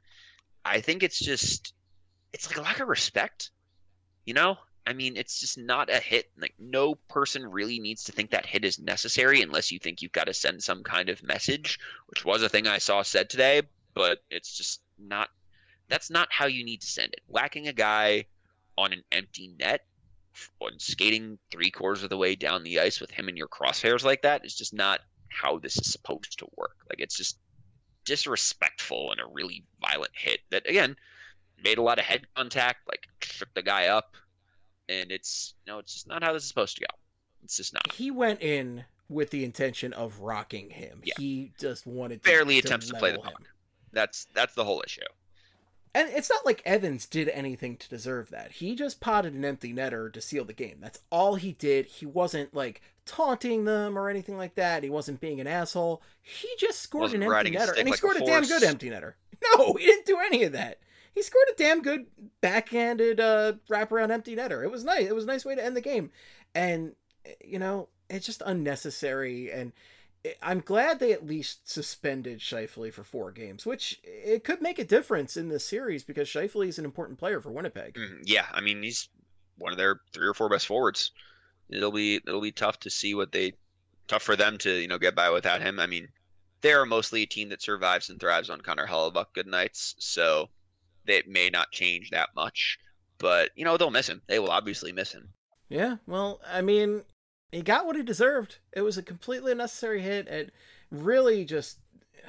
I think it's just, it's like a lack of respect, you know? I mean, it's just not a hit. Like, no person really needs to think that hit is necessary unless you think you've got to send some kind of message, which was a thing I saw said today, but it's just not, that's not how you need to send it. Whacking a guy on an empty net and skating three quarters of the way down the ice with him in your crosshairs like that is just not how this is supposed to work. Like, it's just disrespectful and a really violent hit that, again, made a lot of head contact, like shook the guy up, and it's, you know, it's just not how this is supposed to go. It's just not. He went in with the intention of rocking him. Yeah. He just wanted to barely to attempts to play the level puck. him. That's that's the whole issue. And it's not like Evans did anything to deserve that. He just potted an empty netter to seal the game. That's all he did. He wasn't like taunting them or anything like that. He wasn't being an asshole. He just scored Wasn't an empty riding his netter, stick and he like a scored a, damn horse. good empty netter. No, he didn't do any of that. He scored a damn good backhanded uh, wraparound empty netter. It was nice. It was a nice way to end the game. And, you know, it's just unnecessary. And I'm glad they at least suspended Scheifele for four games, which it could make a difference in this series because Scheifele is an important player for Winnipeg. Mm, yeah, I mean, he's one of their three or four best forwards. It'll be it'll be tough to see what they tough for them to, you know, get by without him. I mean, they're mostly a team that survives and thrives on Connor Hellebuyck good nights, so they may not change that much. But, you know, they'll miss him. They will obviously miss him. Yeah, well, I mean, he got what he deserved. It was a completely unnecessary hit, and really just,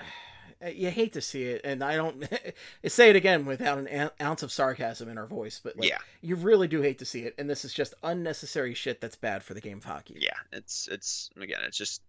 you hate to see it, and I don't say it again without an ounce of sarcasm in our voice, but like, Yeah. you really do hate to see it, and this is just unnecessary shit that's bad for the game of hockey. Yeah, it's it's again, it's just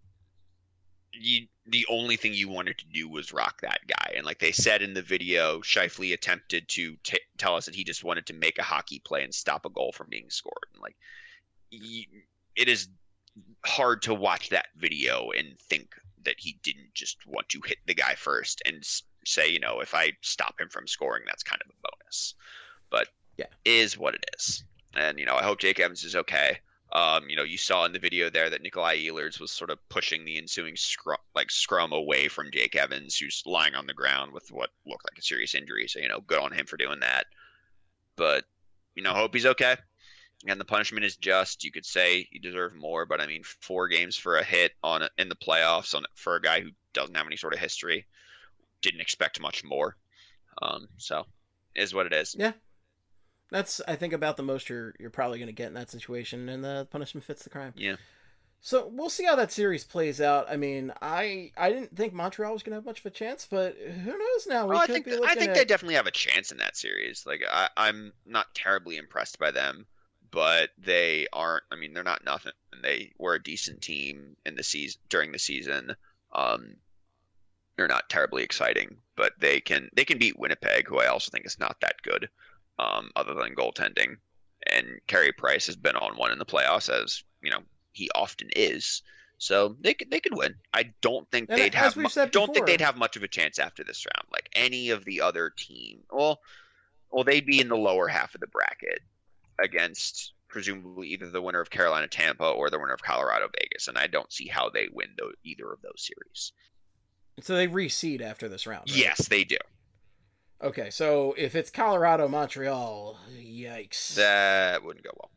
you. The only thing you wanted to do was rock that guy, and like they said in the video, Scheifele attempted to t- tell us that he just wanted to make a hockey play and stop a goal from being scored. And like, he, it is hard to watch that video and think that he didn't just want to hit the guy first and say, you know, if I stop him from scoring, that's kind of a bonus. But yeah, it is what it is. And, you know, I hope Jake Evans is okay. Um, you know, you saw in the video there that Nikolai Ehlers was sort of pushing the ensuing scrum, like scrum away from Jake Evans, who's lying on the ground with what looked like a serious injury. So, you know, good on him for doing that. But, you know, hope he's okay. And the punishment is just. You could say he deserved more, but I mean, four games for a hit on in the playoffs on for a guy who doesn't have any sort of history. Didn't expect much more. Um, so, it is what it is. Yeah. That's, I think, about the most you're you're probably going to get in that situation, and the punishment fits the crime. Yeah. So we'll see how that series plays out. I mean, I I didn't think Montreal was going to have much of a chance, but who knows now? We well, I could think be looking I think at... they definitely have a chance in that series. Like I, I'm not terribly impressed by them, but they aren't. I mean, they're not nothing. They were a decent team in the season during the season. Um, they're not terribly exciting, but they can they can beat Winnipeg, who I also think is not that good. Um, other than goaltending, and Carey Price has been on one in the playoffs, as you know he often is. So they could they could win. I don't think And they'd as have. we've Mu- said don't think before- they'd have much of a chance after this round. Like any of the other team. Well, well, they'd be in the lower half of the bracket against presumably either the winner of Carolina Tampa or the winner of Colorado Vegas, and I don't see how they win tho- either of those series. So they reseed after this round, right? Yes, they do. Okay, so if it's Colorado, Montreal, yikes. That wouldn't go well.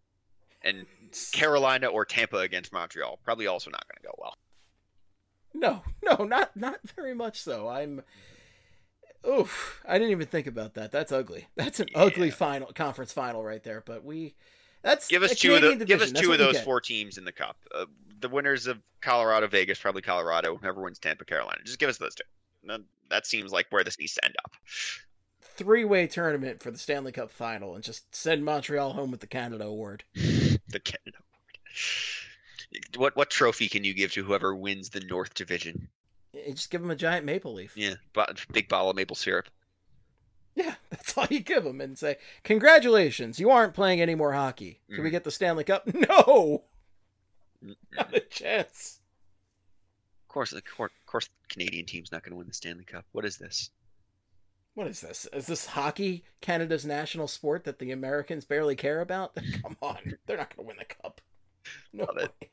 And Carolina or Tampa against Montreal, probably also not going to go well. No, no, not not very much so. I'm... Oof, I didn't even think about that. That's ugly. That's an Yeah. ugly final conference final right there, but we... That's Give us a two of Canadian the, give us division. That's two what of you those get. four teams in the cup. Uh, the winners of Colorado Vegas, probably Colorado. Whoever wins Tampa, Carolina. Just give us those two. That, that seems like where this needs to end up. Three-way tournament for the Stanley Cup final and just send Montreal home with the Canada Award. The Canada Award. What what trophy can you give to whoever wins the North Division? You just give them a giant maple leaf. Yeah, but big bottle of maple syrup. Yeah, that's all you give them and say, congratulations, you aren't playing any more hockey. Can Mm. we get the Stanley Cup? No! Not a chance. Of course, of course, of course, the Canadian team's not going to win the Stanley Cup. What is this? What is this? Is this hockey Canada's national sport that the Americans barely care about? Come on, they're not going to win the cup. No Love way. it.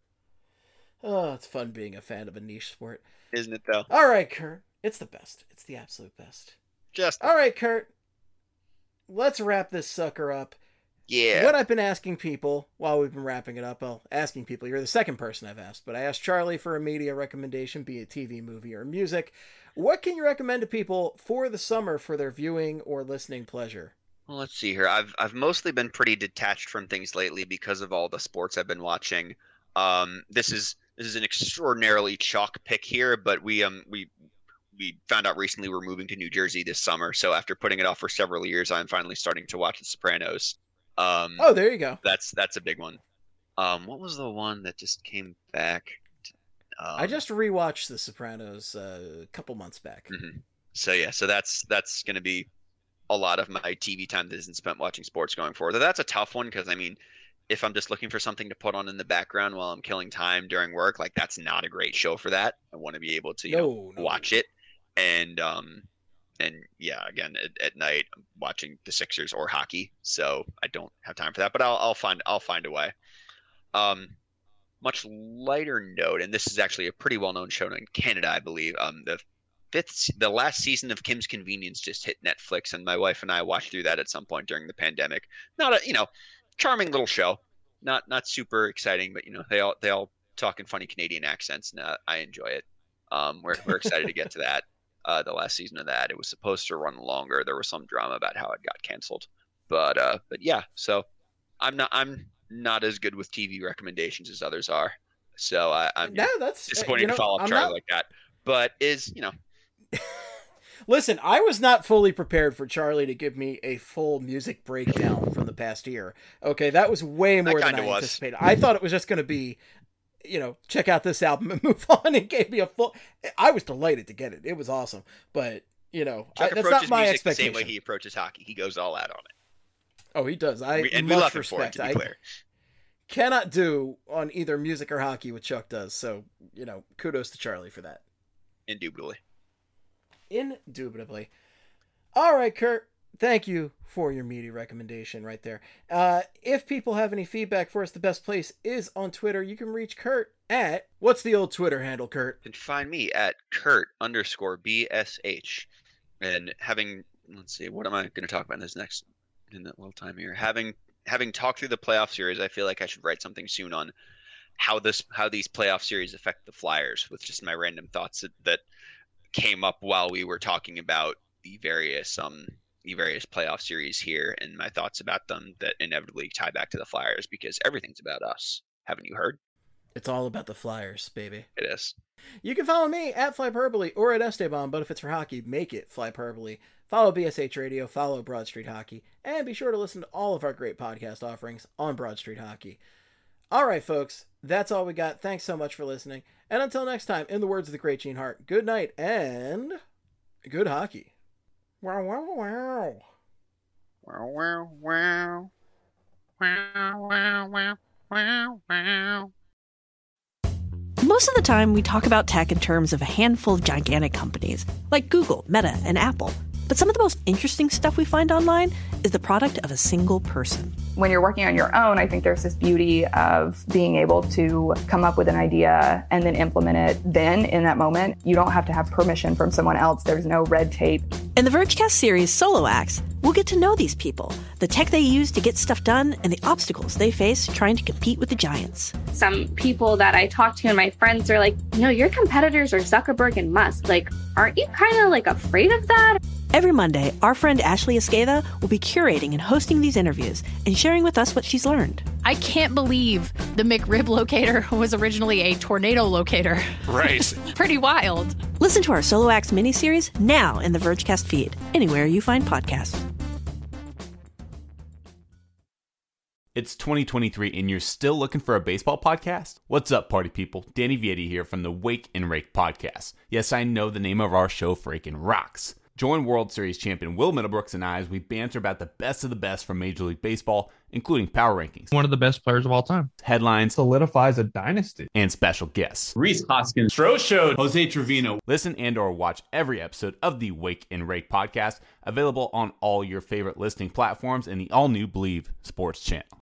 Oh, it's fun being a fan of a niche sport. Isn't it, though? All right, Kurt. It's the best. It's the absolute best. Just, All right, Kurt. Let's wrap this sucker up. yeah. What I've been asking people while we've been wrapping it up, well, asking people, you're the second person I've asked, but I asked Charlie for a media recommendation, be it T V, movie, or music. What can you recommend to people for the summer for their viewing or listening pleasure? Well, let's see here. I've I've mostly been pretty detached from things lately because of all the sports I've been watching. Um, this is this is an extraordinarily chalk pick here, but we um we we found out recently we're moving to New Jersey this summer. So after putting it off for several years, I'm finally starting to watch The Sopranos. Um, Oh, there you go. that's that's a big one. Um, what was the one that just came back? Um, I just rewatched The Sopranos uh, a couple months back. Mhm. So yeah, so that's that's going to be a lot of my T V time that isn't spent watching sports going forward. That's a tough one because I mean, if I'm just looking for something to put on in the background while I'm killing time during work, like that's not a great show for that. I want to be able to you No, know no. watch it, and um, and yeah, again at, at night I'm watching the Sixers or hockey, so I don't have time for that. But I'll I'll find I'll find a way. Um, much lighter note, and this is actually a pretty well-known show in Canada, I believe. Um, the fifth, the last season of Kim's Convenience just hit Netflix, and my wife and I watched through that at some point during the pandemic. Not a, you know, charming little show, not not super exciting, but you know, they all they all talk in funny Canadian accents, and uh, I enjoy it. Um, we're we're excited to get to that. Uh, the last season of that, it was supposed to run longer. There was some drama about how it got canceled, but uh, but yeah. So I'm not I'm not as good with T V recommendations as others are. So I, I'm No, that's disappointed you know, to follow up I'm Charlie not- like that. But is you know. Listen, I was not fully prepared for Charlie to give me a full music breakdown from the past year. Okay, that was way more than I kinda was. anticipated. I thought it was just going to be, you know, check out this album and move on, and gave me a full. I was delighted to get it. It was awesome. But, you know, I, Chuck that's approaches not my music the expectation. same way he approaches hockey. He goes all out on it. Oh, he does. I We- and we much love him for it, respect. to be I clear. cannot do on either music or hockey what Chuck does. So, you know, kudos to Charlie for that. Indubitably. Indubitably. All right, Kurt. Thank you for your media recommendation right there. Uh, if people have any feedback for us, the best place is on Twitter. You can reach Kurt at, what's the old Twitter handle, Kurt? You can find me at Kurt underscore B S H. And having, let's see, what am I going to talk about in this next, in that little time here? Having having talked through the playoff series, I feel like I should write something soon on how this how these playoff series affect the Flyers, with just my random thoughts that, that came up while we were talking about the various um the various playoff series here, and my thoughts about them that inevitably tie back to the Flyers, because everything's about us. Haven't you heard? It's all about the Flyers, baby. It is. You can follow me at Flyperbole or at Esteban, but if it's for hockey, make it Flyperbole. Follow B S H Radio, follow Broad Street Hockey, and be sure to listen to all of our great podcast offerings on Broad Street Hockey. All right, folks, that's all we got. Thanks so much for listening. And until next time, in the words of the great Gene Hart, good night and good hockey. Wow, wow, wow. Wow, wow, wow. Wow, wow, wow, wow, wow. Most of the time, we talk about tech in terms of a handful of gigantic companies, like Google, Meta, and Apple. But some of the most interesting stuff we find online is the product of a single person. When you're working on your own, I think there's this beauty of being able to come up with an idea and then implement it then in that moment. You don't have to have permission from someone else. There's no red tape. In the Vergecast series Solo Acts, we'll get to know these people, the tech they use to get stuff done, and the obstacles they face trying to compete with the giants. Some people that I talk to and my friends are like, you know, your competitors are Zuckerberg and Musk. Like, aren't you kind of like afraid of that? Every Monday, our friend Ashley Esqueda will be curating and hosting these interviews and sharing with us what she's learned. I can't believe the McRib locator was originally a tornado locator. Right. Pretty wild. Listen to our Solo Acts miniseries now in the Vergecast feed, anywhere you find podcasts. It's twenty twenty-three and you're still looking for a baseball podcast? What's up, party people? Danny Vietti here from the Wake and Rake podcast. Yes, I know the name of our show freaking rocks. Join World Series champion Will Middlebrooks and I as we banter about the best of the best from Major League Baseball, including power rankings, one of the best players of all time, headlines, solidifies a dynasty, and special guests. Rhys Hoskins, Stro Show, Jose Trevino. Listen and or watch every episode of the Wake and Rake podcast, available on all your favorite listening platforms and the all-new Believe Sports channel.